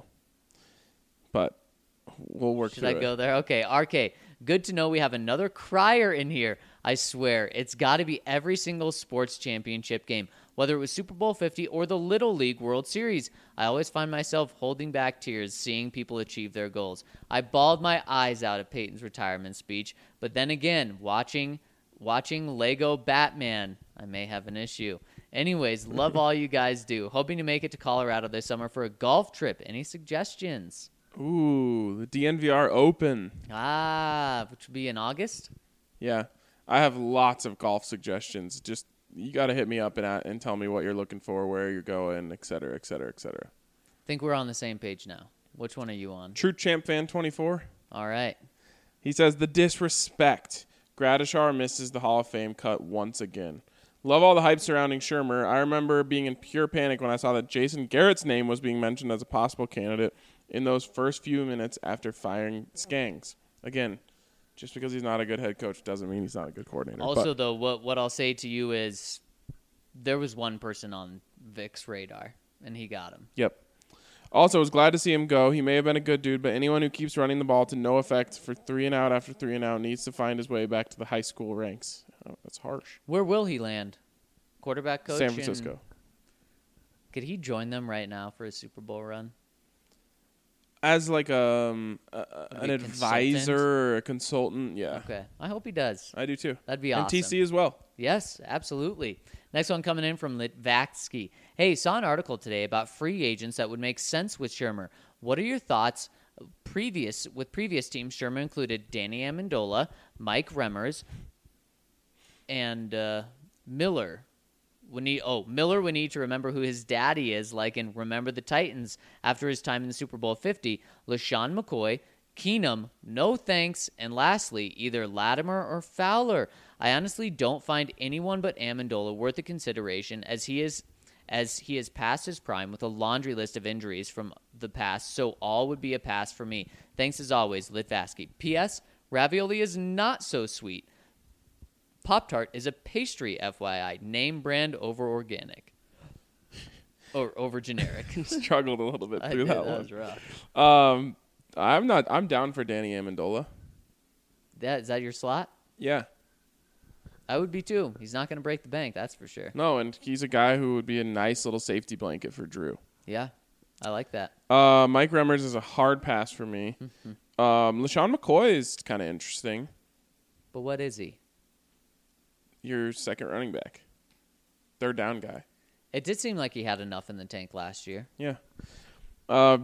But we'll work Should through I it. go there? Okay, R K. Good to know we have another crier in here. I swear, it's got to be every single sports championship game, whether it was Super Bowl fifty or the Little League World Series. I always find myself holding back tears seeing people achieve their goals. I bawled my eyes out at Peyton's retirement speech, but then again, watching watching Lego Batman, I may have an issue. Anyways, love all you guys do. Hoping to make it to Colorado this summer for a golf trip. Any suggestions? Ooh, the D N V R Open. Ah, which would be in August? Yeah. I have lots of golf suggestions. Just you got to hit me up and at, and tell me what you're looking for, where you're going, et cetera, et cetera, et cetera. Think we're on the same page now. Which one are you on? True Champ Fan twenty-four. All right. He says, the disrespect. Gradishar misses the Hall of Fame cut once again. Love all the hype surrounding Shermer. I remember being in pure panic when I saw that Jason Garrett's name was being mentioned as a possible candidate in those first few minutes after firing Skangs. Again, just because he's not a good head coach doesn't mean he's not a good coordinator. Also, But though, what what I'll say to you is there was one person on Vic's radar, and he got him. Yep. Also, was glad to see him go. He may have been a good dude, but anyone who keeps running the ball to no effect for three and out after three and out needs to find his way back to the high school ranks. Oh, that's harsh. Where will he land? Quarterback coach? San in- Francisco. Could he join them right now for a Super Bowl run? As like um, a, a- Like an a advisor consultant? or a consultant, yeah. Okay. I hope he does. I do too. That'd be and awesome. T C as well. Yes, absolutely. Next one coming in from Litvatsky. Hey, saw an article today about free agents that would make sense with Shermer. What are your thoughts? Previous with previous teams, Shermer included Danny Amendola, Mike Remmers, and uh, Miller. We need, oh, Miller would need to remember who his daddy is, like in Remember the Titans after his time in the Super Bowl fifty. LaShawn McCoy, Keenum, no thanks, and lastly, either Latimer or Fowler. I honestly don't find anyone but Amendola worth a consideration, as he is as he has passed his prime with a laundry list of injuries from the past, so all would be a pass for me. Thanks as always, Litvasky. P S. Ravioli is not so sweet. Pop-Tart is a pastry, F Y I. Name brand over organic. Or over generic. Struggled a little bit I through did, that, that one. was rough. Um, I'm not. I'm down for Danny Amendola. That, is that your slot? Yeah. I would be too. He's not going to break the bank, that's for sure. No, and he's a guy who would be a nice little safety blanket for Drew. Yeah, I like that. Uh, Mike Remmers is a hard pass for me. um, LaShawn McCoy is kind of interesting. But what is he? Your second running back, third down guy. It did seem like he had enough in the tank last year. Yeah. Uh,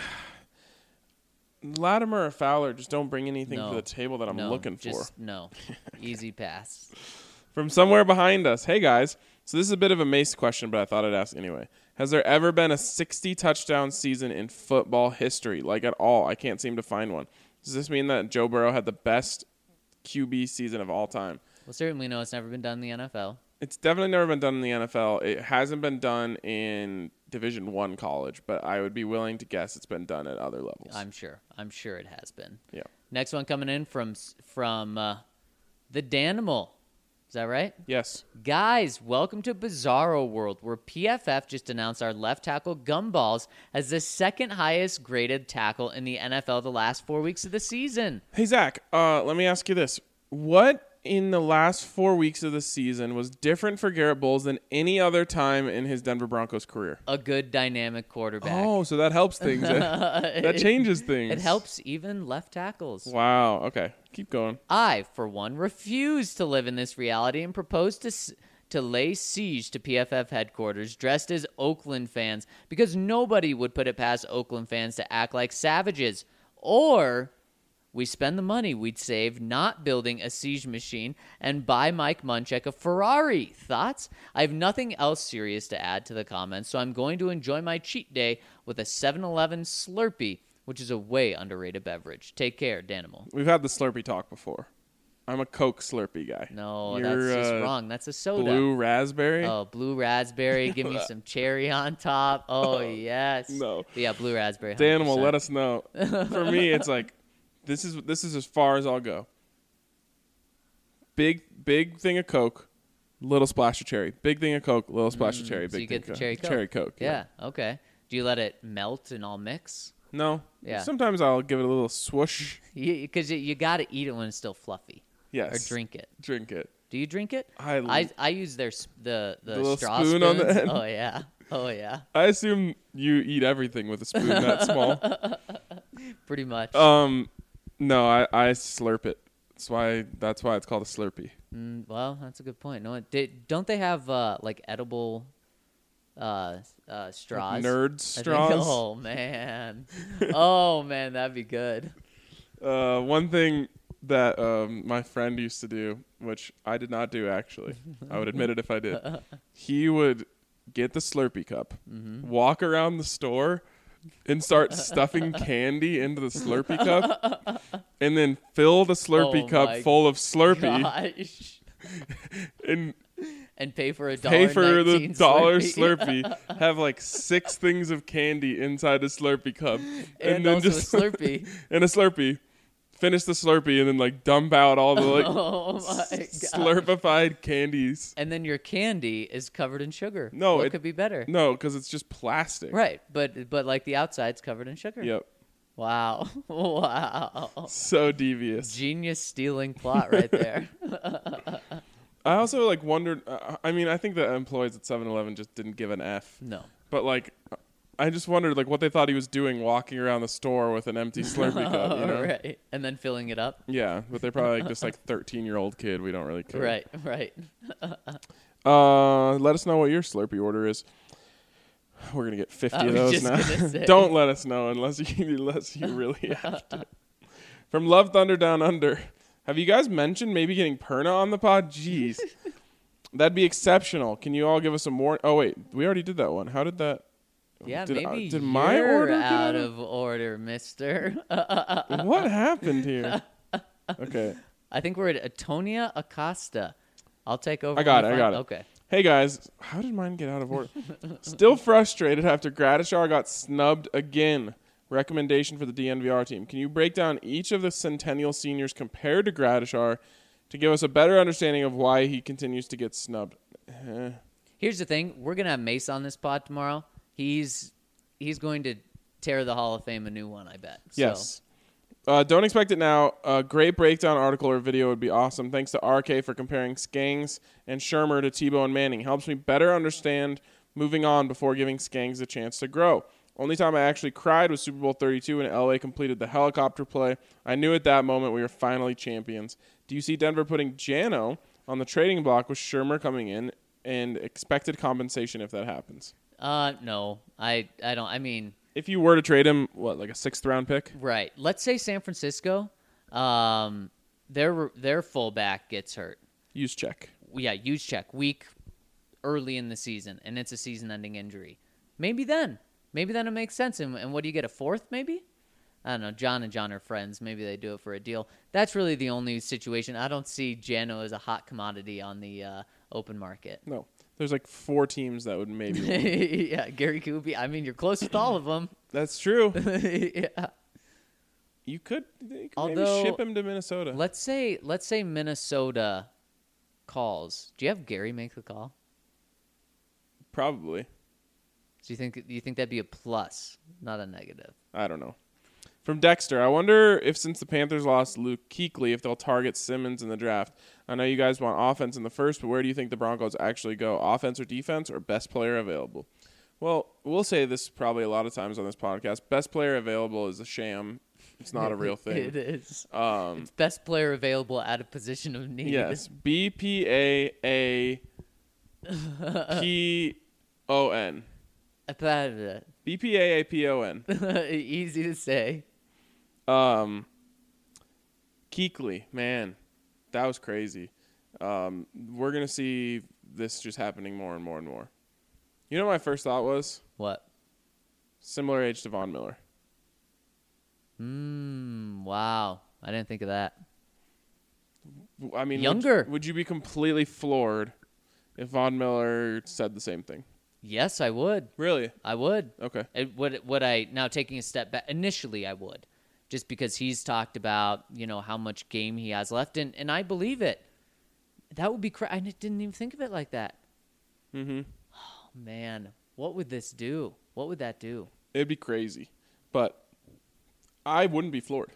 Latimer or Fowler just don't bring anything No. to the table that I'm no, looking for. just, No. Easy pass. From somewhere behind us. Hey, guys. So this is a bit of a Mace question, but I thought I'd ask anyway. Has there ever been a sixty-touchdown season in football history? Like, at all? I can't seem to find one. Does this mean that Joe Burrow had the best Q B season of all time? Well, certainly no, it's never been done in the N F L. It's definitely never been done in the N F L. It hasn't been done in Division One college, but I would be willing to guess it's been done at other levels. I'm sure. I'm sure it has been. Yeah. Next one coming in from from uh, the Danimal. Is that right? Yes. Guys, welcome to Bizarro World, where P F F just announced our left tackle Gumballs as the second highest graded tackle in the N F L the last four weeks of the season. Hey, Zach, uh, let me ask you this. What in the last four weeks of the season was different for Garrett Bowles than any other time in his Denver Broncos career? A good dynamic quarterback. Oh, so that helps things. that, that changes things. It helps even left tackles. Wow. Okay. Keep going. I, for one, refuse to live in this reality and propose to s- to lay siege to P F F headquarters dressed as Oakland fans, because nobody would put it past Oakland fans to act like savages. Or we spend the money we'd save not building a siege machine and buy Mike Munchak a Ferrari. Thoughts? I have nothing else serious to add to the comments, so I'm going to enjoy my cheat day with a seven eleven Slurpee, which is a way underrated beverage. Take care, Danimal. We've had the Slurpee talk before. I'm a Coke Slurpee guy. No, You're, that's just uh, wrong. That's a soda. Blue raspberry? Oh, blue raspberry. Give me some cherry on top. Oh, yes. No. But yeah, blue raspberry. Danimal, one hundred percent. let us know. For me, it's like, this is this is as far as I'll go. Big, big thing of Coke, little splash of cherry. Big thing of Coke, little splash of cherry. Big Mm, So you thing get the of cherry Coke. Cherry Coke. Yeah, okay. Do you let it melt and all mix? No. Yeah. Sometimes I'll give it a little swoosh. Because you, you, you got to eat it when it's still fluffy. Yes. Or drink it. Drink it. Do you drink it? I I, I use their s- the the, The little straw spoon on the spoons. end. Oh yeah, oh yeah, I assume you eat everything with a spoon that small. pretty much. Um, no, I, I slurp it. That's why that's why it's called a Slurpee. Mm, well, that's a good point. No, did, don't they have uh, like edible uh, uh, straws? Nerd I think- straws. oh man, oh man, that'd be good. Uh, one thing that um, my friend used to do, which I did not do actually, I would admit it if I did. He would get the Slurpee cup, Mm-hmm. walk around the store, and start stuffing candy into the Slurpee cup, and then fill the Slurpee Oh cup my full of Slurpee, Gosh. and And pay for a dollar. pay for the nineteen dollar Slurpee. Slurpee. Have like six things of candy inside the Slurpee cup, And also a Slurpee. and a Slurpee. Finish the Slurpee and then like dump out all the like Oh my god. slurpified candies. And then your candy is covered in sugar. No, what it- could be better? No, because it's just plastic. Right, but but like the outside's covered in sugar. Yep. Wow. Wow. So devious. Genius stealing plot right there. I also like wondered. Uh, I mean, I think the employees at seven eleven just didn't give an F. No. But like, I just wondered like what they thought he was doing, walking around the store with an empty Slurpee cup. You know? Right. And then filling it up. Yeah, but they're probably like just like thirteen year old kid. We don't really care. Right, right. Uh, let us know what your Slurpee order is. We're gonna get fifty I of was those just now. gonna say. Don't let us know unless you unless you really have to. From Love Thunder Down Under, have you guys mentioned maybe getting Perna on the pod? Jeez. That'd be exceptional. Can you all give us some more? Oh wait, we already did that one. How did that? Yeah, did, maybe uh, did you're my order get out of order, mister. What happened here? Okay. I think we're at Atonia Acosta. I'll take over. I got when it. we I find- got it. Okay. Hey guys, how did mine get out of order? Still frustrated after Gradishar got snubbed again. Recommendation for the D N V R team. Can you break down each of the Centennial seniors compared to Gradishar to give us a better understanding of why he continues to get snubbed? Eh. Here's the thing: we're gonna have Mace on this pod tomorrow. He's he's going to tear the Hall of Fame a new one, I bet. So. Yes. Uh, don't expect it now. A great breakdown article or video would be awesome. Thanks to R K for comparing Skangs and Shermer to Tebow and Manning. Helps me better understand moving on before giving Skangs a chance to grow. Only time I actually cried was Super Bowl thirty-two when L A completed the helicopter play. I knew at that moment we were finally champions. Do you see Denver putting Jano on the trading block with Shermer coming in and expected compensation if that happens? Uh, no, I I don't. I mean. If you were to trade him, what, like a sixth round pick? Right. Let's say San Francisco, um, their their fullback gets hurt. Use check. Yeah, use check week early in the season, and it's a season-ending injury. Maybe then, maybe then it makes sense. And, and what do you get? A fourth, maybe? I don't know. John and John are friends. Maybe they do it for a deal. That's really the only situation. I don't see Jano as a hot commodity on the uh, open market. No. There's like four teams that would maybe win. Yeah, Gary Kuby. I mean, you're close with all of them. That's true. Yeah. You could, you could Although, maybe ship him to Minnesota. Let's say let's say Minnesota calls. Do you have Gary make the call? Probably. Do you think do you think that'd be a plus, not a negative? I don't know. From Dexter, I wonder if since the Panthers lost Luke Kuechly, if they'll target Simmons in the draft. I know you guys want offense in the first, but where do you think the Broncos actually go? Offense or defense or best player available? Well, we'll say this probably a lot of times on this podcast. Best player available is a sham. It's not a real thing. It is. Um, It's best player available at a position of need. yes. B P A A P O N. B P A A P O N. Easy to say. Um, Kuechly, man, that was crazy. Um, we're going to see this just happening more and more and more. You know what my first thought was? What? Similar age to Von Miller. Hmm. Wow. I didn't think of that. I mean, Younger. Would, would you be completely floored if Von Miller said the same thing? Yes, I would. Really? I would. Okay. It, would would I now taking a step back? Initially, I would, just because he's talked about you know how much game he has left, and and I believe it. That would be cra- I didn't even think of it like that. Mm-hmm. Oh man, what would this do? What would that do? It'd be crazy, but I wouldn't be floored.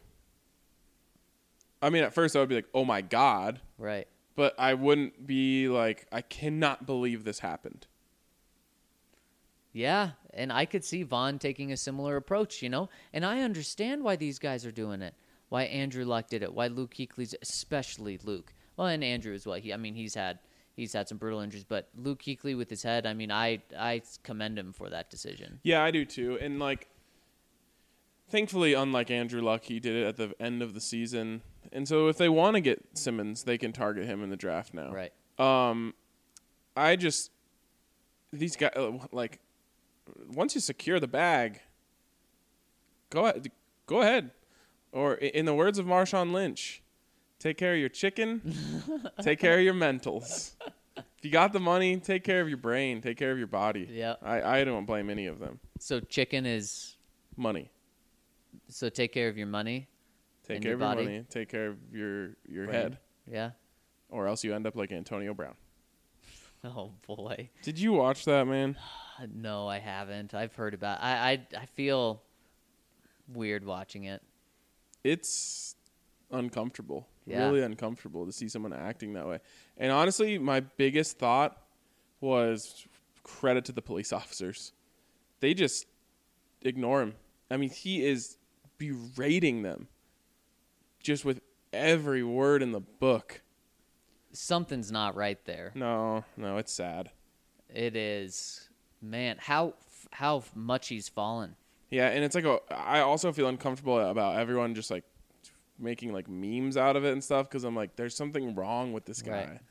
I mean, at first I would be like, "Oh my god," Right. but I wouldn't be like, "I cannot believe this happened." Yeah, and I could see Vaughn taking a similar approach, you know? And I understand why these guys are doing it. Why Andrew Luck did it. Why Luke Kuechly's, especially Luke. Well, and Andrew as well. He, I mean, he's had he's had some brutal injuries, but Luke Kuechly with his head, I mean, I I commend him for that decision. Yeah, I do too. And like, thankfully, unlike Andrew Luck, he did it at the end of the season. And so if they want to get Simmons, they can target him in the draft now. Right. Um, I just these guys like. Once you secure the bag, go ahead. Go ahead. Or in the words of Marshawn Lynch, take care of your chicken, take care of your mentals. If you got the money, take care of your brain, take care of your body. Yeah. I, I don't blame any of them. So chicken is Money. so take care of your money. Take And care your of your body. money. Take care of your your Brain. head. Yeah. Or else you end up like Antonio Brown. Oh boy. Did you watch that, man? No, I haven't. I've heard about. I I I feel weird watching it. It's uncomfortable. Yeah. Really uncomfortable to see someone acting that way. And honestly, my biggest thought was credit to the police officers. They just ignore him. I mean, he is berating them just with every word in the book. Something's not right there. No, no, it's sad. It is. Man, how how much he's fallen. Yeah, and it's like a, I also feel uncomfortable about everyone just like making like memes out of it and stuff because I'm like, there's something wrong with this guy. Right.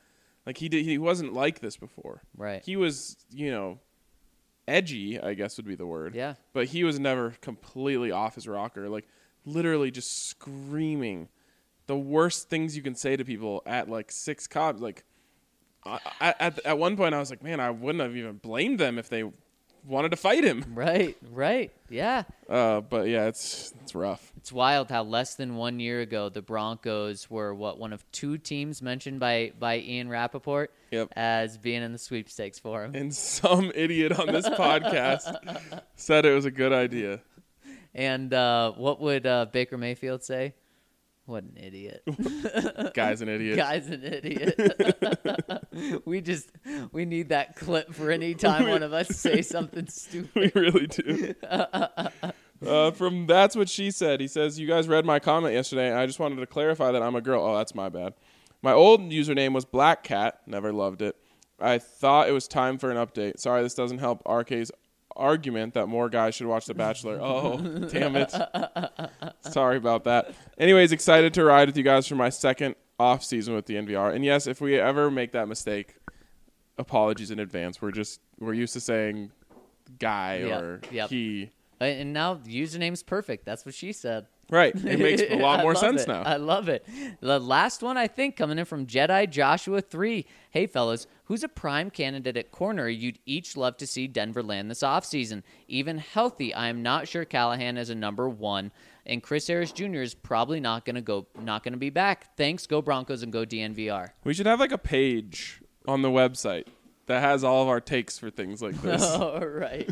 Like he did, he wasn't like this before. Right. He was, you know, edgy, I guess would be the word. Yeah. But he was never completely off his rocker. Like literally just screaming the worst things you can say to people at like six Cubs. Like I, I, at at one point I was like, man, I wouldn't have even blamed them if they wanted to fight him. Right, right. Yeah. Uh, but yeah, it's it's rough. It's wild how less than one year ago the Broncos were what one of two teams mentioned by, by Ian Rappaport Yep. as being in the sweepstakes for him. And some idiot on this podcast said it was a good idea. And uh, what would uh, Baker Mayfield say? What an idiot. Guy's an idiot. Guy's an idiot. we just we need that clip for any time one of us say something stupid. We really do. Uh, from That's What She Said, he says, you guys read my comment yesterday, and I just wanted to clarify that I'm a girl. Oh, that's my bad. My old username was Black Cat. Never loved it. I thought it was time for an update. Sorry, this doesn't help R K's argument that more guys should watch The Bachelor. Oh, damn it. Sorry about that. Anyways, excited to ride with you guys for my second off season with the N V R. And yes, if we ever make that mistake, apologies in advance. We're just we're used to saying guy Yep, or yep. he. And now the username's perfect. That's what she said. Right. It makes a lot I more love sense it. now. I love it. The last one, I think, coming in from Jedi Joshua three. Hey, fellas, who's a prime candidate at corner you'd each love to see Denver land this offseason? Even healthy, I am not sure Callahan is a number one, and Chris Harris Junior is probably not going to go, not going to be back. Thanks, go Broncos and go D N V R. We should have like a page on the website that has all of our takes for things like this. All right.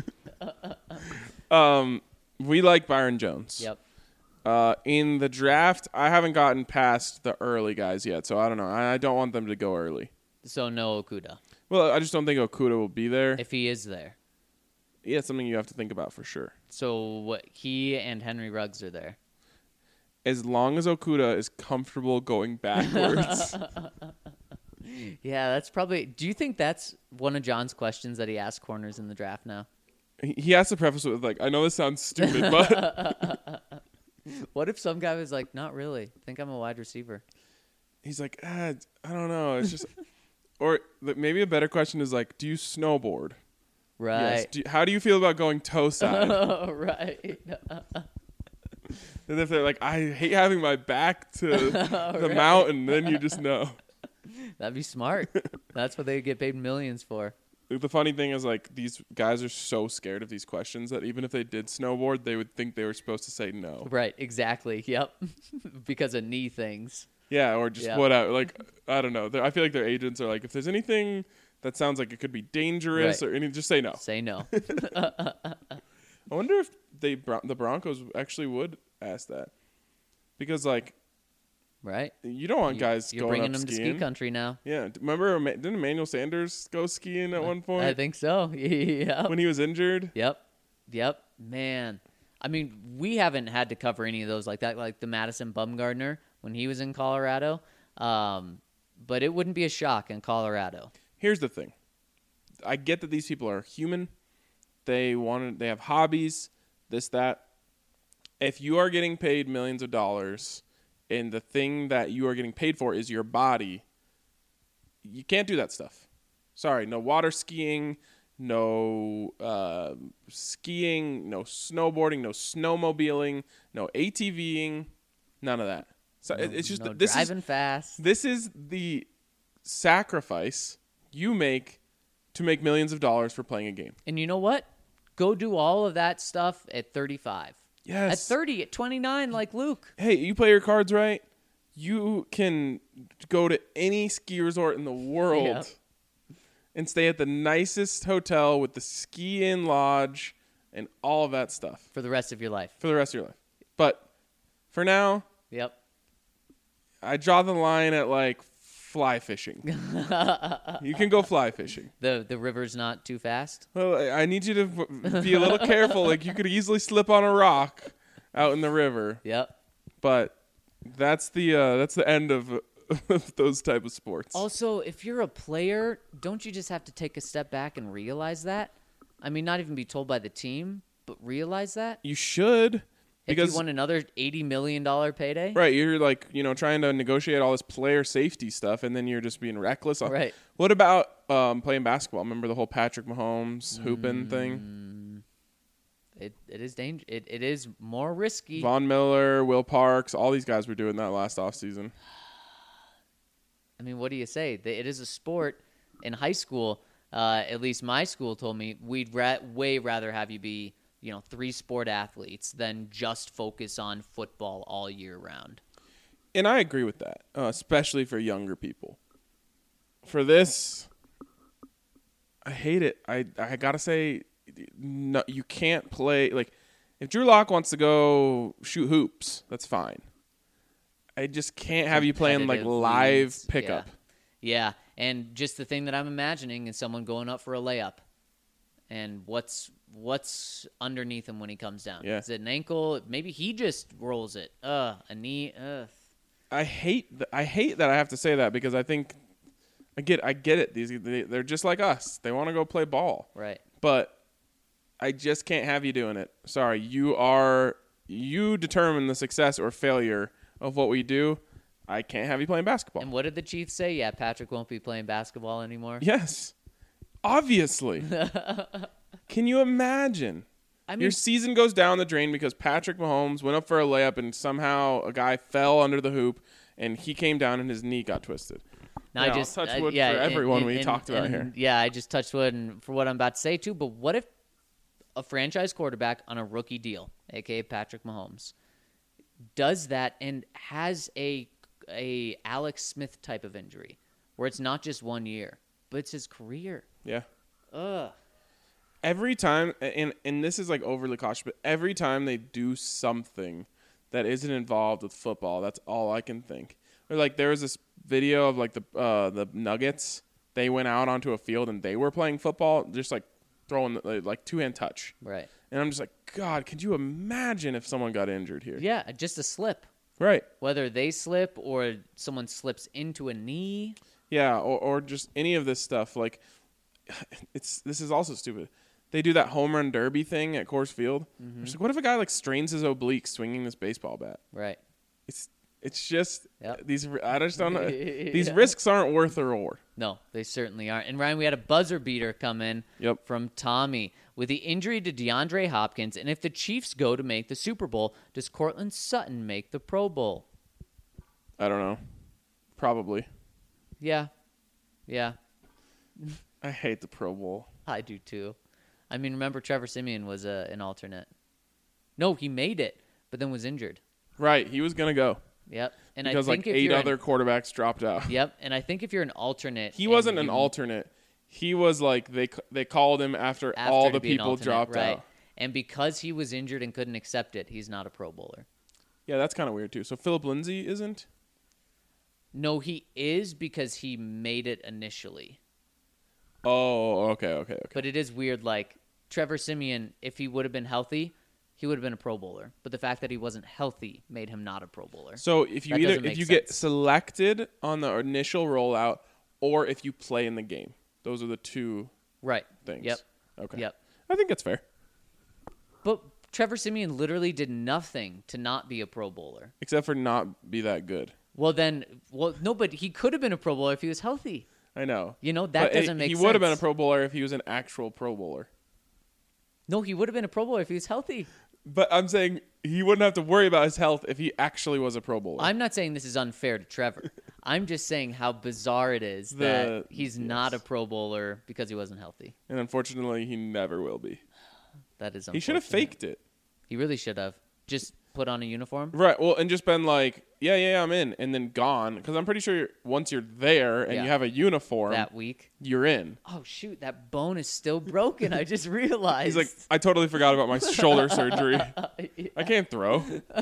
um, we like Byron Jones. Yep. Uh, in the draft, I haven't gotten past the early guys yet, so I don't know. I, I don't want them to go early. So no Okuda, Well, I just don't think Okuda will be there. if he is there. Yeah, it's something you have to think about for sure. So what? He and Henry Ruggs are there. As long as Okuda is comfortable going backwards. Yeah, that's probably. Do you think that's one of John's questions that he asks corners in the draft now? he he has to preface it with, like, I know this sounds stupid, but What if some guy was like, "Not really. I think I'm a wide receiver." he's like, ah, I don't know. It's just, or th- maybe a better question is like, do you snowboard? Yes. Right. Do you- how do you feel about going toe side? Oh, right. And if they're like, I hate having my back to the right. mountain, then you just know. That'd be smart. That's what they get paid millions for. The funny thing is, like, these guys are so scared of these questions that even if they did snowboard, they would think they were supposed to say no. Right. Exactly. Yep. Because of knee things. Yeah, or just Yeah. whatever. Like, I don't know. They're- I feel like their agents are like, if there's anything that sounds like it could be dangerous Right. or any, just say no. Say no. I wonder if they Bron- the Broncos actually would ask that, because like Right. you don't want You- guys You're going bringing up them to skiing. ski country now. Yeah, d- rememberEma- didn't Emmanuel Sanders go skiing at one point I think so. Yeah. when he was injured? Yep. Yep. Man. I mean, we haven't had to cover any of those like that, like the Madison Bumgarner when he was in Colorado. Um, but it wouldn't be a shock in Colorado. Here's the thing. I get that these people are human. They want they have hobbies, this, that. If you are getting paid millions of dollars and the thing that you are getting paid for is your body, you can't do that stuff. Sorry, no water skiing, no uh, skiing, no snowboarding, no snowmobiling, no ATVing, none of that. So it, it's just No this is driving fast. this is the sacrifice you make to make millions of dollars for playing a game. And you know what? Go do all of that stuff at thirty-five. Yes. At thirty, at twenty-nine, like Luke. Hey, you play your cards right, you can go to any ski resort in the world Yep. and stay at the nicest hotel with the ski-in lodge and all of that stuff For the rest of your life. for the rest of your life. But for now, Yep. I draw the line at like fly fishing. You can go fly fishing. The the river's not too fast. Well, I I need you to v- be a little careful. Like, you could easily slip on a rock out in the river, Yep. but that's the uh, that's the end of, of those type of sports. Also, if you're a player, don't you just have to take a step back and realize that? I mean, not even be told by the team, but realize that? You should, If Because you won another eighty million dollars payday? right, you're like, you know, trying to negotiate all this player safety stuff, and then you're just being reckless. Right. What about um, playing basketball? Remember the whole Patrick Mahomes hooping Mm. thing? It it is danger. It, it is more risky. Von Miller, Will Parks, all these guys were doing that last offseason. I mean, what do you say? They- It is a sport. In high school, uh, at least my school told me, we'd ra- way rather have you be, you know, three sport athletes than just focus on football all year round. And I agree with that, uh, especially for younger people. For this, I hate it. I I gotta say, no, you can't play like if Drew Lock wants to go shoot hoops, that's fine. I just can't have you playing like Competitive live leagues, pickup. Yeah. Yeah, and just the thing that I'm imagining is someone going up for a layup, and what's what's underneath him when he comes down? Yeah. Is it an ankle? Maybe he just rolls it. Uh, a knee. Ugh. I hate th- I hate that I have to say that because I think I get I get it. These they, they're just like us. They want to go play ball. Right. But I just can't have you doing it. Sorry, you are you determine the success or failure of what we do. I can't have you playing basketball. And what did the Chiefs say? Yeah, Patrick won't be playing basketball anymore. Yes. Obviously. Can you imagine? I mean, Your season goes down the drain because Patrick Mahomes went up for a layup and somehow a guy fell under the hoop and he came down and his knee got twisted. now Yeah, I I'll just touch uh, wood yeah, for and- everyone and- we and- talked about and, here. Yeah, I just touched wood and for what I'm about to say too. But what if a franchise quarterback on a rookie deal, aka Patrick Mahomes, does that and has a a Alex Smith type of injury, where it's not just one year, but it's his career? Yeah. Ugh. Every time, and and this is like overly cautious, but every time they do something that isn't involved with football, that's all I can think. Or like there was this video of like the uh, the Nuggets. They went out onto a field and they were playing football, just like throwing like, like two hand touch. Right. And I'm just like, God, could you imagine if someone got injured here? Yeah, just a slip. Right. Whether they slip or someone slips into a knee. Yeah, or or just any of this stuff. Like, it's this is also stupid. They do that home run derby thing at Coors Field. Mm-hmm. It's like, what if a guy like strains his oblique swinging this baseball bat? Right. It's it's just Yep. these. I just don't know. These Yeah. risks aren't worth the reward. No, they certainly aren't. And Ryan, we had a buzzer beater come in Yep. from Tommy with the injury to DeAndre Hopkins. And if the Chiefs go to make the Super Bowl, does Cortland Sutton make the Pro Bowl? I don't know. Probably. Yeah. Yeah, I hate the Pro Bowl. I do too. I mean, remember Trevor Siemian was a, an alternate. No, he made it, but then was injured. Right. He was gonna go Yep. And because I think like if eight you're other an, quarterbacks dropped out. Yep. And I think if you're an alternate, He and wasn't an you- alternate. He was like they they called him after, after all to the be an people alternate, dropped right. out. And because he was injured and couldn't accept it, he's not a Pro Bowler. Yeah, that's kind of weird too. So Philip Lindsay isn't. No, he is because he made it initially. Oh, okay, okay, okay. But it is weird, like, Trevor Siemian, if he would have been healthy, he would have been a Pro Bowler. But the fact that he wasn't healthy made him not a Pro Bowler. So if you That either doesn't if make you get sense. selected on the initial rollout or if you play in the game, those are the two Right. things. Yep. Okay. Yep. I think that's fair. But Trevor Siemian literally did nothing to not be a Pro Bowler. Except for not be that good. Well, then, well, no, but he could have been a Pro Bowler if he was healthy. I know. You know, that But it- doesn't make he sense. would have been a Pro Bowler if he was an actual Pro Bowler. No, he would have been a Pro Bowler if he was healthy. But I'm saying he wouldn't have to worry about his health if he actually was a Pro Bowler. I'm not saying this is unfair to Trevor. I'm just saying how bizarre it is The- that he's not a yes. Pro Bowler because he wasn't healthy. and unfortunately, he never will be. That is He should have unfortunate. faked it. He really should have. Just put on a uniform. Right. Well, and just been like, yeah, yeah, I'm in, and then gone. Because I'm pretty sure you're, once you're there and Yeah. you have a uniform, That week. you're in. Oh, shoot. That bone is still broken. I just realized. He's like, I totally forgot about my shoulder surgery. I can't throw.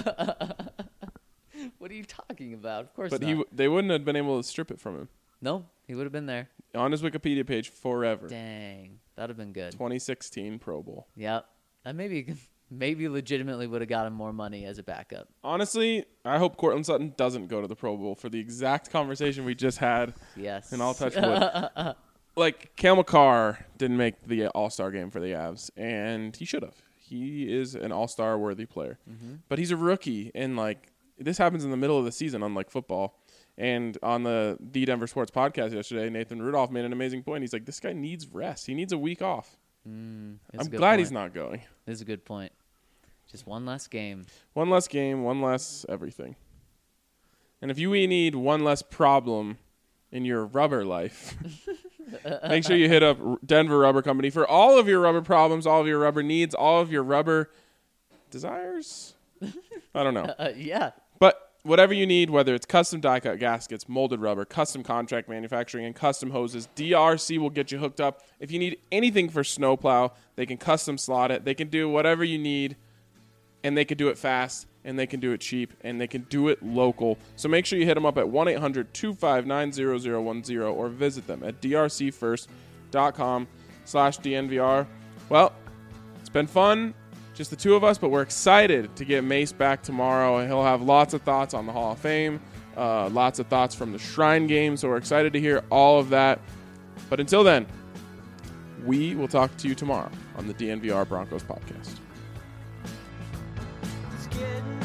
What are you talking about? Of course But not. he, w- they wouldn't have been able to strip it from him. No, he would have been there. On his Wikipedia page forever. Dang. That would have been good. twenty sixteen Pro Bowl. Yep. That maybe maybe legitimately would have got him more money as a backup. Honestly, I hope Cortland Sutton doesn't go to the Pro Bowl for the exact conversation we just had. Yes. And I'll touch wood. Like, Cale McCarr didn't make the All-Star game for the Avs, and he should have. he is an all-star worthy player. Mm-hmm. But he's a rookie, and like this happens in the middle of the season, unlike football. And on the The Denver Sports podcast yesterday, Nathan Rudolph made an amazing point. He's like, this guy needs rest. He needs a week off. Mm, I'm glad point. he's not going. This is a good point. Just one less game. One less game, one less everything. And if you need one less problem in your rubber life, make sure you hit up Denver Rubber Company for all of your rubber problems, all of your rubber needs, all of your rubber desires. I don't know. Uh, yeah. But whatever you need, whether it's custom die-cut gaskets, molded rubber, custom contract manufacturing, and custom hoses, D R C will get you hooked up. If you need anything for snowplow, they can custom slot it. They can do whatever you need, and they can do it fast, and they can do it cheap, and they can do it local. So make sure you hit them up at one eight hundred two five nine zero zero one zero or visit them at drcfirst.com slash DNVR. Well, it's been fun. Just the two of us, but we're excited to get Mace back tomorrow. He'll have lots of thoughts on the Hall of Fame, uh, lots of thoughts from the Shrine Game, so we're excited to hear all of that. But until then, we will talk to you tomorrow on the D N V R Broncos podcast. It's getting